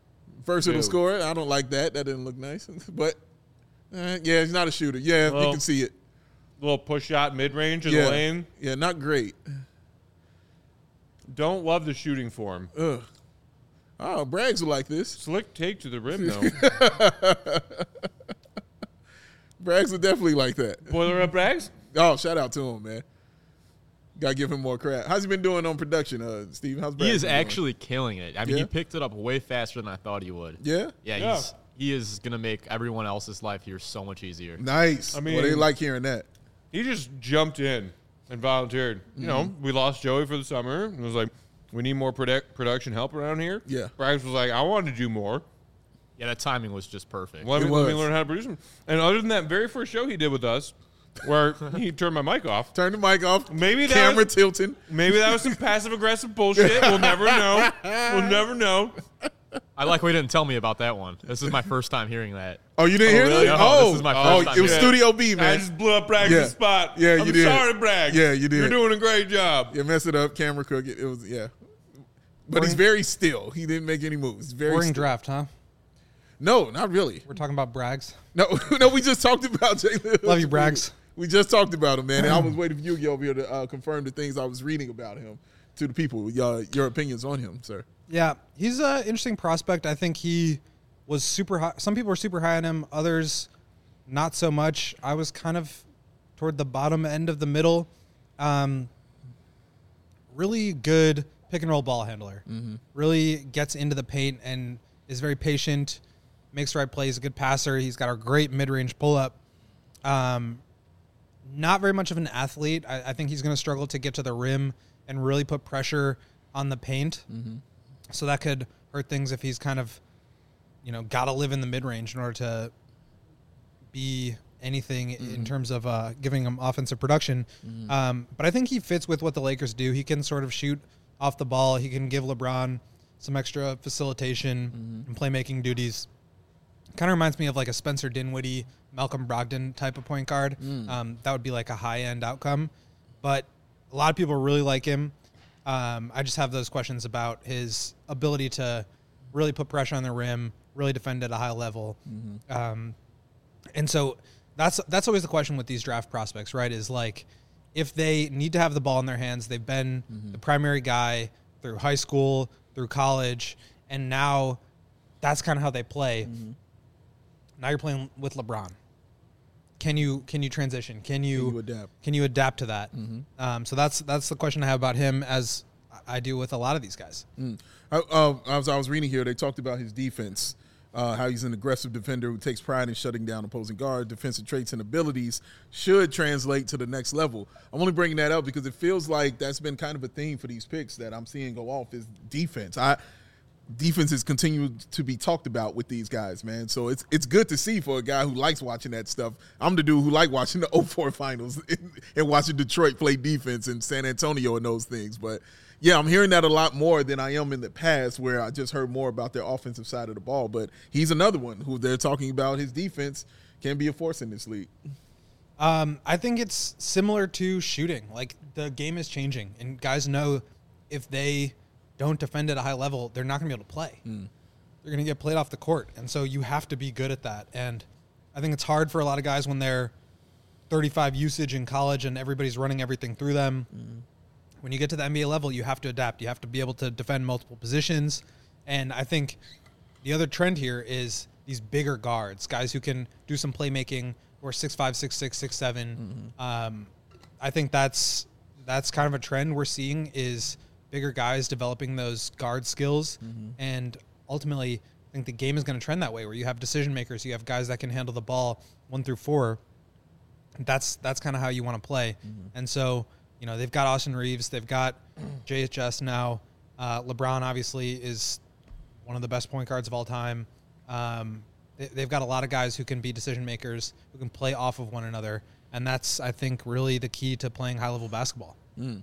Versatile Dude. scorer. I don't like that. That didn't look nice. But, uh, yeah, he's not a shooter. Yeah, Well, you can see it. Little push shot mid range in Yeah. the lane. Yeah, not great. Don't love the shooting form. Ugh. Oh, Braggs will like this. Slick take to the rim, though. Braggs will definitely like that. Boiler up Braggs? Oh, shout out to him, man. Got to give him more credit. How's he been doing on production, uh, Steve? How's Braggs He is been doing? actually killing it. I mean, Yeah? he picked it up way faster than I thought he would. Yeah? Yeah, Yeah. he's he is gonna make everyone else's life here so much easier. Nice. I I mean, well, they mean- like hearing that. He just jumped in and volunteered. You know, Mm-hmm. we lost Joey for the summer. And was like, we need more product, production help around here. Yeah. Braggs was like, I wanted to do more. Yeah, that timing was just perfect. Let It me, let me was. learn how to produce them. And other than that very first show he did with us, where he turned my mic off, Turn the mic off. Maybe that Camera was- tilting. maybe that was some passive aggressive bullshit. We'll never know. We'll never know. I like we didn't tell me about that one. This is my first time hearing that. Oh, you didn't hear really? that? No, oh, this is my oh, first time it was hearing Studio B, I man. just blew up Braggs' Yeah. spot. Yeah, you I'm did. sorry, Braggs. Yeah, you did. You're doing a great job. Yeah, mess it up. Camera crook. It, it was, yeah. But he's very still. He didn't make any moves. Very Boring still. draft, huh? No, not really. We're talking about Braggs. No, no, we just talked about Jalen. Love you, Braggs. We just talked about him, man. And I was waiting for you to get over here to uh, confirm the things I was reading about him to the people. Uh, your opinions on him, sir. Yeah, he's an interesting prospect. I think he was super high. Some people were super high on him, others not so much. I was kind of toward the bottom end of the middle. Um, really good pick and roll ball handler. Really gets into the paint and is very patient, makes the right plays, a good passer. He's got a great mid range pull up. Um, not very much of an athlete. I, I think he's going to struggle to get to the rim and really put pressure on the paint. So that could hurt things if he's kind of, you know, got to live in the mid range in order to be anything in terms of uh, giving him offensive production. Um, but I think he fits with what the Lakers do. He can sort of shoot off the ball. He can give LeBron some extra facilitation and playmaking duties. Kind of reminds me of like a Spencer Dinwiddie, Malcolm Brogdon type of point guard. Um, that would be like a high end outcome. But a lot of people really like him. Um, I just have those questions about his ability to really put pressure on the rim, really defend at a high level. Um, and so that's that's always the question with these draft prospects, right? Is like if they need to have the ball in their hands, they've been the primary guy through high school, through college, and now that's kind of how they play. Now you're playing with LeBron. Can you can you transition? Can you, you adapt? Can you adapt to that? Um, so that's that's the question I have about him, as I do with a lot of these guys. I, uh, as I was reading here, they talked about his defense, uh, how he's an aggressive defender who takes pride in shutting down opposing guards. Defensive traits and abilities should translate to the next level. I'm only bringing that up because it feels like that's been kind of a theme for these picks that I'm seeing go off is defense. I defenses continue to be talked about with these guys, man. So it's it's good to see for a guy who likes watching that stuff. I'm the dude who like watching the oh four finals and, and watching Detroit play defense and San Antonio and those things. But yeah, I'm hearing that a lot more than I am in the past, where I just heard more about their offensive side of the ball. But he's another one who they're talking about his defense can be a force in this league. Um, I think it's similar to shooting. Like the game is changing, and guys know if they don't defend at a high level, they're not going to be able to play. They're going to get played off the court, and so you have to be good at that. And I think it's hard for a lot of guys when they're thirty-five usage in college and everybody's running everything through them. When you get to the N B A level, you have to adapt. You have to be able to defend multiple positions. And I think the other trend here is these bigger guards, guys who can do some playmaking, or six five, six six, six seven. Um, I think that's that's kind of a trend we're seeing is bigger guys developing those guard skills. And ultimately, I think the game is going to trend that way, where you have decision makers, you have guys that can handle the ball one through four. That's that's kind of how you want to play. And so, you know, they've got Austin Reeves, they've got J H S now. Uh, LeBron obviously is one of the best point guards of all time. Um, they, they've got a lot of guys who can be decision makers, who can play off of one another. And that's, I think, really the key to playing high-level basketball.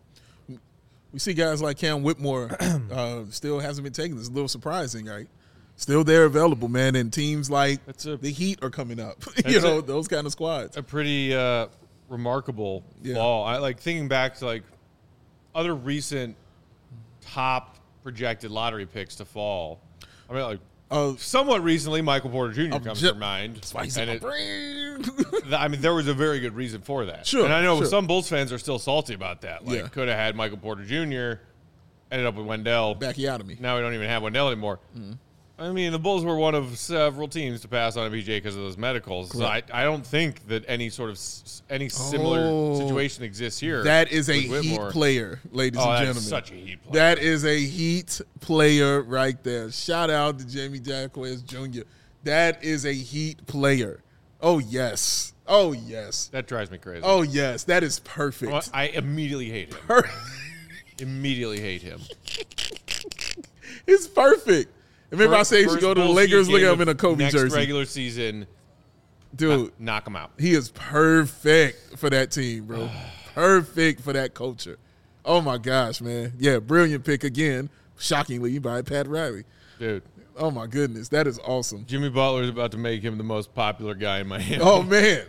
We see guys like Cam Whitmore uh, still hasn't been taken. It's a little surprising, right? Still there available, man. And teams like That's a- the Heat are coming up. you That's know, a- those kind of squads. a pretty uh, remarkable Yeah. fall. I like thinking back to like other recent top projected lottery picks to fall. I mean, like Oh, Somewhat recently, Michael Porter Junior I'm comes ju- to mind. that's why he's and in it- my brain. th- I mean, there was a very good reason for that. Sure, And I know sure. some Bulls fans are still salty about that. Like, Yeah. could have had Michael Porter Junior, ended up with Wendell. Backy out of me. Now we don't even have Wendell anymore. I mean, the Bulls were one of several teams to pass on a B J because of those medicals. So I, I don't think that any sort of s- any similar Oh, situation exists here. That is a with Heat Whitmore. player, ladies Oh, and that's gentlemen. such a Heat player. That is a Heat player right there. Shout out to Jamie Jacquez Junior That is a Heat player. Oh, yes. Oh, yes. That drives me crazy. Oh, yes. That is perfect. Well, I immediately hate him. Per- immediately hate him. it's perfect. Remember I said you should First go to the Bulls Lakers, Heat look game at him in a of Kobe next jersey. regular season, Dude, knock him out. he is perfect for that team, bro. Perfect for that culture. Oh, my gosh, man. Yeah, brilliant pick again, shockingly, by Pat Riley. Dude, Oh, my goodness. That is awesome. Jimmy Butler is about to make him the most popular guy in Miami. Oh, man.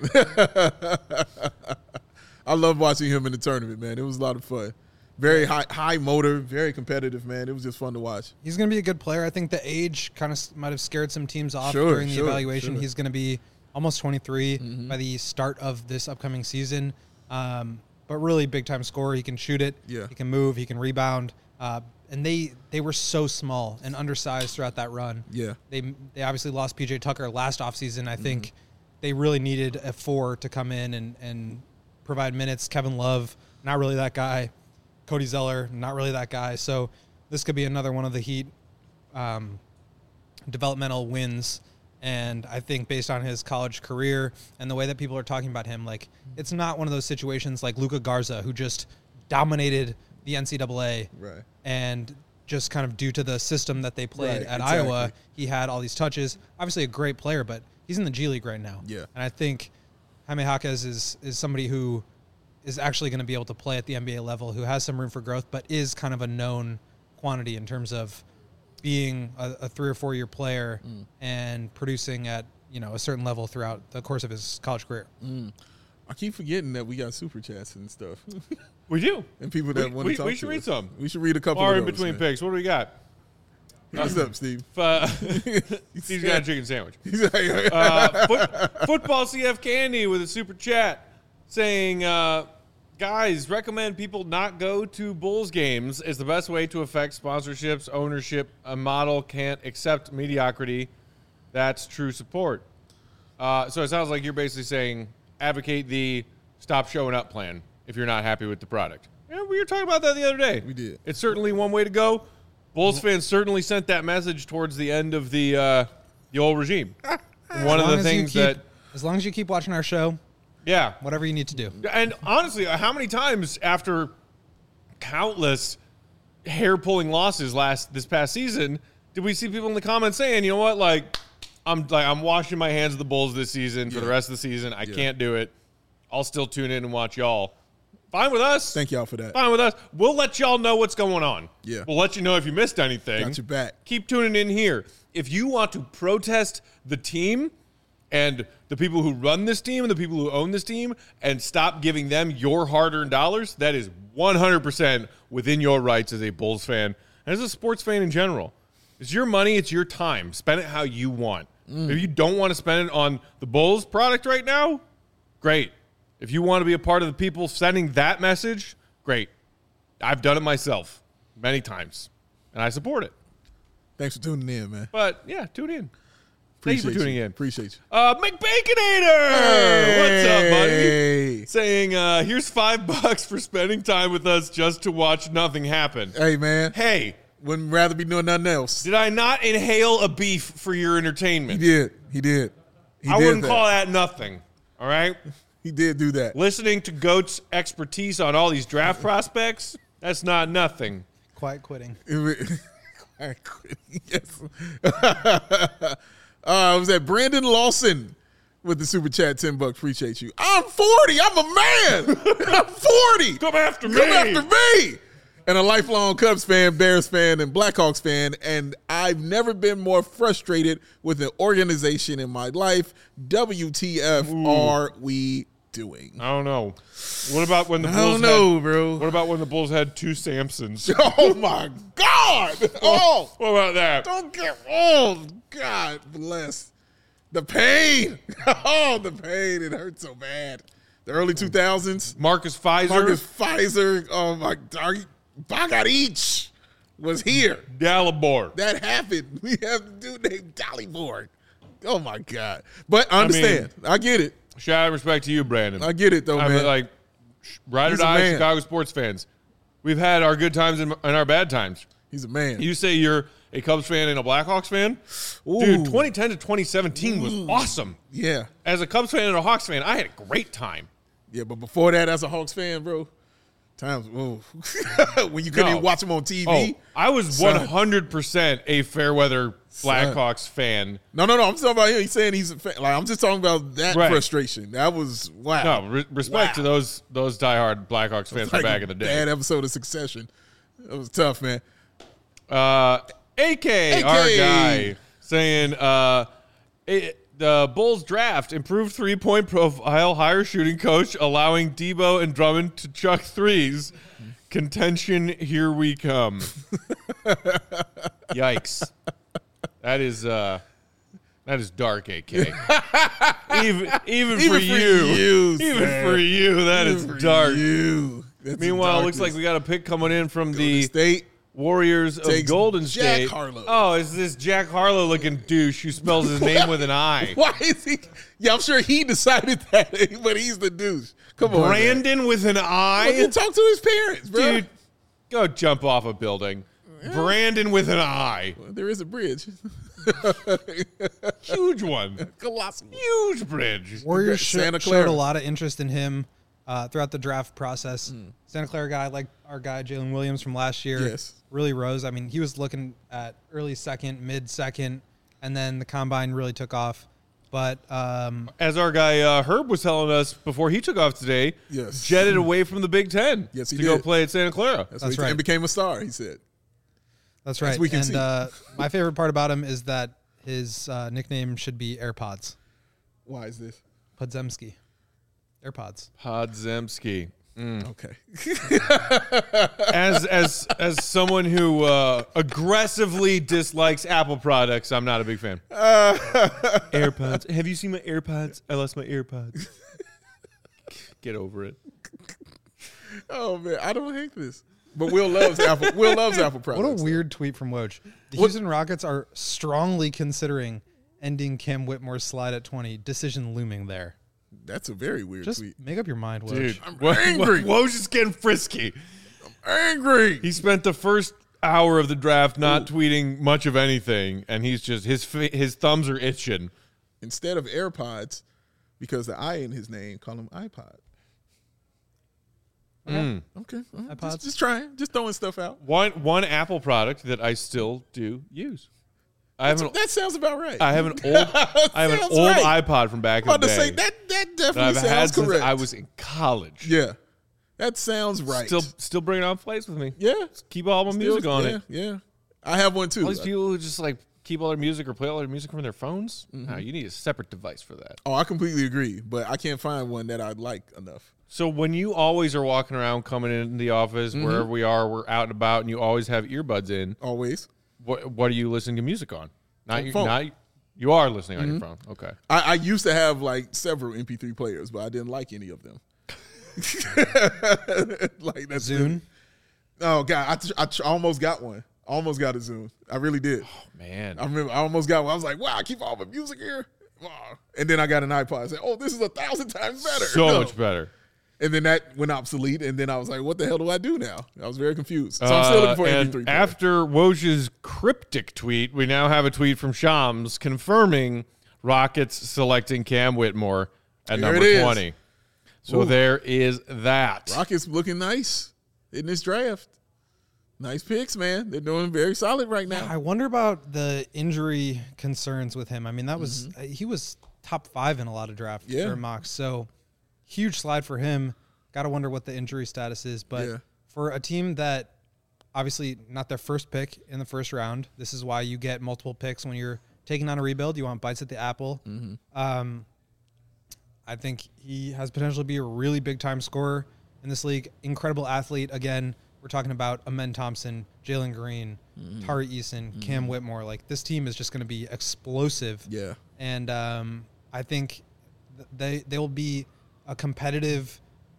I love watching him in the tournament, man. It was a lot of fun. Very high high motor, very competitive, man. It was just fun to watch. He's going to be a good player. I think the age kind of might have scared some teams off Sure, during the sure, evaluation. sure. He's going to be almost twenty-three by the start of this upcoming season. Um, but really big time scorer. He can shoot it. Yeah. He can move. He can rebound. Uh, and they they were so small and undersized throughout that run. Yeah. They they obviously lost P J Tucker last offseason. I think Mm-hmm. they really needed a four to come in and, and provide minutes. Kevin Love, not really that guy. Cody Zeller, not really that guy. So this could be another one of the Heat um, developmental wins. And I think based on his college career and the way that people are talking about him, like it's not one of those situations like Luka Garza, who just dominated the N C double A. Right. And just kind of due to the system that they played Right, at exactly. Iowa, he had all these touches. Obviously a great player, but he's in the G League right now. Yeah. And I think Jaime Jaquez is, is somebody who is actually going to be able to play at the N B A level, who has some room for growth, but is kind of a known quantity in terms of being a, a three or four year player Mm. and producing at, you know, a certain level throughout the course of his college career. I keep forgetting that we got super chats and stuff. We do. and people that We- want we- to talk we to should read us. some. We should read a couple Or of in those, between man. picks. What do we got? What's up, Steve? Uh, Steve's got a chicken sandwich. He's like, Uh, foot, football C F Candy with a super chat saying, uh, guys, recommend people not go to Bulls games is the best way to affect sponsorships, ownership. A model can't accept mediocrity. That's true support. Uh, so it sounds like you're basically saying advocate the stop showing up plan if you're not happy with the product. Yeah, we were talking about that the other day. We did. It's certainly one way to go. Bulls fans certainly sent that message towards the end of the uh, the old regime. One As of long the as you things keep- that, as long as you keep watching our show, yeah, whatever you need to do. and honestly, how many times after countless hair-pulling losses last this past season did we see people in the comments saying, you know what, like I'm like I'm washing my hands of the Bulls this season for the Yeah. rest of the season. I Yeah. can't do it. I'll still tune in and watch y'all. Fine with us. Thank y'all for that. Fine with us. We'll let y'all know what's going on. Yeah. We'll let you know if you missed anything. Got your back. Keep tuning in here. If you want to protest the team and the people who run this team and the people who own this team and stop giving them your hard-earned dollars, that is one hundred percent within your rights as a Bulls fan and as a sports fan in general. It's your money. It's your time. Spend it how you want. If you don't want to spend it on the Bulls product right now, great. If you want to be a part of the people sending that message, great. I've done it myself many times, and I support it. Thanks for tuning in, man. But, yeah, tune in. Thank Appreciate you for tuning in. Appreciate you. Uh, McBaconator! What's up, buddy? Hey. Saying, uh, here's five bucks for spending time with us just to watch nothing happen. Hey, man. Hey, Wouldn't rather be doing nothing else. did I not inhale a beef for your He entertainment? did. He did. He I did wouldn't that. call that nothing, all right? He did do that. Listening to Goat's expertise on all these draft prospects, that's not nothing. Quiet quitting. Yes. uh, was that Brandon Lawson with the super chat, ten bucks. Appreciate you. I'm forty. I'm a man. I'm forty. Come after me. Come after me. And a lifelong Cubs fan, Bears fan, and Blackhawks fan. And I've never been more frustrated with an organization in my life. W T F are we doing? I don't know. What about when the I Bulls don't know, had, bro. What about when the Bulls had two Samsons? Oh my God! Oh, What about that? don't get oh God bless the pain. Oh, the pain! It hurts so bad. The early two thousands. Marcus Pfizer, Marcus Pfizer. Oh my God! Bagarich was here. Dalibor. That happened. We have a dude named Dalibor. Oh my God! But I understand. I, mean, get it. Shout out and respect to you, Brandon. I get it though, I man. mean, like, ride or He's a die man. Chicago sports fans. We've had our good times and, and our bad times. He's a man. You say you're a Cubs fan and a Blackhawks fan? Ooh. Dude, twenty ten to twenty seventeen was awesome. Yeah. As a Cubs fan and a Hawks fan, I had a great time. Yeah, but before that, as a Hawks fan, bro, times whoa. when you couldn't No. even watch them on T V. Oh, I was Son. one hundred percent a fair weather Blackhawks fan. No, no, no. I'm talking about him. He's saying he's a fan. Like I'm just talking about that Right. frustration. That was wow. No, re- respect Wow. to those those diehard Blackhawks fans from Like back a in the day. Bad episode of Succession. It was tough, man. Uh, A K, A K. our guy, saying uh, it, the Bulls draft improved three point profile, higher shooting coach, allowing Debo and Drummond to chuck threes. Contention, here we come. Yikes! That is uh, that is dark, A K. even even, Even for, for you, you, even sir. for you, that is For dark. You. That's Meanwhile, it looks darkness. like we got a pick coming in from Golden the State. Warriors of Takes Golden Jack State. Harlow. Oh, is this Jack Harlow looking douche who spells his name with an I? Why is he? Yeah, I'm sure he decided that, but he's the douche. Come on, man. Brandon with an Well, I? you talk to his parents, bro. Dude, go jump off a building. Brandon with an I. There is a bridge. Huge one. Colossal. Huge bridge. Warriors sh- Santa showed Clara. a lot of interest in him uh, throughout the draft process. Hmm. Santa Clara guy, like our guy Jalen Williams from last year, Yes. really rose. I mean, he was looking at early second, mid second, and then the combine really took off. But um, As our guy uh, Herb was telling us before he took off today, Yes. jetted away from the Big Ten Yes, he to go did. play at Santa Clara. That's, That's what he right. And became a star, he said. that's right. we can and see. uh, my favorite part about him is that his uh, nickname should be AirPods. Why is this? Podzemski. AirPods. Podzemski. Okay. As as as someone who uh, aggressively dislikes Apple products, I'm not a big fan. AirPods. Have you seen my AirPods? I lost my AirPods. Get over it. Oh, man. I don't hate this. But Will loves Apple. Will loves Apple products. What a weird tweet from Woj. The Houston Rockets are strongly considering ending Cam Whitmore's slide at twenty. Decision looming there. That's a very weird Just tweet. make up your mind, Woj. Dude, I'm Wo- angry. Wo- Woj is getting frisky. Angry. He spent the first hour of the draft not tweeting much of anything, and he's just his fi- his thumbs are itching. Instead of AirPods, because the I in his name, call him iPod. Mm. Okay. Well, iPods. Just, just trying. Just throwing stuff out. One one Apple product that I still do use. I have an That sounds about right. I have an old I have an Sounds old right. iPod from back in I'm the about to day say that that that definitely I've had sounds since correct. I was in college. yeah, that sounds right. Still still bringing on plays with me. yeah, Keep all my Still- music on yeah, it. Yeah, I have one too. All these people who just like keep all their music or play all their music from their phones. Mm-hmm. No, you need a separate device for that. Oh, I completely agree, but I can't find one that I like enough. So when you always are walking around, coming in the office, Mm-hmm. wherever we are, we're out and about, and you always have earbuds in. Always, What what are you listening to music on? Not your, phone. not you are listening on your Mm-hmm. phone. Okay. I, I used to have like several M P three players, but I didn't like any of them. Like that's Zune. Oh God, I, tr- I tr- almost got one. Almost got a Zune. I really did. Oh, Man. I remember I almost got one. I was like, wow, I keep all my music here. Wow. And then I got an iPod. I said, oh, this is a thousand times better. So No. much better. And then that went obsolete. And then I was like, what the hell do I do now? I was very confused. So I'm still looking for Uh, an M and P three player. after Woj's cryptic tweet, we now have a tweet from Shams confirming Rockets selecting Cam Whitmore at There number it is. twenty. So Ooh. there is that. Rockets looking nice in this draft. Nice picks, man. They're doing very solid right now. I wonder about the injury concerns with him. I mean, that was uh, he was top five in a lot of draft Mm-hmm. Yeah. or mocks. So huge slide for him. Got to wonder what the injury status is. But Yeah. for a team that obviously not their first pick in the first round, this is why you get multiple picks when you're taking on a rebuild. You want bites at the apple. Mm-hmm. Um, I think he has potential to be a really big-time scorer in this league. Incredible athlete. Again, we're talking about Amen Thompson, Jalen Green, mm-hmm. Tari Eason, mm-hmm. Cam Whitmore. Like, this team is just going to be explosive. Yeah. And um, I think they they will be a competitive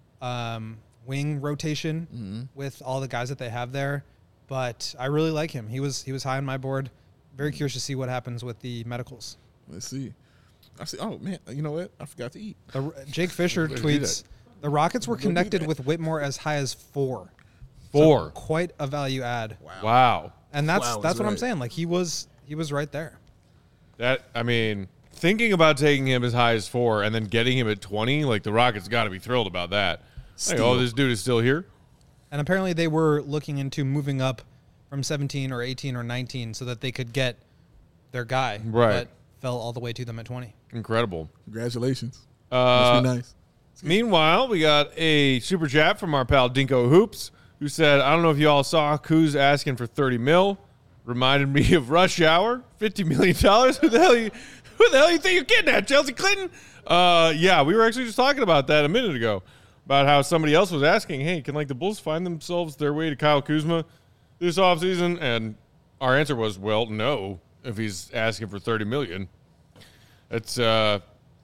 um, wing rotation mm-hmm. with all the guys that they have there. But I really like him. He was he was high on my board. Very curious to see what happens with the medicals. Let's see. I see. Oh man, you know what? I forgot to eat. The, Jake Fisher tweets: the Rockets were connected with Whitmore as high as four. Four. So quite a value add. Wow. Wow. And that's wow that's what right. I'm saying. Like he was he was right there. That I mean, thinking about taking him as high as four and then getting him at twenty, like the Rockets got to be thrilled about that. Like, oh, this dude is still here. And apparently they were looking into moving up from seventeen or eighteen or nineteen so that they could get their guy. Right. But fell all the way to them at twenty. Incredible. Congratulations. Uh, Must be nice. Meanwhile, we got a super chat from our pal Dinko Hoops, who said, I don't know if you all saw Kuz asking for thirty mil. Reminded me of Rush Hour, fifty million dollars. Who the hell you, who the hell you think you're getting at, Chelsea Clinton? Uh, yeah, we were actually just talking about that a minute ago, about how somebody else was asking, hey, can like the Bulls find themselves their way to Kyle Kuzma this offseason? And our answer was, well, no, if he's asking for thirty million dollars. It's uh,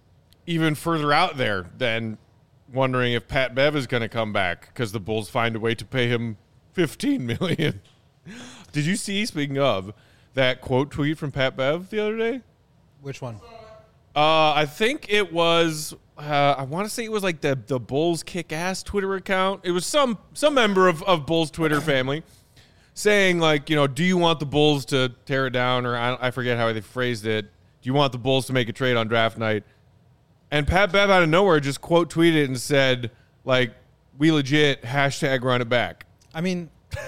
even further out there than wondering if Pat Bev is going to come back because the Bulls find a way to pay him fifteen million dollars. Did you see, speaking of, that quote tweet from Pat Bev the other day? Which one? Uh, I think it was, uh, I want to say it was like the, the Bulls Kick-Ass Twitter account. It was some some member of, of Bulls Twitter family saying, like, you know, do you want the Bulls to tear it down? Or I, I forget how they phrased it. Do you want the Bulls to make a trade on draft night? And Pat Bev out of nowhere just quote tweeted and said, like, we legit hashtag run it back. I mean,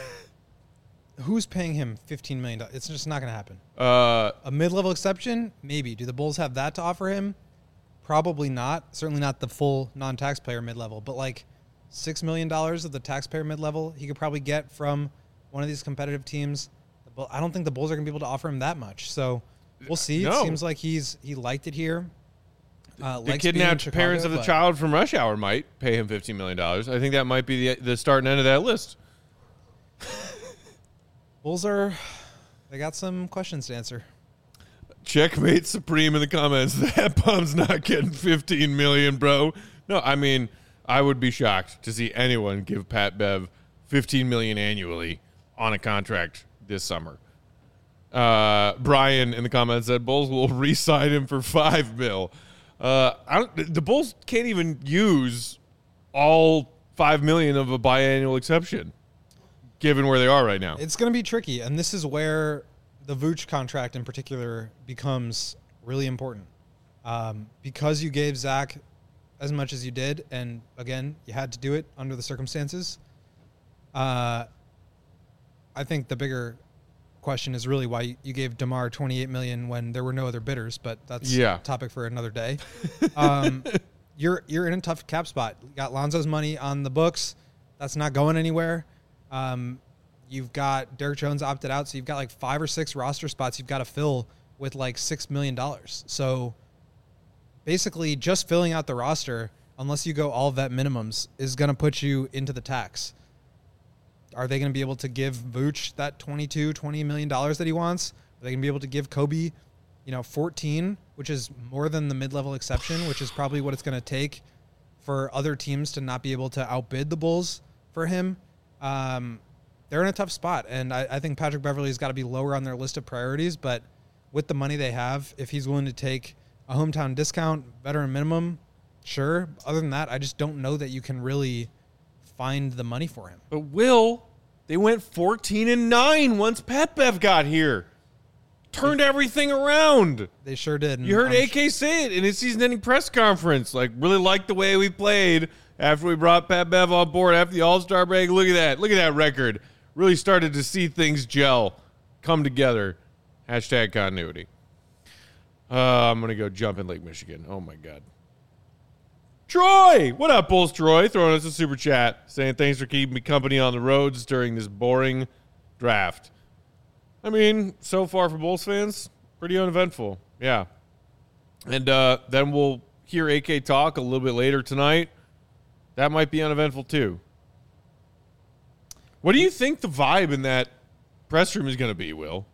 who's paying him fifteen million dollars? It's just not going to happen. Uh, a mid-level exception? Maybe. Do the Bulls have that to offer him? Probably not. Certainly not the full non-taxpayer mid-level. But like six million dollars of the taxpayer mid-level he could probably get from one of these competitive teams. I don't think the Bulls are going to be able to offer him that much. So we'll see. No. It seems like he's he liked it here. Uh, the likes being in kidnapped Chicago, parents of the but- child from Rush Hour might pay him fifteen million dollars. I think that might be the, the start and end of that list. Bulls are, they got some questions to answer. Checkmate Supreme in the comments. That bum's not getting fifteen million dollars, bro. No, I mean, I would be shocked to see anyone give Pat Bev fifteen million dollars annually on a contract this summer. Uh, Brian in the comments said Bulls will re-sign him for five mil. Uh, I don't, the Bulls can't even use all five million of a biannual exception, given where they are right now. It's going to be tricky, and this is where the Vooch contract in particular becomes really important. Um, because you gave Zach as much as you did, and again, you had to do it under the circumstances. Uh, I think the bigger question is really why you gave DeMar twenty-eight million dollars when there were no other bidders, but that's Yeah. a topic for another day. Um, you're you're in a tough cap spot. You got Lonzo's money on the books. That's not going anywhere. Um, you've got Derrick Jones opted out, so you've got like five or six roster spots you've got to fill with like six million dollars. So basically just filling out the roster, unless you go all vet minimums, is going to put you into the tax. Are they going to be able to give Vooch that twenty-two, twenty million dollars that he wants? Are they going to be able to give Kobe, you know, fourteen, which is more than the mid-level exception, which is probably what it's going to take for other teams to not be able to outbid the Bulls for him? Um, they're in a tough spot, and I, I think Patrick Beverley's got to be lower on their list of priorities, but with the money they have, if he's willing to take a hometown discount, veteran minimum, sure. Other than that, I just don't know that you can really find the money for him. But Will, they went fourteen and nine once Pat Bev got here. Turned everything around. They sure did. and You heard I'm A K say it in his season-ending press conference. Like, really liked the way we played after we brought Pat Bev on board after the All-Star break. Look at that. Look at that record. Really started to see things gel, come together. Hashtag continuity. Uh, I'm going to go jump in Lake Michigan. Oh, my God. Troy! What up, Bulls Troy? Throwing us a super chat saying thanks for keeping me company on the roads during this boring draft. I mean, so far for Bulls fans, pretty uneventful. Yeah. And uh, then we'll hear A K talk a little bit later tonight, that might be uneventful too. What do you think the vibe in that press room is going to be, Will?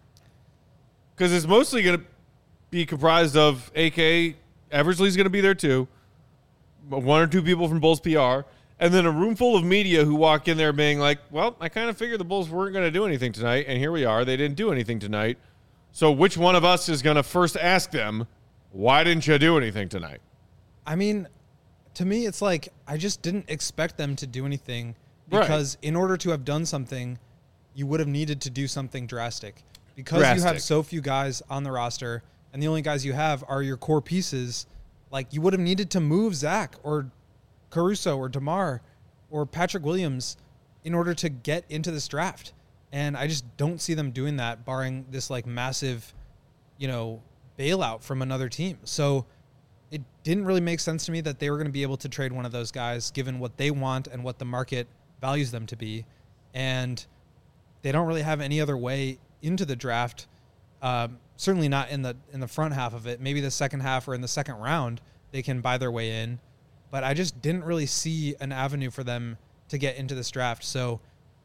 Because it's mostly going to be comprised of A K. Eversley's going to be there too. One or two people from Bulls P R. And then a room full of media who walk in there being like, well, I kind of figured the Bulls weren't going to do anything tonight. And here we are. They didn't do anything tonight. So which one of us is going to first ask them, why didn't you do anything tonight? I mean, to me, it's like I just didn't expect them to do anything because right. in order to have done something, you would have needed to do something drastic. Because drastic. You have so few guys on the roster and the only guys you have are your core pieces, like you would have needed to move Zach or Caruso or DeMar or Patrick Williams in order to get into this draft. And I just don't see them doing that, barring this like massive, you know, bailout from another team. So it didn't really make sense to me that they were going to be able to trade one of those guys given what they want and what the market values them to be. And they don't really have any other way into the draft. Um, certainly not in the, in the front half of it. Maybe the second half or in the second round, they can buy their way in. But I just didn't really see an avenue for them to get into this draft. So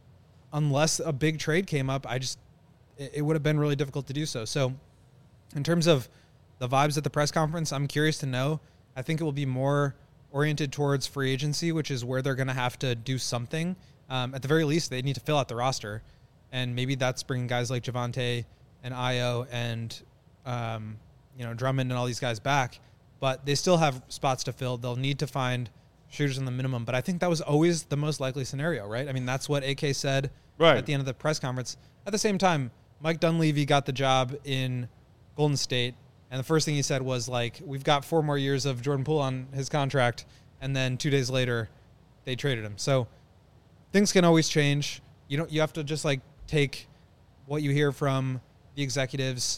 unless a big trade came up, I just it, it would have been really difficult to do so. So in terms of the vibes at the press conference, I'm curious to know. I think it will be more oriented towards free agency, which is where they're going to have to do something. Um, at the very least, they need to fill out the roster. And maybe that's bringing guys like Javonte and Ayo and um, you know Drummond and all these guys back. But they still have spots to fill. They'll need to find shooters in the minimum. But I think that was always the most likely scenario, right? I mean, that's what A K said right. at the end of the press conference. At the same time, Mike Dunleavy got the job in Golden State. And the first thing he said was, like, we've got four more years of Jordan Poole on his contract. And then two days later, they traded him. So things can always change. You don't. You have to just, like, take what you hear from the executives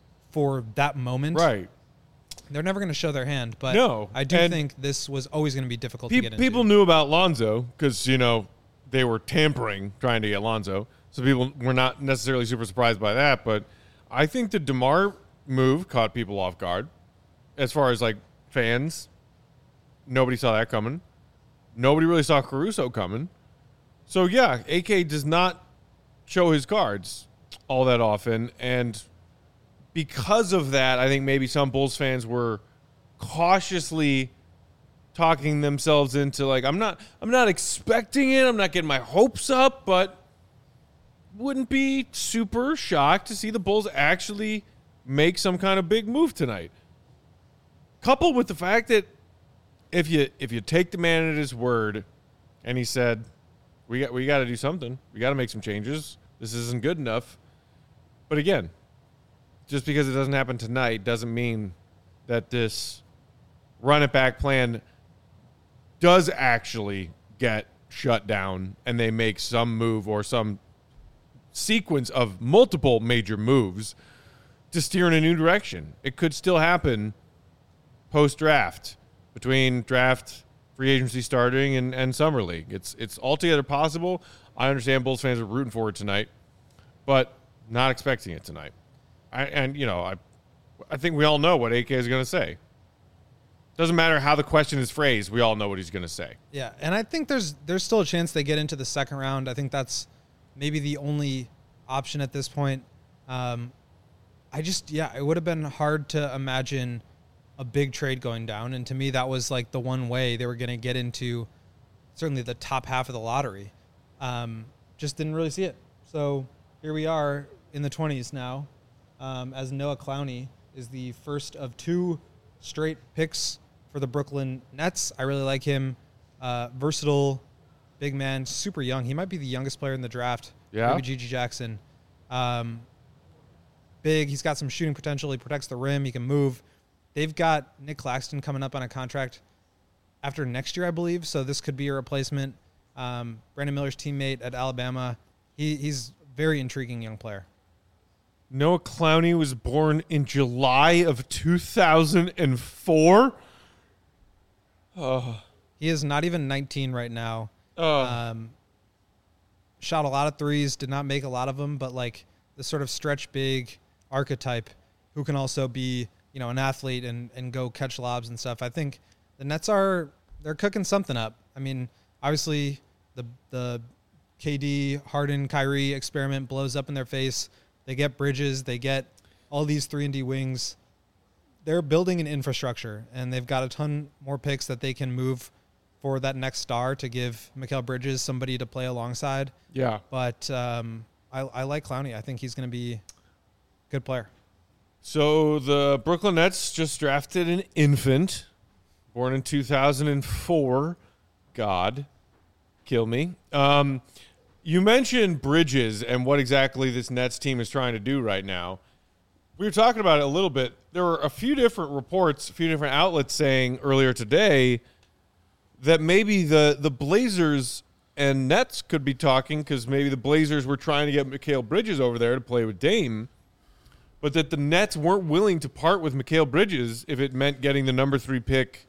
for that moment. Right. They're never going to show their hand, but no. I do and think this was always going to be difficult pe- to get into. People knew about Lonzo because, you know, they were tampering trying to get Lonzo. So people were not necessarily super surprised by that. But I think the DeMar move caught people off guard. As far as, like, fans, nobody saw that coming. Nobody really saw Caruso coming. So, yeah, A K does not show his cards all that often. And because of that, I think maybe some Bulls fans were cautiously talking themselves into, like, I'm not I'm not expecting it. I'm not getting my hopes up, but wouldn't be super shocked to see the Bulls actually make some kind of big move tonight. Coupled with the fact that if you if you take the man at his word and he said, we got we got to do something. We got to make some changes. This isn't good enough. But again, just because it doesn't happen tonight doesn't mean that this run-it-back plan does actually get shut down and they make some move or some sequence of multiple major moves to steer in a new direction. It could still happen post-draft, between draft, free agency starting, and, and summer league. It's, it's altogether possible. I understand Bulls fans are rooting for it tonight, but not expecting it tonight. I, and, you know, I I think we all know what A K is going to say. Doesn't matter how the question is phrased. We all know what he's going to say. Yeah, and I think there's there's still a chance they get into the second round. I think that's maybe the only option at this point. Um, I just, yeah, it would have been hard to imagine a big trade going down. And to me, that was like the one way they were going to get into certainly the top half of the lottery. Um, just didn't really see it. So here we are in the twenties now. Um, as Noah Clowney is the first of two straight picks for the Brooklyn Nets. I really like him. Uh, versatile, big man, super young. He might be the youngest player in the draft. Yeah. Maybe Gigi Jackson. Um, big. He's got some shooting potential. He protects the rim. He can move. They've got Nick Claxton coming up on a contract after next year, I believe. So this could be a replacement. Um, Brandon Miller's teammate at Alabama. He, he's a very intriguing young player. Noah Clowney was born in July of two thousand four. Oh. He is not even nineteen right now. Oh. Um, shot a lot of threes, did not make a lot of them, but like the sort of stretch big archetype who can also be, you you know, an athlete and, and go catch lobs and stuff. I think the Nets are they're cooking something up. I mean, obviously the the K D, Harden, Kyrie experiment blows up in their face. They get Bridges, they get all these three and D wings. They're building an infrastructure, and they've got a ton more picks that they can move for that next star to give Mikal Bridges somebody to play alongside. Yeah. But um, I, I like Clowney. I think he's going to be a good player. So the Brooklyn Nets just drafted an infant, born in two thousand four. God, kill me. Um, you mentioned Bridges and what exactly this Nets team is trying to do right now. We were talking about it a little bit. There were a few different reports, a few different outlets saying earlier today that maybe the, the Blazers and Nets could be talking because maybe the Blazers were trying to get Mikal Bridges over there to play with Dame, but that the Nets weren't willing to part with Mikal Bridges if it meant getting the number three pick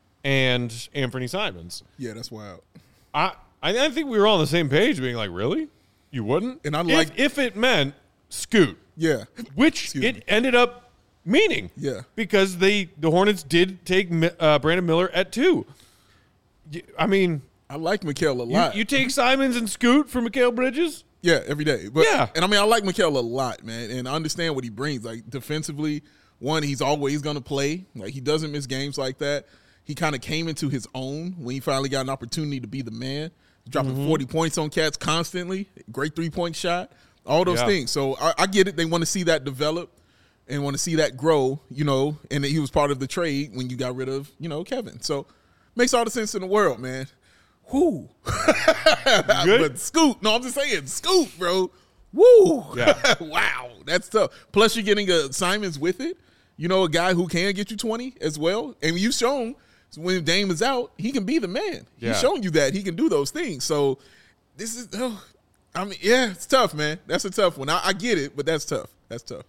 and Anthony Simons. Yeah, that's wild. I I think we were all on the same page, being like, really? You wouldn't? And I If- like- if it meant Scoot, Yeah. which Excuse it me. ended up meaning. Yeah. Because they the Hornets did take Mi- uh, Brandon Miller at two. Y- I mean, I like Mikal a you, lot. you take Simons and Scoot for Mikal Bridges? Yeah, every day. But, Yeah. And I mean, I like Mikal a lot, man. And I understand what he brings. Like, defensively, one, he's always going to play. Like, he doesn't miss games like that. He kind of came into his own when he finally got an opportunity to be the man. Dropping Mm-hmm. forty points on cats constantly. Great three-point shot. All those Yeah. things. So I, I get it. They want to see that develop and want to see that grow, you know. And he was part of the trade when you got rid of, you know, Kevin. So makes all the sense in the world, man. Whoo. Good? But Scoot, no, I'm just saying, Scoot, bro. Woo. Yeah. Wow. That's tough. Plus, you're getting a Simons with it. You know, a guy who can get you twenty as well. And you've shown when Dame is out, he can be the man. Yeah. He's shown you that he can do those things. So this is, oh, I mean, yeah, it's tough, man. That's a tough one. I, I get it, but that's tough. That's tough.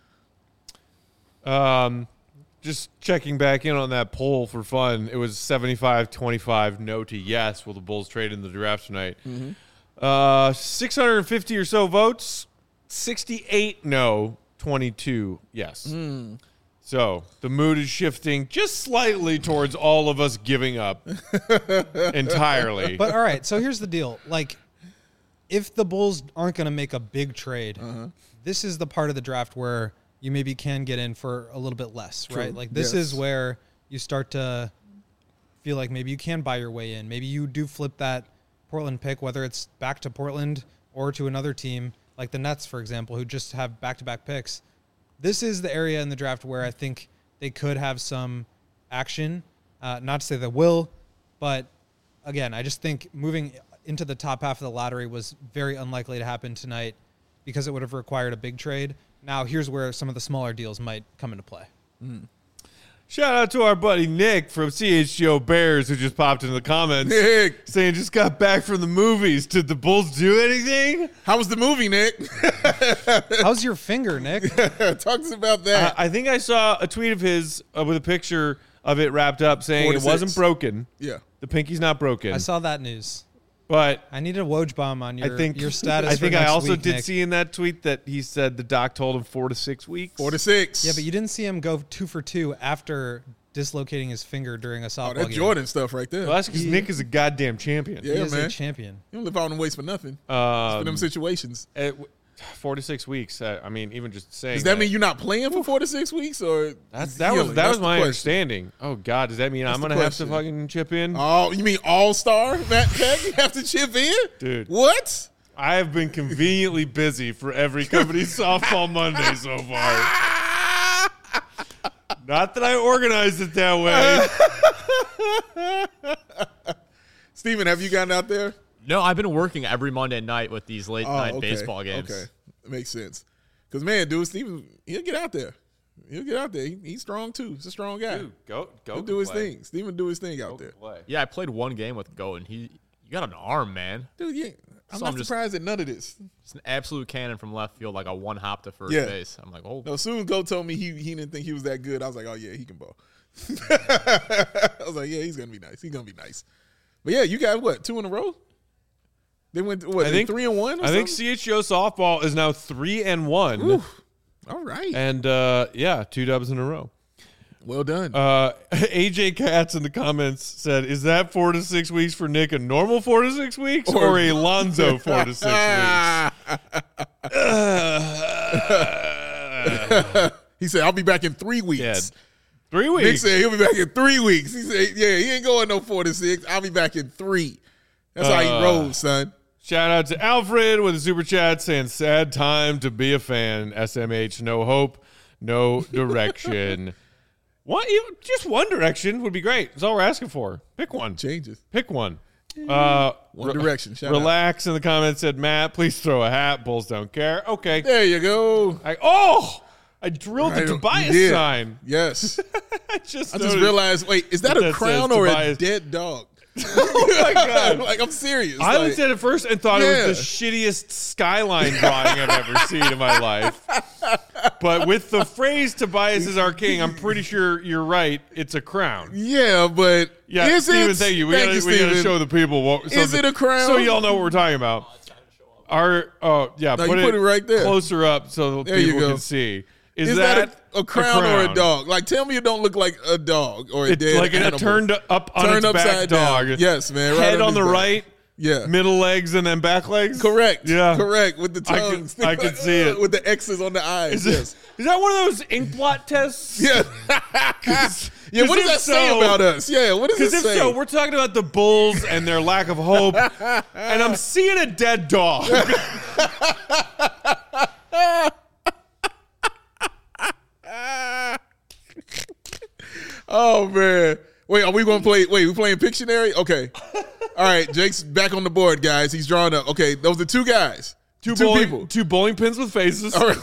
Um, just checking back in on that poll for fun. It was seventy-five twenty-five no to yes. Will the Bulls trade in the draft tonight? Mm-hmm. Uh, six hundred fifty or so votes. sixty-eight no, twenty-two yes. Mm. So the mood is shifting just slightly towards all of us giving up entirely. But all right, so here's the deal. Like, if the Bulls aren't going to make a big trade, Uh-huh. this is the part of the draft where you maybe can get in for a little bit less, True. right? Like, this Yes. is where you start to feel like maybe you can buy your way in. Maybe you do flip that Portland pick, whether it's back to Portland or to another team, like the Nets, for example, who just have back-to-back picks. This is the area in the draft where I think they could have some action. Uh, not to say they will, but again, I just think moving into the top half of the lottery was very unlikely to happen tonight because it would have required a big trade. Now, here's where some of the smaller deals might come into play. Shout out to our buddy Nick from C H G O Bears who just popped into the comments Nick, saying just got back from the movies. Did the Bulls do anything? how was the movie, Nick? How's your finger, Nick? Talk to us about that. I, I think I saw a tweet of his uh, with a picture of it wrapped up saying Four to it wasn't six. broken. yeah. The pinky's not broken. I saw that news. but I need a Woj bomb on your, I think your status. I for think I next also week, did Nick. see in that tweet that he said the doc told him four to six weeks. Four to six. Yeah, but you didn't see him go two for two after dislocating his finger during a softball Oh, that's game. Jordan stuff right there. Well, that's because Nick is a goddamn champion. He Yeah, is man. a champion. You don't live out in waste for nothing. for them Um, situations. it- four to six weeks. uh, I mean, even just saying. Does that mean you're not playing for four to six weeks, or That's that healing? was that That's was the my question. understanding. Oh God, does that mean That's I'm the gonna have to question. fucking chip in? Oh, you mean all star Matt Peck? You have to chip in, Dude. What? I have been conveniently busy for every company softball Monday so far. Not that I organized it that way. Steven, have you gotten out there? No, I've been working every Monday night with these late Oh, night okay. baseball games. Okay, that makes sense. Because man, dude, Steven, he'll get out there. He'll get out there. He, he's strong too. He's a strong guy. Dude, go go He'll do his play. thing. Steven do his thing out Go there. play. Yeah, I played one game with Goat, and he you got an arm, man. Dude, yeah, I'm So not I'm just- surprised at none of this. It's an absolute cannon from left field, like a one hop to first Yeah. base. I'm like, oh, No, as soon as Go told me he he didn't think he was that good, I was like, oh yeah, he can ball. I was like, yeah, he's gonna be nice. He's gonna be nice. But yeah, you got what, two in a row? They went what? I think three and one. Or I think something? C H G O softball is now three and one, Ooh, all right. and uh, yeah, two dubs in a row. Well done. Uh, A J Katz in the comments said, "Is that four to six weeks for Nick a normal four to six weeks or, or a Lonzo four to six weeks?" He said, "I'll be back in three weeks." Yeah. Three Nick weeks. said he'll be back in three weeks. He said, "Yeah, he ain't going no four to six. I'll be back in three." That's how he Uh, rolls, son. Shout out to Alfred with a super chat saying, "Sad time to be a fan. S M H, no hope, no direction." One, even- just one direction would be great. That's all we're asking for. Pick one. Changes. Pick one. Uh, One direction. Shout relax in the comments said, "Matt, please throw a hat. Bulls don't care." Okay. out. There you go. I, oh, I drilled Right, the you Tobias did. sign. Yes. I just I just noticed. realized, wait, is that What a that crown says, or Tobias. a dead dog? Oh my god! Like, I'm serious. I like, looked at it first and thought Yeah. it was the shittiest skyline drawing I've ever seen in my life. But with the phrase "Tobias is our king," I'm pretty sure you're right. It's a crown. yeah, but Yeah, is Steven, it? thank you. We Thank gotta, you, we gotta Steven. show the people what. so Is the- it a crown? So y'all know what we're talking about. Our oh yeah, No, put, you it put it right there. closer up so There you people go. can see. Is, Is that, that, a, a, crown or a dog? Like, tell me it don't look like a dog or a It's dead like animal. a turned up on Turned its back upside dog. down. Yes, man. Right Head on his the back. right, Yeah. middle legs, and then back legs. Correct. Yeah. Correct. With the I tongue. could- I could see it. With the X's on the eyes. Is, it- yes. is that one of those ink blot tests? Yeah. yeah. What does if that say so- about us? Yeah. What does it Because if say? so, we're talking about the Bulls and their lack of hope, and I'm seeing a dead dog. Oh man. Wait, are we gonna play wait, we playing Pictionary? Okay. All right, Jake's back on the board, guys. He's drawing up. Okay, those are two guys. Two, Two bowling, people. Two bowling pins with faces. All right.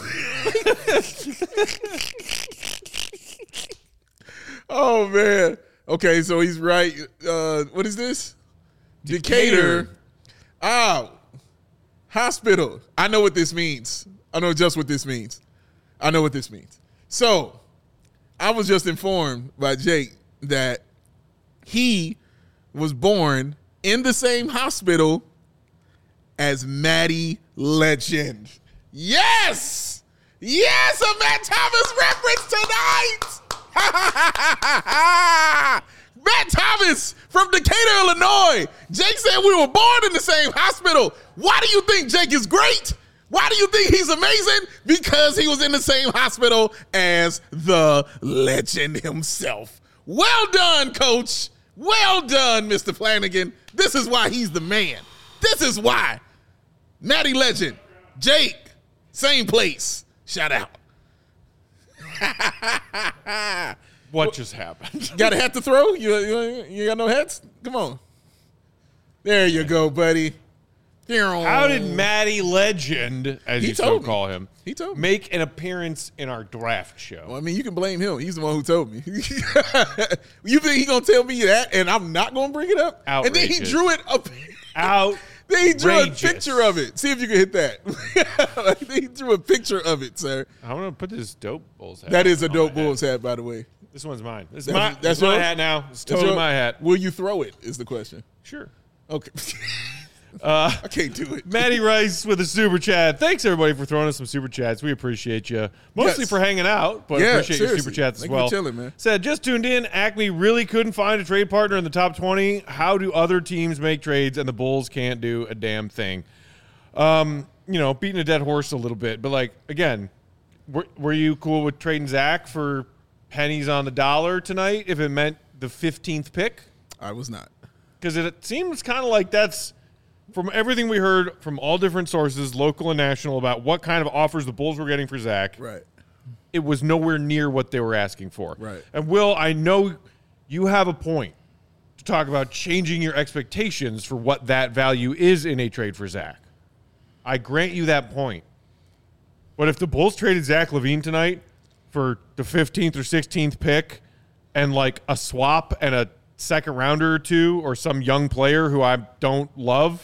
Oh man. Okay, so he's right. Uh, what is this? Decatur. Ah, hospital. I know what this means. I know just what this means. I know what this means. So, I was just informed by Jake that he was born in the same hospital as Matty Legend. Yes! Yes, a Matt Thomas reference tonight! Matt Thomas from Decatur, Illinois. Jake said we were born in the same hospital. Why do you think Jake is great? Why do you think he's amazing? Because he was in the same hospital as the legend himself. Well done, Coach. Well done, Mister Flanagan. This is why he's the man. This is why. Matty Legend, Jake, same place. Shout out. What just happened? Got a hat to throw? You, you, you got no hats? Come on. There you go, buddy. How did Matty Legend, as He you so told me. call him, He told me. make an appearance in our draft show? Well, I mean, you can blame him. He's the one who told me. You think he gonna tell me that, and I'm not gonna bring it up? And then he Outrageous. drew it up. Out. Then he drew Outrageous. a picture of it. See if you can hit that. Like, he drew a picture of it, sir. I'm gonna put this dope Bulls hat. That is a on dope my hat. Bulls hat, by the way. This one's mine. This is That's- my, that's that's my yours? hat now. It's That's totally your- my hat. Will you throw it? Is the question. Sure. Okay. Uh, I can't do it. Matty Rice with a super chat. Thanks everybody for throwing us some super chats. We appreciate you. Mostly Yes. for hanging out, but Yeah, appreciate your seriously. super chats as Thank you well. for chilling, man. Said just tuned in. Acme really couldn't find a trade partner in the top twenty. How do other teams make trades and the Bulls can't do a damn thing? Um, you know, beating a dead horse a little bit, but like again, were, were you cool with trading Zach for pennies on the dollar tonight if it meant the fifteenth pick? I was not. Because it seems kind of like that's, from everything we heard from all different sources, local and national, about what kind of offers the Bulls were getting for Zach. Right. It was nowhere near what they were asking for. Right. And Will, I know you have a point to talk about changing your expectations for what that value is in a trade for Zach. I grant you that point. But if the Bulls traded Zach LaVine tonight for the fifteenth or sixteenth pick and like a swap and a second rounder or two or some young player who I don't love,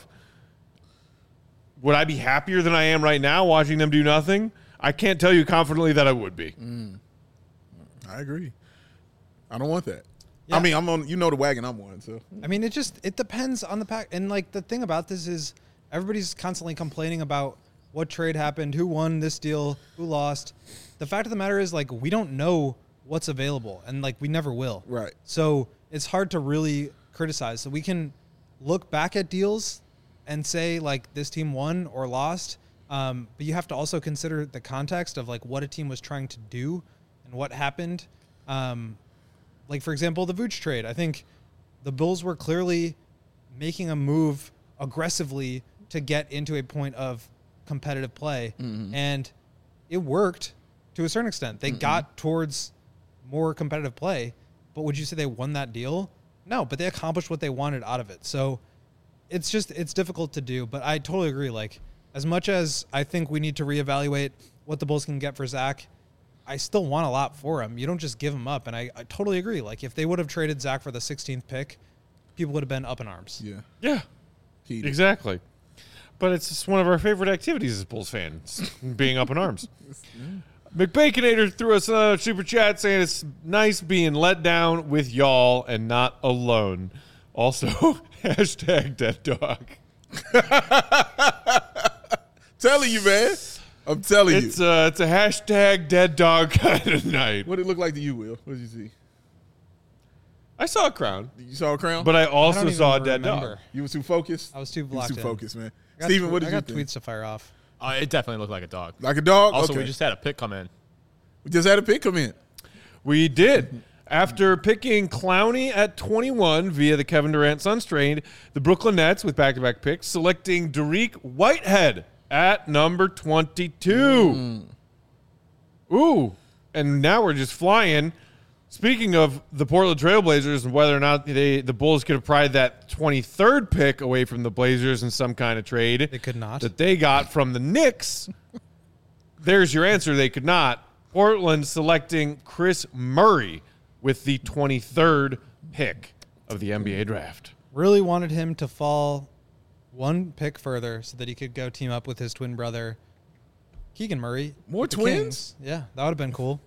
would I be happier than I am right now watching them do nothing? I can't tell you confidently that I would be. Mm. I agree. I don't want that. Yeah. I mean, I'm on. You know the wagon I'm on. So I mean, it just it depends on the pack. And like the thing about this is everybody's constantly complaining about what trade happened, who won this deal, who lost. The fact of the matter is, like, we don't know what's available, and like we never will. Right. So it's hard to really criticize. So we can look back at deals and say like this team won or lost, um, but you have to also consider the context of like what a team was trying to do and what happened. Um, like for example, the Vooch trade. I think the Bulls were clearly making a move aggressively to get into a point of competitive play, mm-hmm. and it worked to a certain extent. They mm-hmm. got towards more competitive play, but would you say they won that deal? No, but they accomplished what they wanted out of it. So it's just, it's difficult to do, but I totally agree. Like, as much as I think we need to reevaluate what the Bulls can get for Zach, I still want a lot for him. You don't just give him up. And I, I totally agree. Like, if they would have traded Zach for the sixteenth pick, people would have been up in arms. Yeah. Yeah. Heated. Exactly. But it's just one of our favorite activities as Bulls fans, being up in arms. McBaconator threw us a super chat saying it's nice being let down with y'all and not alone. Also, hashtag dead dog. Telling you, man. I'm telling It's, you. uh, it's a hashtag dead dog kind of night. What did it look like to you, Will? What did you see? I saw a crown, You saw a crown? but I I also don't saw a even dead remember. dog. You were too focused? I was too You were blocked too in. focused, man. I got Steven, tw- what did I you got think? tweets to fire off. Uh, it definitely looked like a dog. Like a dog? Also, okay. we just had a pick come in. We just had a pick come in. We did. After picking Clowney at twenty-one via the Kevin Durant Suns trade, the Brooklyn Nets, with back-to-back picks, selecting Dariq Whitehead at number twenty-two. Mm. Ooh. And now we're just flying. Speaking of the Portland Trailblazers and whether or not they the Bulls could have pried that twenty-third pick away from the Blazers in some kind of trade. They could not. That they got from the Knicks. There's your answer. They could not. Portland selecting Chris Murray with the twenty-third pick of the N B A draft. Really wanted him to fall one pick further so that he could go team up with his twin brother, Keegan Murray. More with the twins? Kings. Yeah, that would have been cool.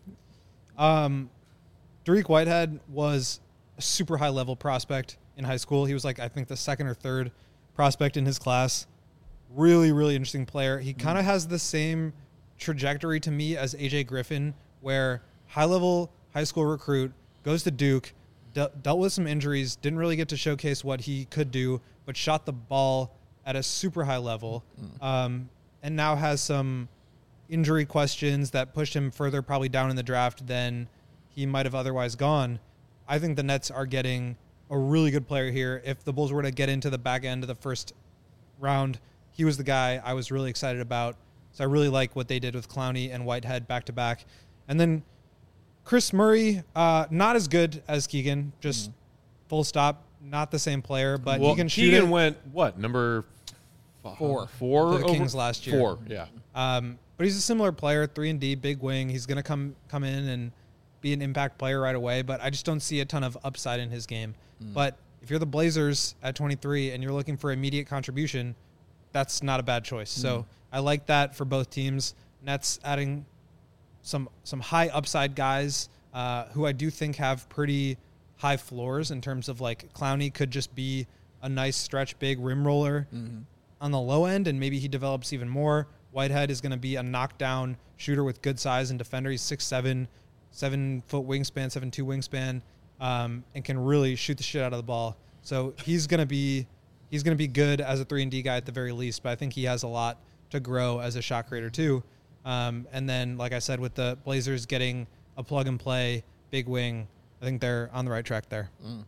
Um, Dariq Whitehead was a super high-level prospect in high school. He was like, I think, the second or third prospect in his class. Really, really interesting player. He kind of has the same trajectory to me as A J Griffin, where high-level high school recruit, goes to Duke, de- dealt with some injuries, didn't really get to showcase what he could do, but shot the ball at a super high level, um, and now has some injury questions that pushed him further probably down in the draft than he might have otherwise gone. I think the Nets are getting a really good player here. If the Bulls were to get into the back end of the first round, he was the guy I was really excited about. So I really like what they did with Clowney and Whitehead back to back. And then Chris Murray, uh, not as good as Keegan, just mm-hmm. full stop, not the same player, but well, he can shoot Keegan it. went, what, number four. Four? For the over? Kings last year. Four, yeah. Um, but he's a similar player, three and D, big wing. He's going to come come in and be an impact player right away, but I just don't see a ton of upside in his game. Mm. But if you're the Blazers at twenty-three and you're looking for immediate contribution, that's not a bad choice. Mm. So I like that for both teams. Nets adding some some high upside guys uh, who I do think have pretty high floors in terms of like Clowney could just be a nice stretch big rim roller mm-hmm. on the low end, and maybe he develops even more. Whitehead is going to be a knockdown shooter with good size and defender. He's six seven, seven foot wingspan, seven two wingspan, um, and can really shoot the shit out of the ball. So he's going to be he's going to be good as a three and D guy at the very least. But I think he has a lot to grow as a shot creator too. Um, and then, like I said, with the Blazers getting a plug and play big wing, I think they're on the right track there. Mm.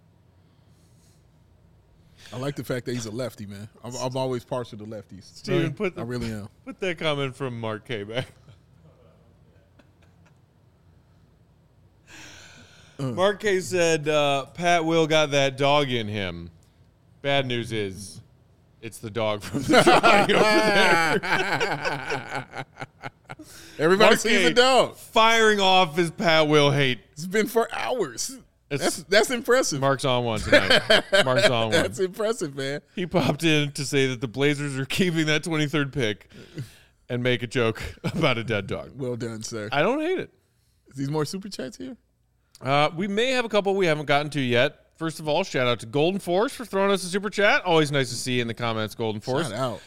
I like the fact that he's a lefty, man. I'm, I'm always partial to lefties. Steven, really? put the, I really am. Put that comment from Mark K back. uh. Mark K said, uh, Pat Will got that dog in him. Bad news is it's the dog from the drawing over there. Everybody Mark sees K a dog. Firing off his Pat Will hate. It's been for hours. It's, that's that's impressive. Mark's on one tonight. Mark's on one. That's impressive, man. He popped in to say that the Blazers are keeping that twenty-third pick and make a joke about a dead dog. Well done, sir. I don't hate it. Is these more super chats here? Uh, we may have a couple we haven't gotten to yet. First of all, shout out to Golden Force for throwing us a super chat. Always nice to see you in the comments, Golden Force. Shout out.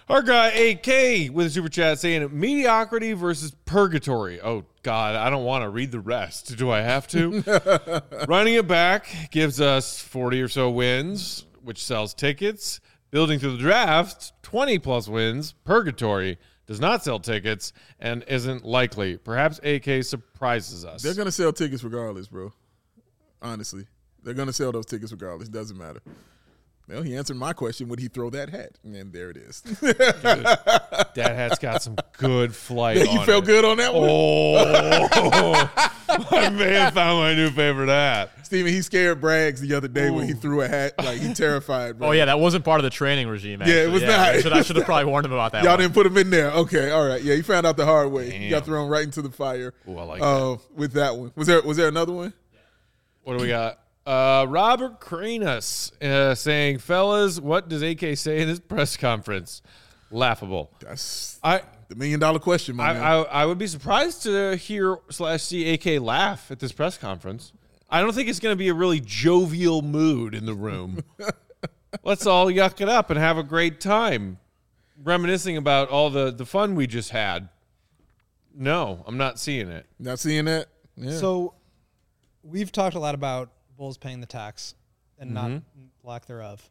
Our guy A K with a super chat saying mediocrity versus purgatory. Oh, God, I don't want to read the rest. Do I have to? Running it back gives us forty or so wins, which sells tickets. Building through the draft, twenty plus wins. Purgatory does not sell tickets and isn't likely. Perhaps A K surprises us. They're going to sell tickets regardless, bro. Honestly. They're going to sell those tickets regardless. Doesn't matter. Well, he answered my question. Would he throw that hat? And there it is. That hat's got some good flight You on felt it. good on that one? Oh, I may have found my new favorite hat. Steven, he scared Braggs the other day Ooh. when he threw a hat. Like, he terrified, bro. Oh, yeah, that wasn't part of the training regime, actually. Yeah, it was yeah, not. I should, I should have probably warned him about that Y'all one. didn't put him in there. Okay, all right. Yeah, he found out the hard way. Damn. He got thrown right into the fire. Ooh, I like uh, that. With that one. Was there Was there another one? What do we got? Uh, Robert Cranas uh, saying, fellas, what does A K say in his press conference? Laughable. That's I the million dollar question, my I, man. I I would be surprised to hear slash see A K laugh at this press conference. I don't think it's going to be a really jovial mood in the room. Let's all yuck it up and have a great time, reminiscing about all the, the fun we just had. No, I'm not seeing it. Not seeing that? Yeah. So we've talked a lot about Bulls paying the tax and Mm-hmm. not lack thereof.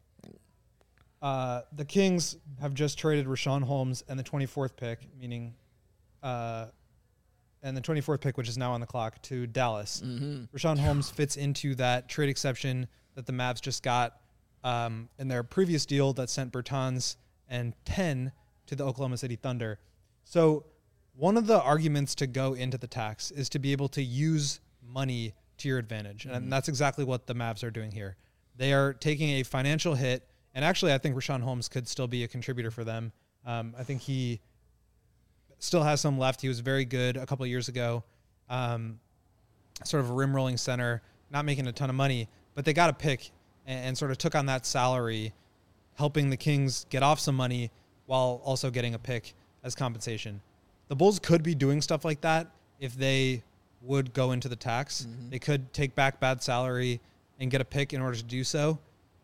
Uh, the Kings have just traded Rashawn Holmes and the twenty-fourth pick, meaning, uh, and the twenty-fourth pick, which is now on the clock, to Dallas. Mm-hmm. Rashawn Holmes fits into that trade exception that the Mavs just got um, in their previous deal that sent Bertans and ten to the Oklahoma City Thunder. So one of the arguments to go into the tax is to be able to use money to your advantage. And that's exactly what the Mavs are doing here. They are taking a financial hit, and actually I think Rashawn Holmes could still be a contributor for them. Um, I think he still has some left. He was very good a couple of years ago, um, sort of a rim-rolling center, not making a ton of money, but they got a pick and, and sort of took on that salary, helping the Kings get off some money while also getting a pick as compensation. The Bulls could be doing stuff like that if they would go into the tax. Mm-hmm. They could take back bad salary and get a pick in order to do so.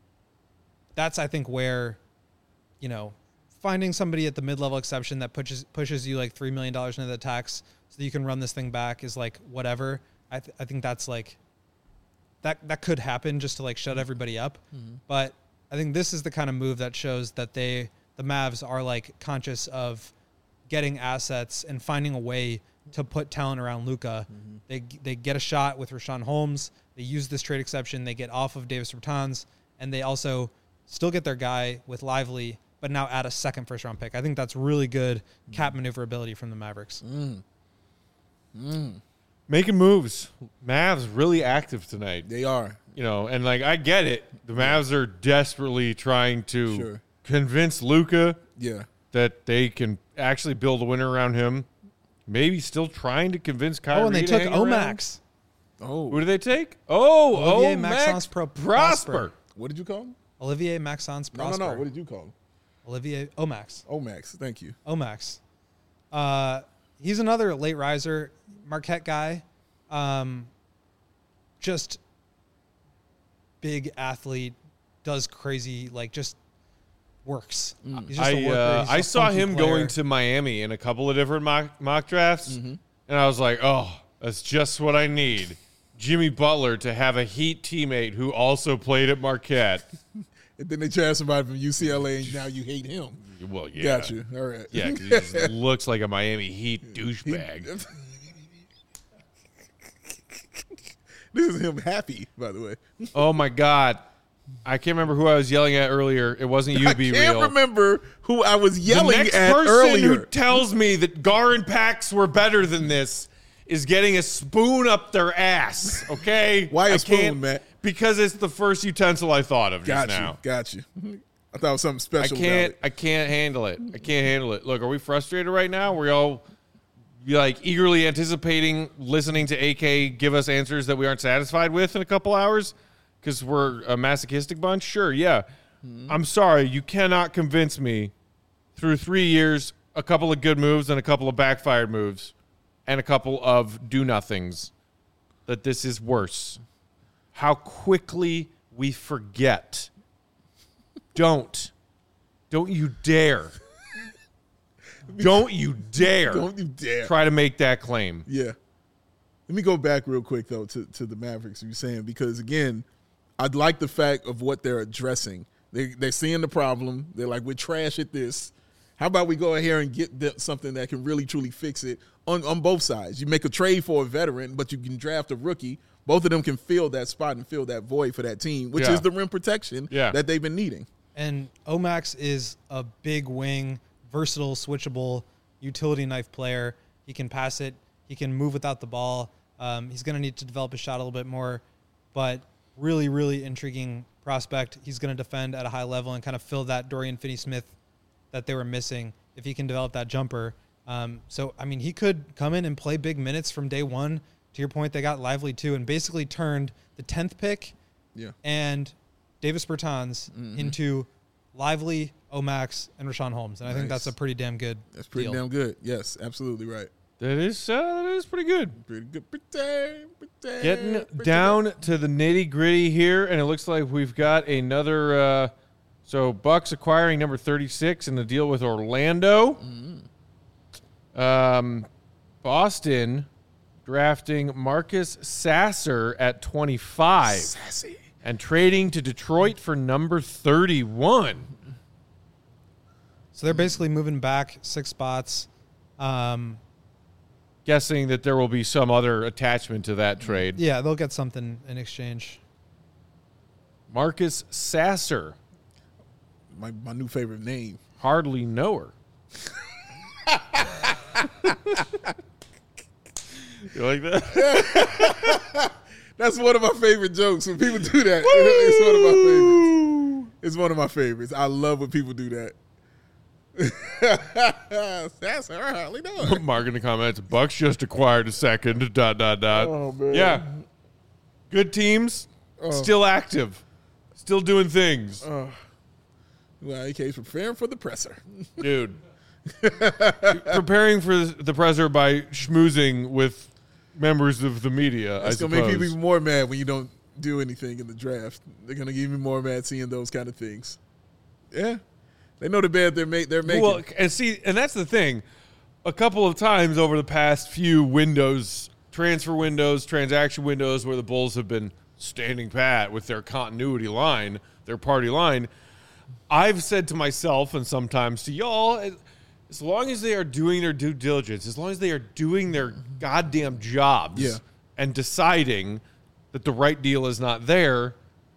That's, I think, where, you know, finding somebody at the mid-level exception that pushes pushes you like three million dollars into the tax so that you can run this thing back is like whatever. I th- I think that's like, that, that could happen just to like shut everybody up. Mm-hmm. But I think this is the kind of move that shows that they, the Mavs are like conscious of getting assets and finding a way to put talent around Luka. Mm-hmm. They they get a shot with Rashawn Holmes. They use this trade exception. They get off of Davis Bertans, and they also still get their guy with Lively, but now add a second first-round pick. I think that's really good mm-hmm. cap maneuverability from the Mavericks. Mm. Mm. Making moves. Mavs really active tonight. They are. You know, and like I get it. The Mavs are desperately trying to Sure. convince Luka Yeah. that they can actually build a winner around him. Maybe still trying to convince Kyrie. Oh, and they to took hang around. Omax. Oh. Who did they take? Oh, Olivier oh, Maxence Pro- Prosper. Prosper. What did you call him? Olivier Maxence No, Prosper. no, no. What did you call him? Olivier Omax. Oh, Max. Thank you. Omax. Uh, he's another late riser, Marquette guy. Um, just big athlete, does crazy, like just works. He's just a I worker. uh, He's I a saw funky him player. going to Miami in a couple of different mock, mock drafts, Mm-hmm. and I was like, oh, that's just what I need. Jimmy Butler to have a Heat teammate who also played at Marquette. And then they tried somebody from U C L A, and now you hate him. Well, yeah. Got you. All right. Yeah, because he just looks like a Miami Heat douchebag. This is him happy, by the way. Oh, my God. I can't remember who I was yelling at earlier. It wasn't you, I Be can't Real. remember who I was The yelling next at person earlier. who tells me that Gar and Pax were better than this is getting a spoon up their ass, okay? Why a I spoon, can't- Matt? Because it's the first utensil I thought of Got just you. now. Got you. I thought it was something I special can't. about I can't handle it. I can't handle it. Look, are we frustrated right now? We're all like eagerly anticipating listening to A K give us answers that we aren't satisfied with in a couple hours because we're a masochistic bunch. Sure, yeah. Mm-hmm. I'm sorry, you cannot convince me through three years, a couple of good moves and a couple of backfired moves, and a couple of do nothings, that this is worse. How quickly we forget. Don't. Don't you dare. Don't you dare. Don't you dare. Try to make that claim. Yeah. Let me go back real quick, though, to, to the Mavericks you were saying, because, again, I'd like the fact of what they're addressing. They, they're seeing the problem. They're like, we're trash at this. How about we go ahead and get the, something that can really, truly fix it on, on both sides? You make a trade for a veteran, but you can draft a rookie. Both of them can fill that spot and fill that void for that team, which Yeah. is the rim protection Yeah. that they've been needing. And Omax is a big wing, versatile, switchable, utility knife player. He can pass it. He can move without the ball. Um, he's going to need to develop his shot a little bit more, but really, really intriguing prospect. He's going to defend at a high level and kind of fill that Dorian Finney-Smith that they were missing if he can develop that jumper. Um, so, I mean, he could come in and play big minutes from day one. To your point, they got Lively too and basically turned the tenth pick Yeah. and Davis Bertans Mm-hmm. into Lively, Omax, and Rashawn Holmes. And I think Nice. that's a pretty damn good That's pretty deal. damn good. Yes, absolutely right. That is uh, that is pretty good. Pretty good. Pretty, pretty, Getting pretty down good. to the nitty gritty here, and it looks like we've got another. Uh, so Bucks acquiring number thirty-six in the deal with Orlando. Um, Boston drafting Marcus Sasser at twenty-five Sassy. and trading to Detroit for number thirty-one. So they're basically moving back six spots. Um, Guessing that there will be some other attachment to that trade. yeah, they'll get something in exchange. Marcus Sasser, My my new favorite name. hardly know her. You like that? That's one of my favorite jokes. When people do that, it's one of my favorites. It's one of my favorites. I love when people do that. That's all right. We know. Mark in the comments, Bucks just acquired a second, dot, dot, dot. Oh, man. Yeah. Good teams, still active, still doing things. Well, A K's preparing for the presser. Dude. Preparing for the presser by schmoozing with members of the media, It's I gonna suppose. make people even more mad when you don't do anything in the draft. They're gonna get even more mad seeing those kind of things. Yeah, they know the bed they're make they're making. Well, and see, and that's the thing. A couple of times over the past few windows, transfer windows, transaction windows, where the Bulls have been standing pat with their continuity line, their party line, I've said to myself and sometimes to y'all, as long as they are doing their due diligence, as long as they are doing their goddamn jobs Yeah. and deciding that the right deal is not there,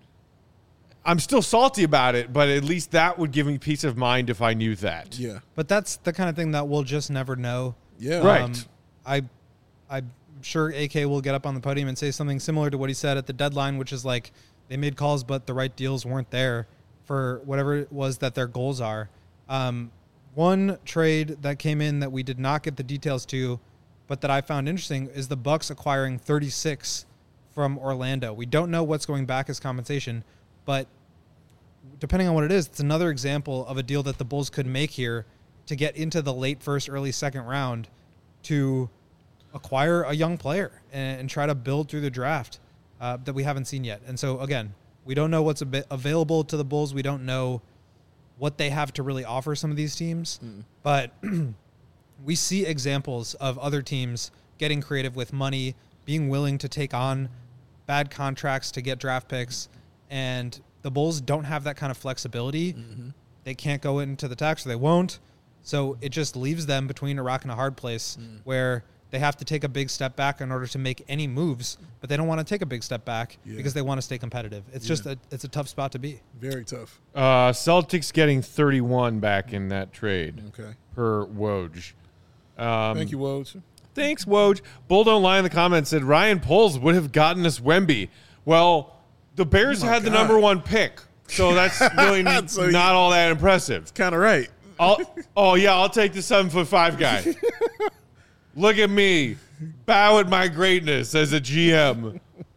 I'm still salty about it, but at least that would give me peace of mind if I knew that. yeah, But that's the kind of thing that we'll just never know. yeah, Right. I, I'm sure A K will get up on the podium and say something similar to what he said at the deadline, which is like they made calls, but the right deals weren't there for whatever it was that their goals are. Um, one trade that came in that we did not get the details to, but that I found interesting is the Bucks acquiring thirty-six from Orlando. We don't know what's going back as compensation, but depending on what it is, it's another example of a deal that the Bulls could make here to get into the late first, early second round to acquire a young player and, and try to build through the draft uh, that we haven't seen yet. And so, again, we don't know what's a bit available to the Bulls. We don't know what they have to really offer some of these teams. Mm. But we see examples of other teams getting creative with money, being willing to take on bad contracts to get draft picks. And the Bulls don't have that kind of flexibility. Mm-hmm. They can't go into the tax, or they won't. So it just leaves them between a rock and a hard place Mm. where they have to take a big step back in order to make any moves, but they don't want to take a big step back Yeah. because they want to stay competitive. It's just a, it's a tough spot to be. very tough. Uh, Celtics getting thirty-one back in that trade Okay, per Woj. Um, thank you, Woj. Thanks, Woj. Bull Don't Lie in the comments said Ryan Poles would have gotten us Wemby. Well, the Bears Oh my had the God. number one pick, so that's really n- So you- not all that impressive. Kind of right. I'll, oh, yeah, I'll take the seven foot five guy. Look at me. Bow at my greatness as a G M.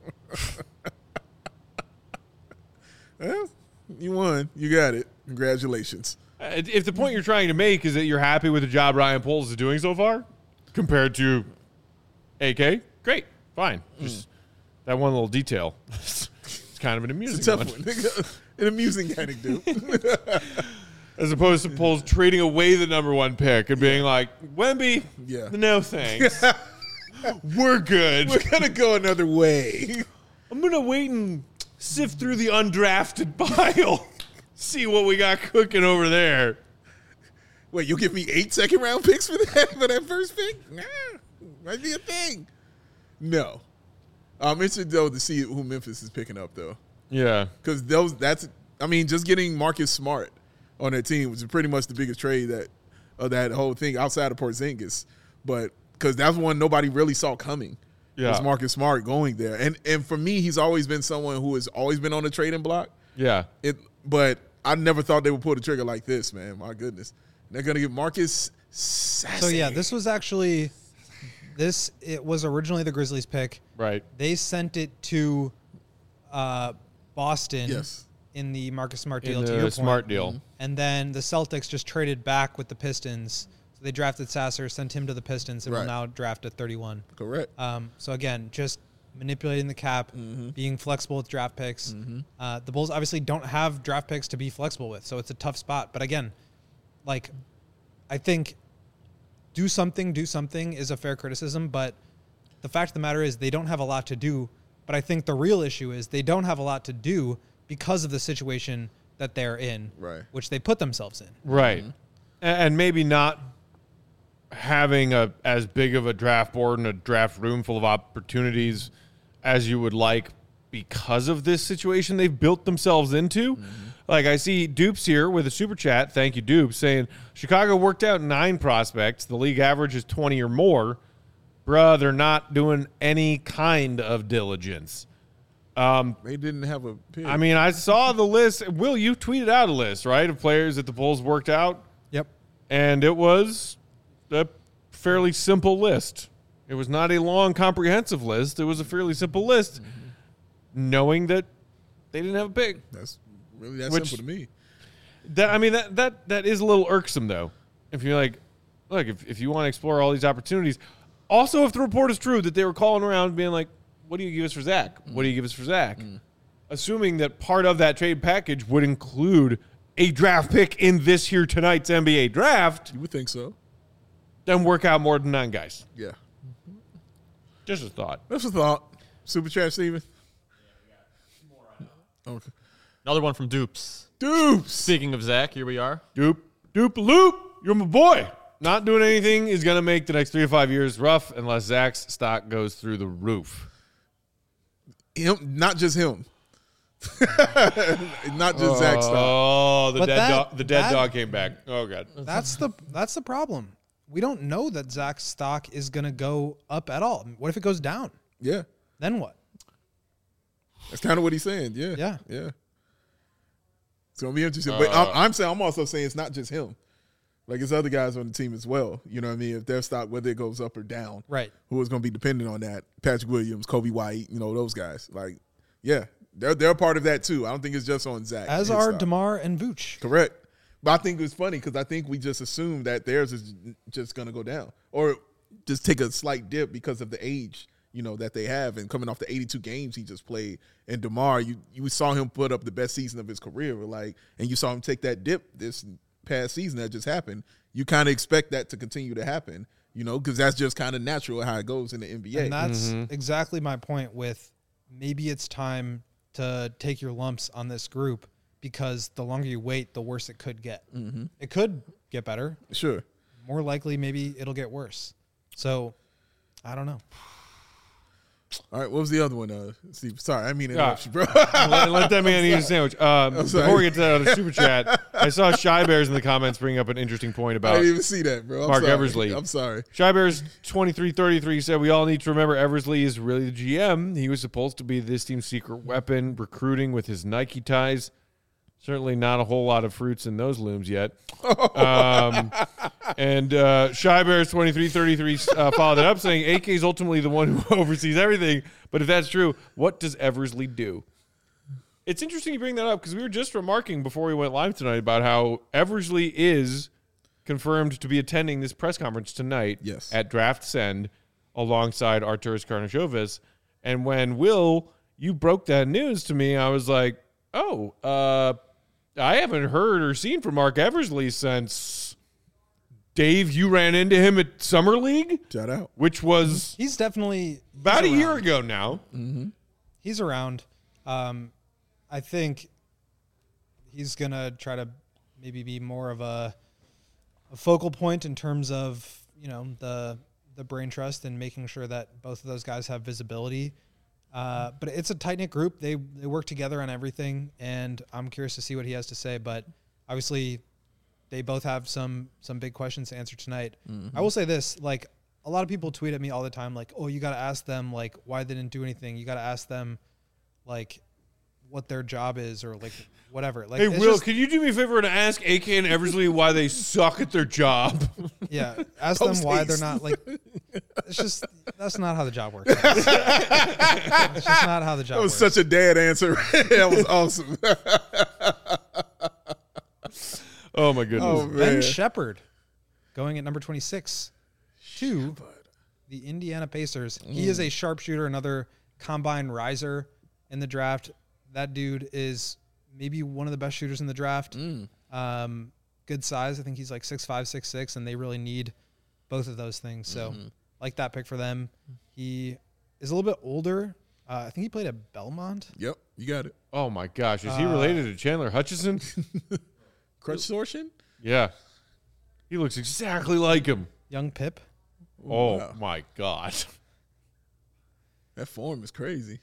Well, you won. You got it. Congratulations. Uh, If the point you're trying to make is that you're happy with the job Ryan Poles is doing so far compared to A K, great, fine. Just that one little detail. It's kind of an amusing It's a tough one. one. An amusing anecdote. As opposed to Bulls trading away the number one pick and being like, Wemby, Yeah. no thanks. We're good. We're gonna go another way. I'm going to wait and sift through the undrafted pile. See what we got cooking over there. Wait, you'll give me eight second round picks for that for that first pick? Nah, might be a thing. No, I'm interested though to see who Memphis is picking up though, Yeah. because those that's I mean just getting Marcus Smart on their team was pretty much the biggest trade that of that whole thing outside of Porzingis, but because that's one nobody really saw coming. Yeah. Was Marcus Smart going there, and and for me, he's always been someone who has always been on the trading block. Yeah. It, but I never thought they would pull the trigger like this, man. My goodness, they're gonna get Marcus. Sassy. So yeah, this was actually this. It was originally the Grizzlies pick. Right. They sent it to uh, Boston. Yes. In the Marcus Smart deal. In to the your Smart point. deal. And then the Celtics just traded back with the Pistons. So they drafted Sasser, sent him to the Pistons, and Right. will now draft at thirty-one. Correct. Um, so again, just manipulating the cap, Mm-hmm. being flexible with draft picks. Uh, the Bulls obviously don't have draft picks to be flexible with, so it's a tough spot. But again, like, I think do something, do something is a fair criticism. But the fact of the matter is they don't have a lot to do. But I think the real issue is they don't have a lot to do because of the situation that they're in, Right. which they put themselves in. Right. A- And maybe not having a as big of a draft board and a draft room full of opportunities as you would like because of this situation they've built themselves into. Like I see Dupes here with a super chat. Thank you, Dupes, saying Chicago worked out nine prospects. The league average is twenty or more. Bruh, they're not doing any kind of diligence. They didn't have a pick. I mean, I saw the list. Will, you tweeted out a list, right, of players that the Bulls worked out? Yep. And it was a fairly simple list. It was not a long, comprehensive list. It was a fairly simple list, knowing that they didn't have a pick. that's really that Which- simple to me. That I mean, that that that is a little irksome, though. If you're like, look, if, if you want to explore all these opportunities. Also, if the report is true that they were calling around being like, what do you give us for Zach? What do you give us for Zach? Assuming that part of that trade package would include a draft pick in this here tonight's N B A draft, You would think so. then work out more than nine guys. Yeah. Just a thought. That's a thought. Super chat, Steven. Okay. Another one from Dupes. Dupes. Speaking of Zach, here we are. Doop, doop, loop. You're my boy. Not doing anything is going to make the next three to five years rough unless Zach's stock goes through the roof. Him, not just him. Not just Zach Stock. Oh, the But dead that- dog. The dead that- dog came back. Oh god. That's the that's the problem. We don't know that Zach's stock is going to go up at all. What if it goes down? Yeah. Then what? That's kind of what he's saying. Yeah. Yeah. Yeah. It's going to be interesting. but I'm, I'm saying, I'm also saying it's not just him. Like, it's other guys on the team as well. You know what I mean? If their stock, whether it goes up or down, Right. who is going to be dependent on that? Patrick Williams, Kobe White, you know, those guys. Like, yeah, they're they're a part of that too. I don't think it's just on Zach. As his are stock. DeMar and Vooch. Correct. But I think it was funny because I think we just assumed that theirs is just going to go down or just take a slight dip because of the age, you know, that they have and coming off the eighty-two games he just played. And DeMar, you you saw him put up the best season of his career, like, and you saw him take that dip this past season that just happened. You kind of expect that to continue to happen, you know, because that's just kind of natural how it goes in the N B A. And that's exactly my point with maybe it's time to take your lumps on this group because the longer you wait, the worse it could get. Mm-hmm. It could get better. Sure. More likely, maybe it'll get worse. So, I don't know. All right, what was the other one, uh, Steve? Sorry, I mean to Yeah. interrupt you, bro. let, let that man eat a sandwich. Um, sorry. before we get to that other super chat, I saw Shy Bears in the comments bring up an interesting point I about didn't even see that, bro. I'm Mark sorry. Eversley. I'm sorry. Shy Bears twenty-three thirty-three said we all need to remember Eversley is really the G M. He was supposed to be this team's secret weapon, recruiting with his Nike ties. Certainly not a whole lot of fruits in those looms yet. Um, and uh, Shy Bears twenty-three thirty-three uh, followed that up saying A K is ultimately the one who oversees everything. But if that's true, what does Eversley do? It's interesting you bring that up because we were just remarking before we went live tonight about how Eversley is confirmed to be attending this press conference tonight Yes. at Draft Send alongside Arturas Karnisovas. And when Will, you broke that news to me, I was like, oh, uh, I haven't heard or seen from Mark Eversley since Dave, you ran into him at Summer League, Shout out. which was He's definitely about a he's year around. ago now. He's around. Um, I think he's gonna try to maybe be more of a, a focal point in terms of you know the the brain trust and making sure that both of those guys have visibility. Uh, but it's a tight knit group. They they work together on everything, and I'm curious to see what he has to say. But obviously, they both have some some big questions to answer tonight. I will say this: like a lot of people tweet at me all the time, like, "Oh, you got to ask them like why they didn't do anything. You got to ask them like what their job is or like whatever." Like, Hey, it's Will, just- can you do me a favor and ask A K and Eversley why they suck at their job? yeah, ask them Post why they're haste. not like. It's just that's not how the job works. It's just not how the job That was works. such a dad answer. That was awesome. Oh, my goodness. Oh, Ben man. Shepard going at number twenty-six to the Indiana Pacers. He is a sharpshooter, another combine riser in the draft. That dude is maybe one of the best shooters in the draft. Um, good size. I think he's like six five, six six, and they really need both of those things. So like that pick for them. He is a little bit older. Uh, I think he played at Belmont. Yep, you got it. Oh, my gosh. Is Uh, he related to Chandler Hutchison? Crutch torsion? Yeah. He looks exactly like him. Young Pip. Oh, wow. my God. That form is crazy.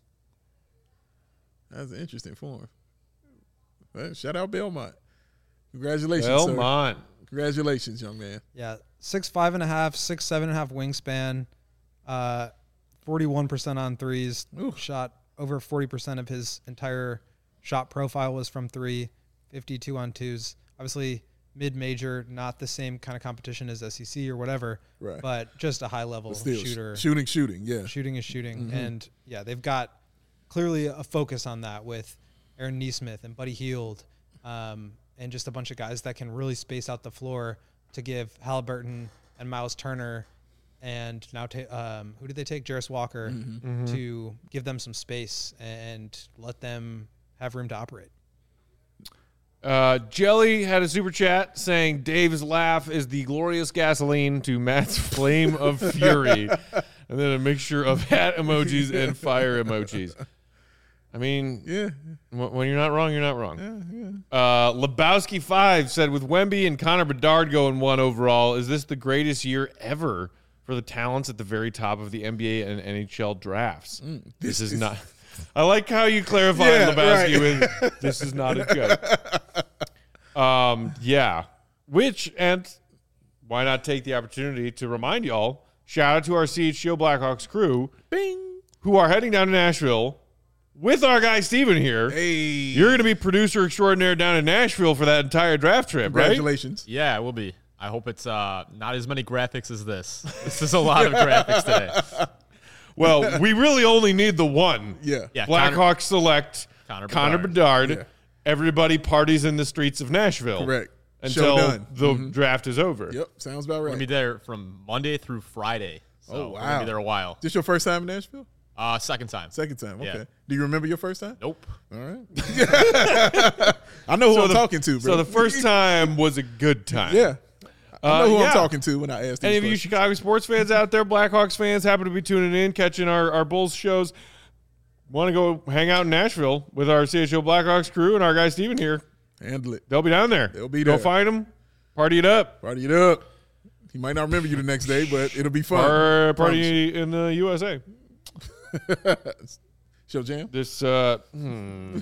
That's an interesting form. Well, shout out Belmont. Congratulations, sir. Belmont. Congratulations, young man. Yeah, six five and a half, six seven and a half wingspan, uh, forty-one percent on threes. Ooh. Shot over forty percent of his entire shot profile was from three, fifty-two on twos. Obviously, mid-major, not the same kind of competition as S E C or whatever, Right. but just a high-level But still, sh- shooter. shooting, shooting, yeah. Shooting is shooting, and yeah, they've got clearly a focus on that with Aaron Neesmith and Buddy Hield, um, and just a bunch of guys that can really space out the floor to give Halliburton and Miles Turner, and now ta- um, who did they take? Jarris Walker to give them some space and let them have room to operate. Uh, Jelly had a super chat saying Dave's laugh is the glorious gasoline to Matt's flame of fury. And then a mixture of hat emojis and fire emojis. I mean, Yeah. wh- when you're not wrong, you're not wrong. Uh, Lebowski five said, with Wemby and Connor Bedard going one overall, is this the greatest year ever for the talents at the very top of the N B A and N H L drafts? this, is, not. I like how you clarified Yeah, Lebowski right. with, this is not as good. Um, yeah. Which, and why not take the opportunity to remind y'all, shout out to our C H G O Blackhawks crew, Bing. who are heading down to Nashville with our guy Steven here. Hey. You're going to be producer extraordinaire down in Nashville for that entire draft trip, right? Congratulations. Yeah, it will be. I hope it's uh, not as many graphics as this. This is a lot of graphics today. Well, we really only need the one. Yeah. Yeah, Connor- Blackhawks select Connor Connor Bedard. Bedard. Yeah. Everybody parties in the streets of Nashville. Correct. Until Show done. the draft is over. Yep. Sounds about We're gonna be right. there from Monday through Friday. So Oh, we're gonna wow. be there a while. This your first time in Nashville? Uh, second time. Second time. Okay. Yeah. Do you remember your first time? Nope. All right. I know who So I'm the- talking to, bro. So the first time was a good time. Yeah. I know Uh, who yeah. I'm talking to when I ask these Any of you questions. Chicago sports fans out there, Blackhawks fans, happen to be tuning in, catching our, our Bulls shows, want to go hang out in Nashville with our C H O Blackhawks crew and our guy Steven here, Handle it. they'll be down there. They'll be Go there. find them, party it up. Party it up. He might not remember you the next day, but it'll be fun. Or Promise. party in the U S A. Show jam. This, uh, hmm.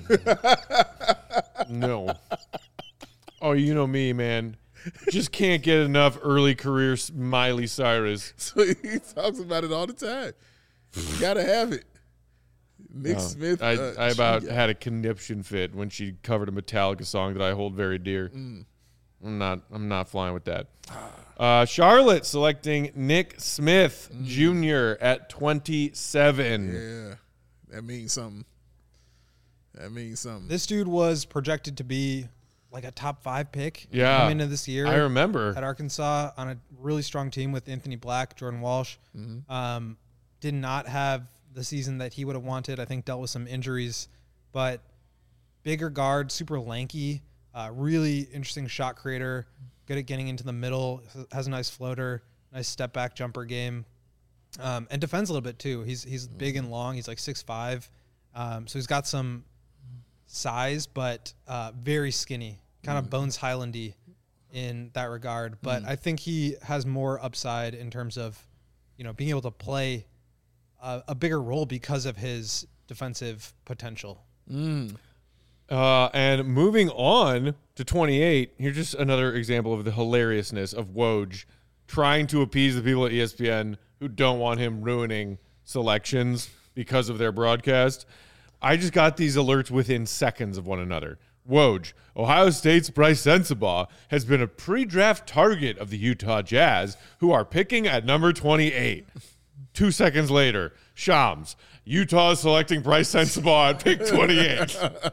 no. Oh, you know me, man. Just can't get enough early career Miley Cyrus. So he talks about it all the time. You gotta have it. Nick Smith. I, uh, I about she- had a conniption fit when she covered a Metallica song that I hold very dear. Mm. I'm not. I'm not flying with that. Uh, Charlotte selecting Nick Smith Junior at twenty-seven. Mm. Yeah, that means something. That means something. This dude was projected to be like a top five pick Yeah. coming into this year. I remember. At Arkansas on a really strong team with Anthony Black, Jordan Walsh. Um, did not have the season that he would have wanted. I think dealt with some injuries, but bigger guard, super lanky, uh, really interesting shot creator, good at getting into the middle, has a nice floater, nice step back jumper game, um, and defends a little bit too. He's he's big and long. He's like six five, um, so he's got some size, but uh, very skinny, kind of Bones Highlandy in that regard. But I think he has more upside in terms of, you know, being able to play a, a bigger role because of his defensive potential. Mm. Uh, and moving on to twenty-eight, here's just another example of the hilariousness of Woj trying to appease the people at E S P N who don't want him ruining selections because of their broadcast. I just got these alerts within seconds of one another. Woj, Ohio State's Bryce Sensabaugh has been a pre-draft target of the Utah Jazz, who are picking at number twenty-eight. Two seconds later, Shams, Utah is selecting Bryce Sensabaugh at pick twenty-eight.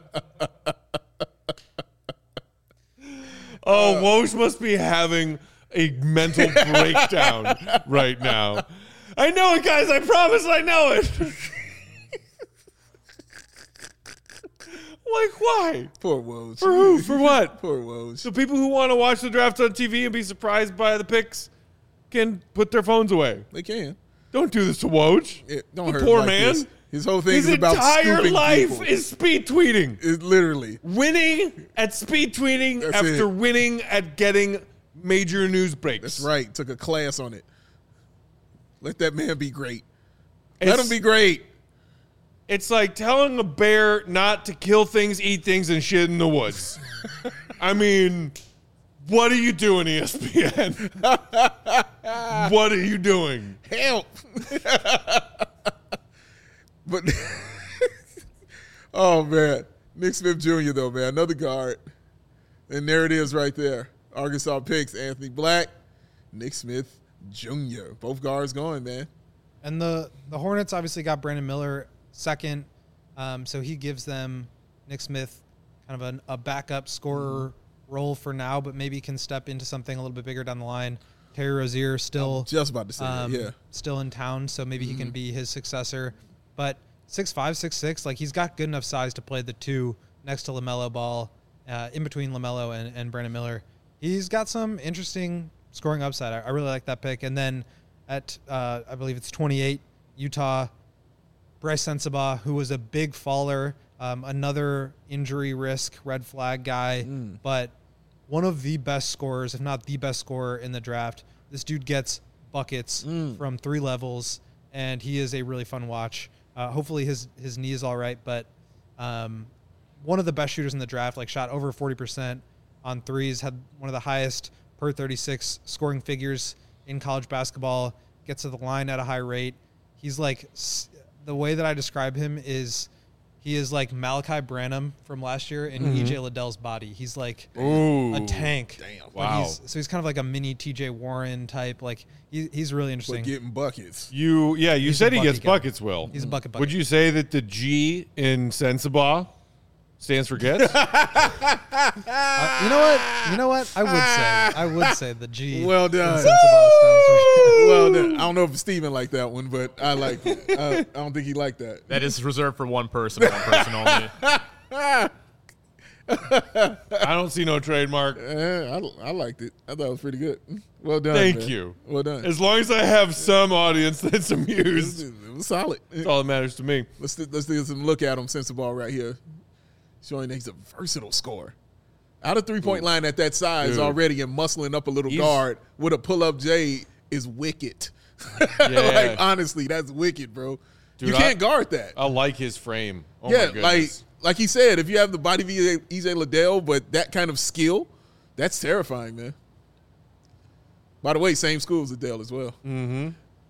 Oh, Woj must be having a mental breakdown right now. I know it, guys. I promise I know it. Like, why? Poor Woj. For who? For what? Poor Woj. So people who want to watch the draft on T V and be surprised by the picks can put their phones away. They can. Don't do this to Woj. It, don't the hurt poor like man. This. His whole thing His is about entire scooping life people. is speed tweeting. It literally. Winning at speed tweeting That's after it. winning at getting major news breaks. That's right. Took a class on it. Let that man be great. Let It's- him be great. It's like telling a bear not to kill things, eat things, and shit in the woods. I mean, what are you doing, E S P N? What are you doing? Help. But oh man, Nick Smith Junior though, man, another guard, and there it is right there. Arkansas picks Anthony Black, Nick Smith Junior Both guards going, man. And the, the Hornets obviously got Brandon Miller second, um, so he gives them Nick Smith kind of a, a backup scorer role for now, but maybe can step into something a little bit bigger down the line. Terry Rozier still Just about to say um, that, yeah. still in town, so maybe he can be his successor. But six five, six six, like he's got good enough size to play the two next to LaMelo Ball, uh, in between LaMelo and, and Brandon Miller. He's got some interesting scoring upside. I, I really like that pick. And then at, uh, I believe it's twenty-eight, Utah, Bryce Sensabaugh, who was a big faller, um, another injury risk, red flag guy, Mm. but one of the best scorers, if not the best scorer in the draft. This dude gets buckets Mm. from three levels, and he is a really fun watch. Uh, hopefully his, his knee is all right, but um, one of the best shooters in the draft, like shot over forty percent on threes, had one of the highest per thirty-six scoring figures in college basketball, gets to the line at a high rate. He's like, the way that I describe him is he is like Malachi Branham from last year in Mm-hmm. E J Liddell's body. He's like Ooh. a tank. Damn. But Wow. He's, so he's kind of like a mini T J Warren type. Like he, he's really But interesting. getting buckets. You, yeah, you He's said a he gets bucket guy. buckets, Will. He's a bucket bucket. Would you say that the G in Sensabaugh stands for gets? Uh, you know what? You know what? I would say. I would say the G. Well in done. Sensabaugh stands for- Well, then, I don't know if Steven liked that one, but I like it. I, I don't think he liked that. That is reserved for one person, one person only. I don't see no trademark. Eh, I, I liked it. I thought it was pretty good. Well done. Thank man. you. Well done. As long as I have some audience that's It was, amused, it was solid. that's all that matters to me. Let's let's do some look at him since the ball right here, showing that he's a versatile scorer. Out of three point line at that size Dude. already and muscling up a little He's- guard with a pull up J is wicked. Yeah. Like honestly, that's wicked, bro. Dude, you can't I- guard that. I like his frame. Oh yeah, my like goodness. like he said, if you have the body of E J Liddell, but that kind of skill, that's terrifying, man. By the way, same school as Liddell as well. Mm-hmm.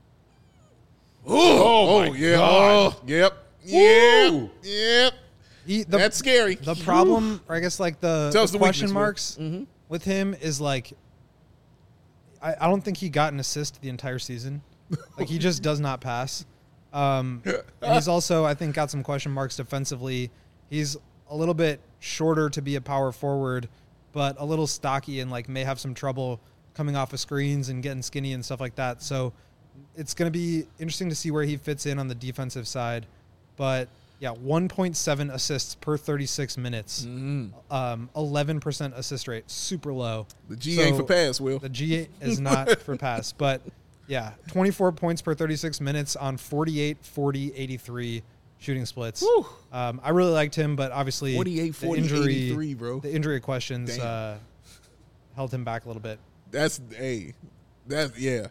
Oh, my yeah. God. Oh, yep. Yep. Woo. Yep. He, the, That's scary. the problem, or I guess like the, Tell us the the question weakness, marks Will. Mhm. with him is like, I, I don't think he got an assist the entire season. Like he just does not pass. Um, and he's also, I think, got some question marks defensively. He's a little bit shorter to be a power forward, but a little stocky and like may have some trouble coming off of screens and getting skinny and stuff like that. So it's going to be interesting to see where he fits in on the defensive side. But Yeah, one point seven assists per thirty-six minutes. Um, eleven percent assist rate, super low. The G ain't for pass, Will. The G is not for pass, but yeah, twenty-four points per thirty-six minutes on forty-eight, forty, eighty-three shooting splits. Um, I really liked him, but obviously forty-eight, the forty, injury, eighty-three, bro. the injury questions Damn. uh, held him back a little bit. That's hey, that's yeah.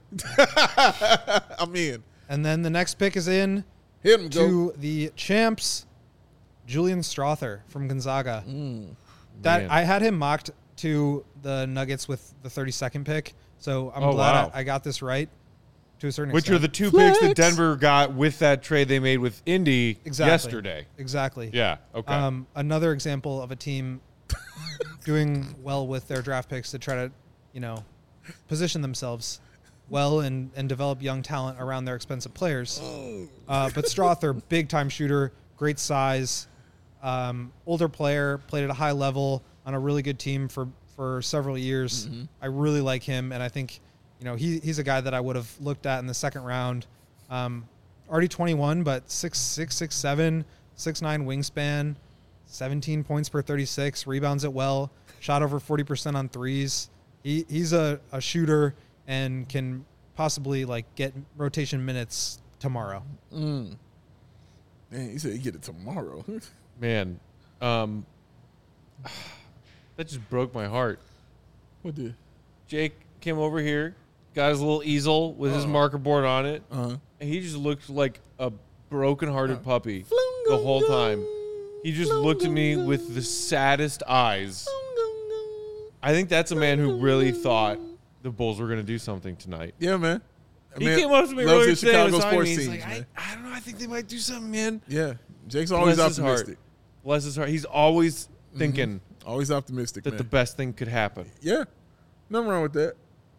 I'm in. And then the next pick is in Hit him, go. to the champs, Julian Strother from Gonzaga. That Man. I had him mocked to the Nuggets with the thirty-second pick, so I'm Oh, glad wow. I, I got this right to a certain Which extent. are the two Flex. picks that Denver got with that trade they made with Indy Exactly. yesterday. Exactly. Yeah. Okay. Um, another example of a team doing well with their draft picks to try to, you know, position themselves well and, and develop young talent around their expensive players. Uh, but Strother, big time shooter, great size, um, older player, played at a high level on a really good team for, for several years. I really like him, and I think, you know, he he's a guy that I would have looked at in the second round. Um, already twenty-one, but six six, six seven, six nine wingspan, seventeen points per thirty-six, rebounds it well, shot over forty percent on threes. He he's a, a shooter and can possibly like get rotation minutes tomorrow. Man, he said he get it tomorrow. Man, um, that just broke my heart. What the? Jake came over here, got his little easel with his marker board on it, Uh-huh. and he just looked like a broken-hearted puppy the whole time. He just looked at me with the saddest eyes. I think that's a man who really thought the Bulls were going to do something tonight. Yeah, man. I He mean, came up to me loves earlier his today and Chicago was sports me. He's teams, like, man. I, I don't know. I think they might do something, man. Yeah, Jake's always Bless his heart. optimistic. Bless his heart. He's always thinking Always optimistic, that man. the best thing could happen. Yeah, nothing wrong with that.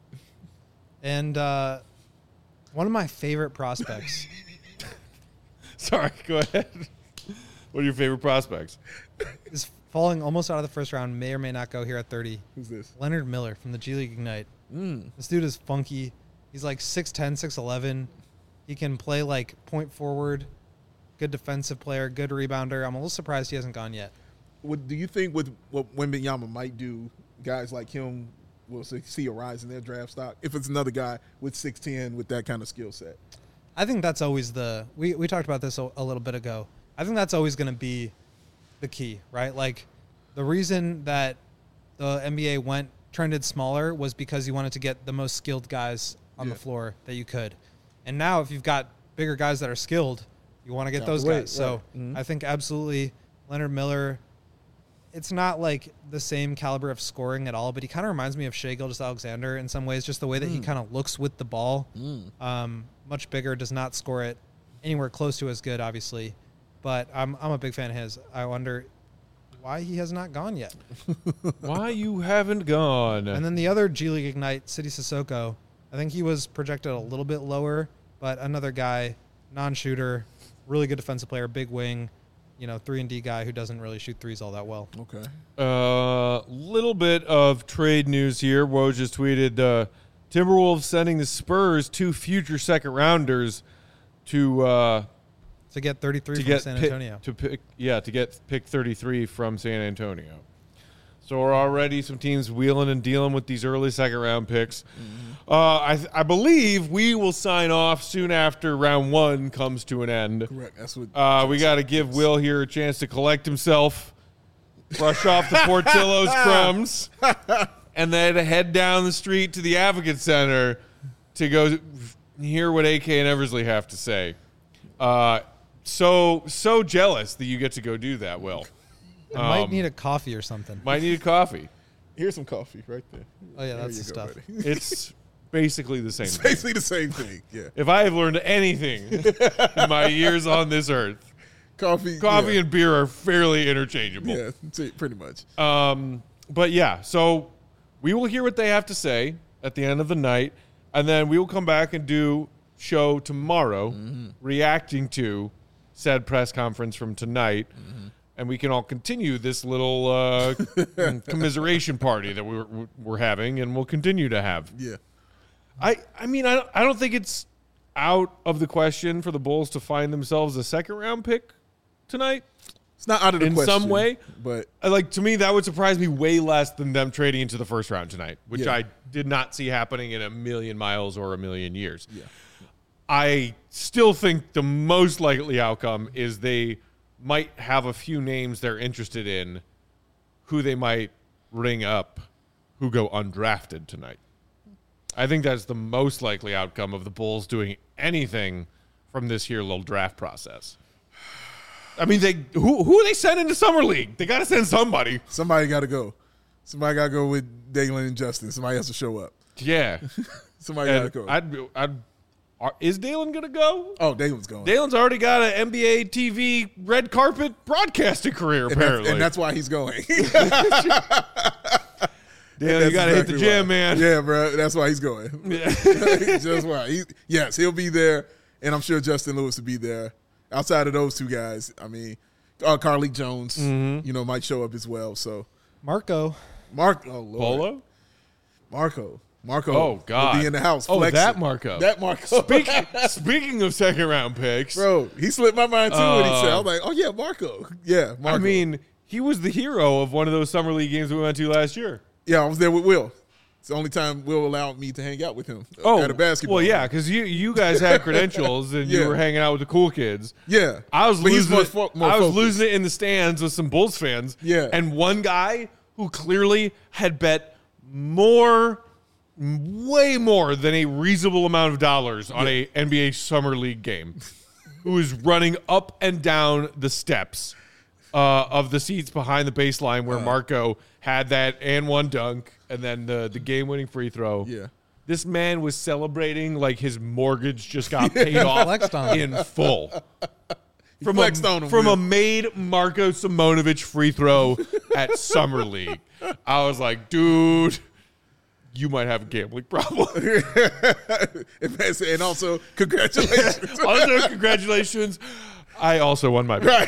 And uh, one of my favorite prospects, Sorry, go ahead. What are your favorite prospects? is falling almost out of the first round, may or may not go here at thirty. Who's this? Leonard Miller from the G League Ignite. Mm. This dude is funky. He's like six ten, six eleven. He can play like point forward, good defensive player, good rebounder. I'm a little surprised he hasn't gone yet. What do you think with what Wembanyama might do? Guys like him will see see a rise in their draft stock if it's another guy with six ten with that kind of skill set. I think that's always the we, we talked about this a, a little bit ago. I think that's always going to be the key, right? Like the reason that the N B A went trended smaller was because you wanted to get the most skilled guys on Yeah. the floor that you could. And now if you've got bigger guys that are skilled, you want to get Out those the way, guys. So right. Mhm. I think absolutely Leonard Miller, it's not like the same caliber of scoring at all, but he kind of reminds me of Shai Gilgeous-Alexander in some ways, just the way that he kind of looks with the ball. Um, much bigger, does not score it anywhere close to as good, obviously. But I'm I'm a big fan of his. I wonder why he has not gone yet. Why you haven't gone? And then the other G League Ignite, City Sissoko, I think he was projected a little bit lower, but another guy, non-shooter, really good defensive player, big wing, you know, three and D guy who doesn't really shoot threes all that well. Okay. A uh, little bit of trade news here. Woj just tweeted uh, Timberwolves sending the Spurs two future second rounders to uh, To get thirty-three to from get San pick- Antonio. to pick yeah to get pick thirty-three from San Antonio. So we're already some teams wheeling and dealing with these early second round picks. Uh, I th- I believe we will sign off soon after round one comes to an end. Correct. That's what. Uh, we got to give Will here a chance to collect himself, brush off the Portillo's crumbs, and then head down the street to the Advocate Center to go hear what A K and Eversley have to say. Uh, so so jealous that you get to go do that, Will. I might Um, need a coffee or something. Might need a coffee. Here's some coffee right there. Oh, yeah, There that's you the go, stuff. buddy. It's basically the same It's thing. basically the same thing. Yeah. If I have learned anything in my years on this earth, Coffee. coffee yeah. and beer are fairly interchangeable. Yeah, that's it, pretty much. Um, but yeah, so we will hear what they have to say at the end of the night, and then we will come back and do show tomorrow, reacting to said press conference from tonight, and we can all continue this little uh, commiseration party that we're we're having, and we'll continue to have. Yeah. I I mean I don't, I don't think it's out of the question for the Bulls to find themselves a second round pick tonight It's not out of the in question. some way. But Uh, Like, to me, that would surprise me way less than them trading into the first round tonight, which Yeah. I did not see happening in a million miles or a million years. Yeah. I still think the most likely outcome is they might have a few names they're interested in who they might ring up who go undrafted tonight. I think that's the most likely outcome of the Bulls doing anything from this here little draft process. I mean, they who who are they sending to summer league? They got to send somebody. somebody got to go. Somebody got to go with Dalen and Justin. Somebody has to show up. Yeah, Somebody got to and go. I'd, be- I'd are, is Dalen gonna go? oh, Dalen's going. Dalen's already got an N B A T V red carpet broadcasting career. and, Apparently, that's, and that's why he's going. Dalen, you That's gotta hit the exactly gym, why. man. Yeah, bro. That's why he's going. Just why. He, yes, he'll be there, and I'm sure Justin Lewis will be there. Outside of those two guys, I mean, uh, Carlik Jones, Mm-hmm. you know, might show up as well. So, Marco. Mark, oh Lord, Polo. Marco, Marco, Oh God, will be in the house. Oh, flexing. that Marco. that Marco. Speaking, speaking of second round picks, Bro, he slipped my mind too when he said, Uh, "I was like, oh yeah, Marco, yeah, Marco." I mean, he was the hero of one of those summer league games we went to last year. yeah, I was there with Will. It's the only time Will allowed me to hang out with him Oh, at a basketball. well, yeah, game. because you you guys had credentials and Yeah. you were hanging out with the cool kids. yeah. I was But he's losing more it. fo- more I was focused. losing it in the stands with some Bulls fans. Yeah. and one guy who clearly had bet more, way more than a reasonable amount of dollars on a N B A summer league game, who was running up and down the steps uh, of the seats behind the baseline Uh. where Marco had that and one dunk and then the the game winning free throw. Yeah. This man was celebrating like his mortgage just got paid off Flexed on him. in full. From flexed a, on him, from Will. a made Marco Simonovic free throw at Summer League. I was like, dude, you might have a gambling problem. and also, congratulations. Also, congratulations. I also won my bet.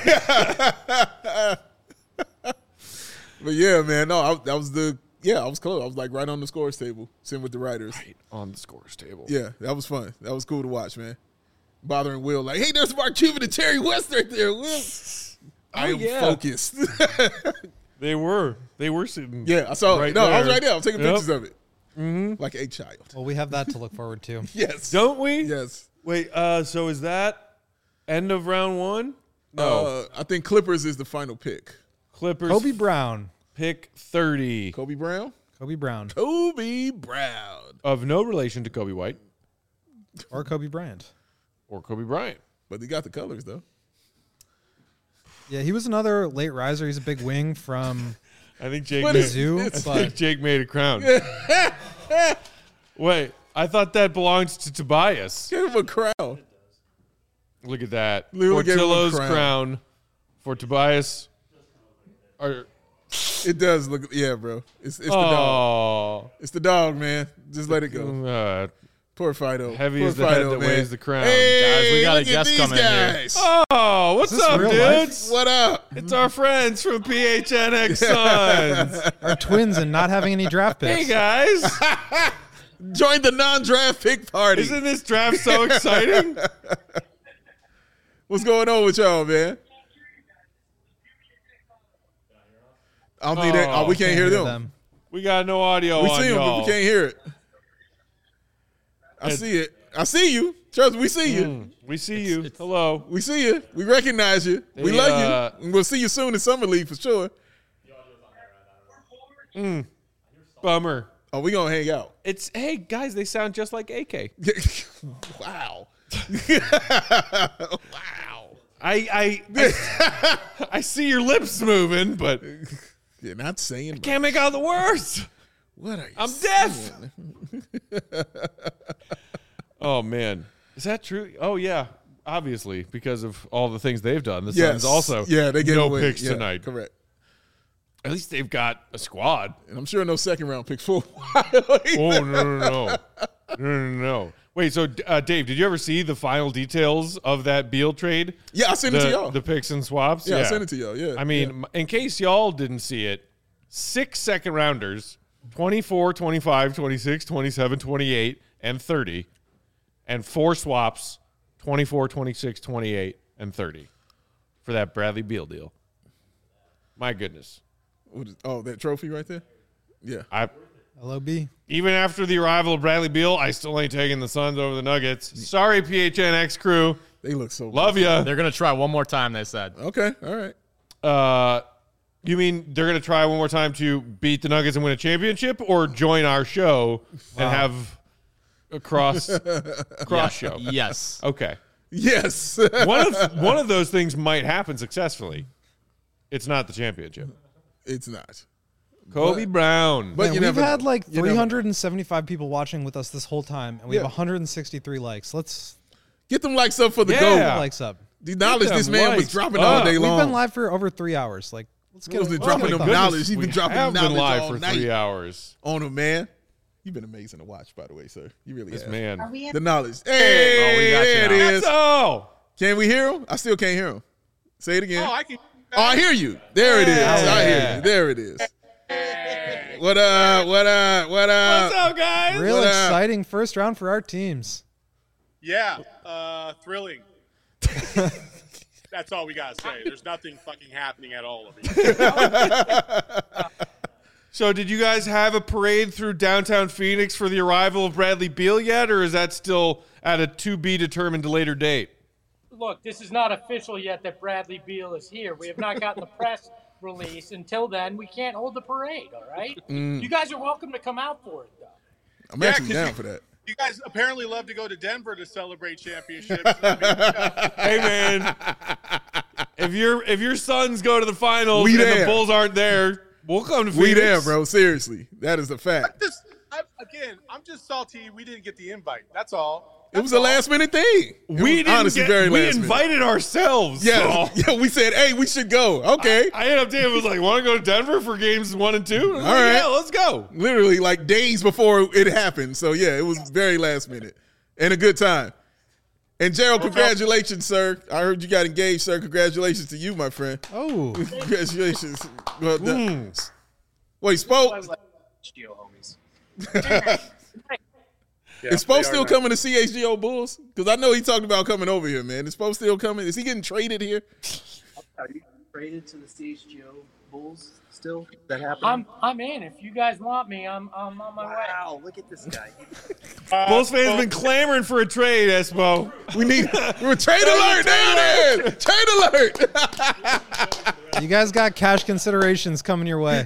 But yeah, man, no, I, that was the yeah, I was close. I was like right on the scores table, sitting with the writers. Right on the scores table. Yeah, that was fun. That was cool to watch, man. Bothering Will, like, hey, there's Mark Cuban and Terry West right there. Will, I am yeah. focused. They were. They were sitting. yeah, I saw Right it. No, I was there. right there. I was taking Yep. pictures of it, mm-hmm. like a child. Well, we have that to look forward to. Yes, Don't we? yes. Wait, uh, so is that end of round one? No. Uh, I think Clippers is the final pick. Clippers Kobe Brown. pick thirty Kobe Brown. Kobe Brown. Kobe Brown, of no relation to Kobe White Or Kobe Bryant. or Kobe Bryant. but he got the colors though. Yeah, he was another late riser. He's a big wing from I think Jake What made, is Zoo. I think But Jake made a crown. Wait, I thought that belongs to Tobias. Give him a crown. Look at that. Literally gave him a Portillo's crown. crown. For Tobias. Or, It does look, yeah, bro. It's it's the dog. oh, It's the dog, man. Just let it go. uh, Poor Fido. Heavy Poor is the head Fido, that man. weighs the crown. Hey, Guys, we got a look at guest these coming in here. guys. oh, what's Is this up, real life? dudes? What up? It's our friends from P H N X Suns. our twins and not having any draft Hey, picks. guys. Join the non-draft pick party. Isn't this draft so exciting? What's going on with y'all, man? I don't think that. Oh, we can't, hear them. We got no audio We on see them, but y'all. we can't hear it. I It- see it. I see you. Trust me, we see you. Mm, we see you. Hello. We see you. We recognize you. we They, love uh, you. And we'll see you soon in Summer League for sure. Bummer. Oh, we gonna hang out. It's, hey, guys, they sound just like A K. Wow. wow. I, I, I, I see your lips moving, but You're not saying much. can't make out the words. What are you I'm saying? deaf. Oh, man. Is that true? Oh, yeah. Obviously, because of all the things they've done. The Yes. Suns also Yeah, they gave no away. picks Yeah, tonight. Correct. At least they've got a squad. And I'm sure no second round picks for a while. Oh, no, no, no. No, no, no. Wait, so, uh, Dave, did you ever see the final details of that Beal trade? Yeah, I sent it to The, y'all. the picks and swaps? yeah, I sent it to y'all. Yeah. I mean, m in case y'all didn't see it, six second rounders, twenty-four, twenty-five, twenty-six, twenty-seven, twenty-eight, and thirty, and four swaps, twenty-four, twenty-six, twenty-eight, and thirty for that Bradley Beal deal. My goodness. What is, oh, that trophy right there? Yeah. I L O B. even after the arrival of Bradley Beal, I still ain't taking the Suns over the Nuggets. Sorry, P H N X crew. They look so Love ya. They're going to try one more time, they said. Okay. All right. Uh, you mean they're going to try one more time to beat the Nuggets and win a championship, or join our show and have a cross cross show? Yes. Okay. Yes. One of one of those things might happen successfully. It's not the championship. It's not. Kobe But- Brown. But Man, you we've never had know. like You never- three hundred seventy-five people watching with us this whole time, and we Yeah. have one hundred sixty-three likes. Let's Get them likes up for the Yeah. goal. Yeah. likes up. The knowledge Get this them man was likes dropping up. all day We've long. been live for over three hours. Like, let's get was a- it let's dropping get a them thumbs. knowledge? He's we been dropping have been knowledge live all for night. three hours. On him, man. You've been amazing to watch, by the way, sir. You really This have. man. Are we in? The knowledge. Hey, Oh, we got you there it now. is. Oh, Can we hear him? I still can't hear him. Say it again. Oh, I can. Oh, I hear you. There it is. I hear Yeah. you. There it is. What up? What up? What up? what's up, guys? Real What up? exciting first round for our teams. Yeah, uh, thrilling. That's all we gotta say. There's nothing fucking happening at all of it. So, did you guys have a parade through downtown Phoenix for the arrival of Bradley Beal yet, or is that still at a to be determined later date? Look, this is not official yet that Bradley Beal is here. We have not gotten the press release. Until then, we can't hold the parade, all right? You guys are welcome to come out for it, though. I'm Yeah, actually 'cause down you- for that. You guys apparently love to go to Denver to celebrate championships. I mean, yeah. Hey, man, if your if your Suns go to the finals We and there. the Bulls aren't there, we'll come to Phoenix. We there, bro. Seriously. That is a fact. Just, I, again, I'm just salty we didn't get the invite. That's all. It was a last minute thing. It We was didn't honestly get, very we last minute. invited ourselves. Yeah, so- yeah, we said, hey, we should go. Okay. I ended up Dave was like, want to go to Denver for games one and two? All All right. Yeah, let's go. Literally like days before it happened. So yeah, it was very last minute and a good time. And Gerald, congratulations, sir. I heard you got engaged, sir. Congratulations to you, my friend. Oh, Congratulations. Well, the- Mm. Wait, I Spo, like Geo homies. Yeah, is Spo they are still nice. coming to C H G O Bulls? Because I know he talked about coming over here, man. Is Spo still coming? Is he getting traded here? Are you traded to the C H G O Bulls still? Is that happening? I'm I'm in. If you guys want me, I'm I'm on my way. wow, look at this guy. Uh, Bulls fans well, been clamoring for a trade, Espo. We need we're trade alert down there. Trade alert. you guys got cash considerations coming your way.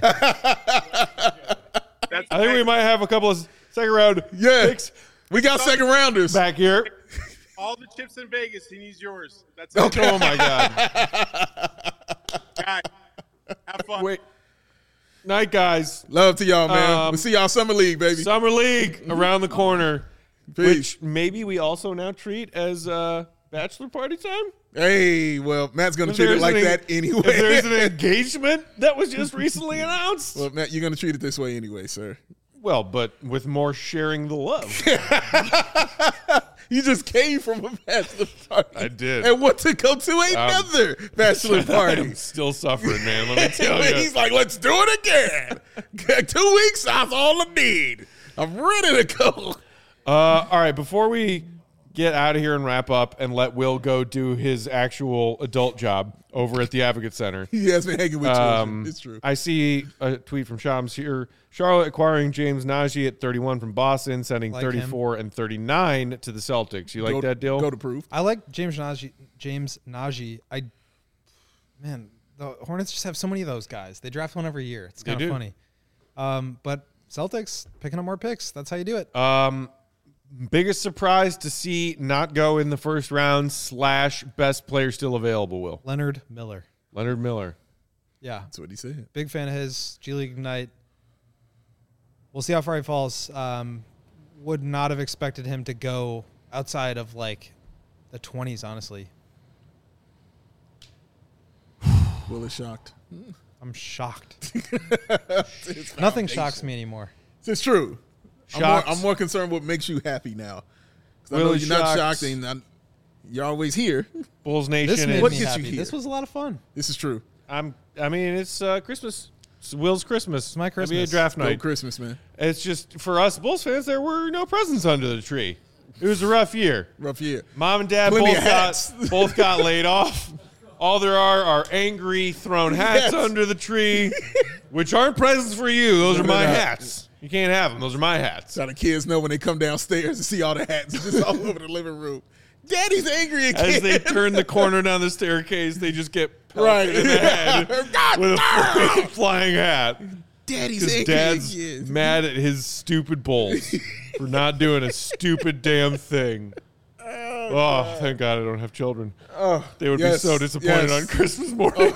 that's I think we might have a couple of second round Yeah. picks We got second rounders. back here. all the chips in Vegas. He needs yours. That's Okay. Oh my God! Guys, have fun. Wait, night guys. Love to y'all, man. Um, we'll see y'all summer league, baby. Summer League around the corner, Peace. which maybe we also now treat as uh, bachelor party time. Hey, well, Matt's gonna If treat it there's like an- that anyway. If there's an engagement that was just recently announced, well, Matt, you're gonna treat it this way anyway, sir. well, but with more sharing the love. You just came from a bachelor party. I did. And want to go to another bachelor party. I'm still suffering, man. Let me tell you. He's like, let's do it again. Two weeks, that's all I need. I'm ready to go. Uh, all right, before we get out of here and wrap up and let Will go do his actual adult job over at the Advocate Center. He has been hanging with children. Um, It's true. I see a tweet from Shams here. Charlotte acquiring James Najee at thirty-one from Boston, sending Like thirty-four and thirty-nine to the Celtics. You like go, that deal? Go to proof. I like James Najee. James Najee. I man, the Hornets just have so many of those guys. They draft one every year. It's They kind of do. funny. Um, but Celtics picking up more picks. That's how you do it. Um, biggest surprise to see not go in the first round slash best player still available, Will. Leonard Miller. Leonard Miller. Yeah, That's what he said. big fan of his. G League Ignite. We'll see how far he falls. Um, would not have expected him to go outside of like the twenties. Honestly, Will is shocked. I'm shocked. It's Nothing foundation. shocks me anymore. It's true. I'm more, Shocked. I'm more concerned what makes you happy now. 'Cause I Will know is you're not shocked. shocked and I'm, you're always here. Bulls This Nation. made is- What me gets you happy. here? This was a lot of fun. This is true. I'm. I mean, it's uh, Christmas. It's Will's Christmas. It's my N B A Christmas. draft No night. Christmas, man. It's just for us Bulls fans. There were no presents under the tree. It was a rough year. Rough year. Mom and dad Plenty both of got hats. both got laid off. All there are are angry thrown hats Yes. under the tree, which aren't presents for you. Those No, are they're my not. hats. You can't have them. Those are my hats. So the kids know when they come downstairs and see all the hats just all over the living room. Daddy's angry again. As they turn the corner down the staircase, they just get pelted Right. in the head God with a damn! flying, flying hat. Daddy's Because angry Dad's again. mad at his stupid Bulls for not doing a stupid damn thing. Oh, thank God I don't have children. Oh, They would yes, be so disappointed yes. on Christmas morning.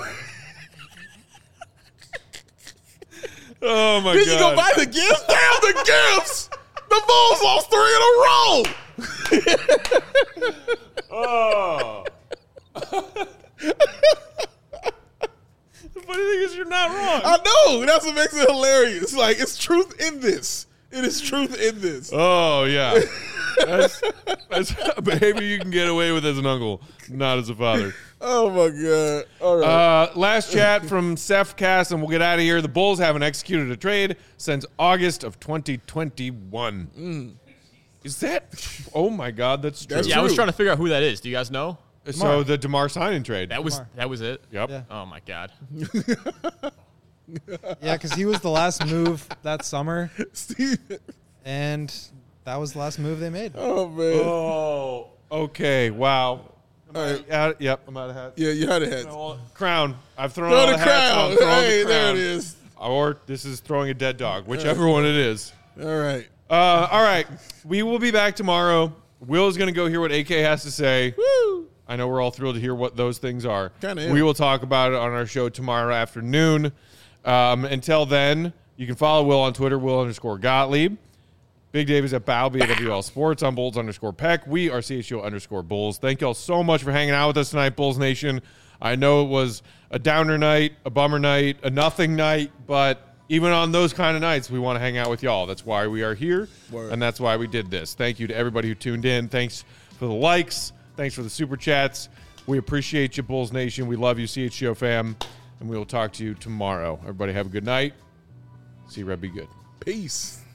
Oh, my Then God. you go buy the gifts? Damn the gifts! The Bulls lost three in a row! Oh. The funny thing is, you're not wrong. I know. That's what makes it hilarious. Like, it's truth in this. It is truth in this. Oh, yeah. That's, that's a behavior you can get away with as an uncle, not as a father. Oh, my God. All right. Uh, last chat from Seth Cass, and we'll get out of here. The Bulls haven't executed a trade since August of twenty twenty-one. Mm. Is that? Oh, my God, that's true. That's Yeah, I was true. trying to figure out who that is. Do you guys know? So the DeMar signing trade. That was Lamar. that was it. Yep. Yeah. Oh my God. Yeah, because he was the last move that summer, Steve. and that was the last move they made. Oh, man. Oh, okay. Wow. All right. Yeah, yep, I'm out of hats. Yeah, you had a head. Crown. I've thrown Throw all the the hats. crown. I'm throwing Hey, the there crown. it is. Or this is throwing a dead dog, whichever one it is. All right. Uh, all right. We will be back tomorrow. Will is going to go hear what A K has to say. Woo. I know we're all thrilled to hear what those things are. Kinda am. We will talk about it on our show tomorrow afternoon. Um, until then, you can follow Will on Twitter, Will underscore Gottlieb. Big Dave is at Balby at W L Sports on Bulls underscore Peck. We are C H O underscore Bulls. Thank you all so much for hanging out with us tonight, Bulls Nation. I know it was a downer night, a bummer night, a nothing night, but even on those kind of nights, we want to hang out with y'all. That's why we are here, Word. and that's why we did this. Thank you to everybody who tuned in. Thanks for the likes. Thanks for the super chats. We appreciate you, Bulls Nation. We love you, C H G O fam, and we will talk to you tomorrow. Everybody have a good night. See you, Red. Be good. Peace.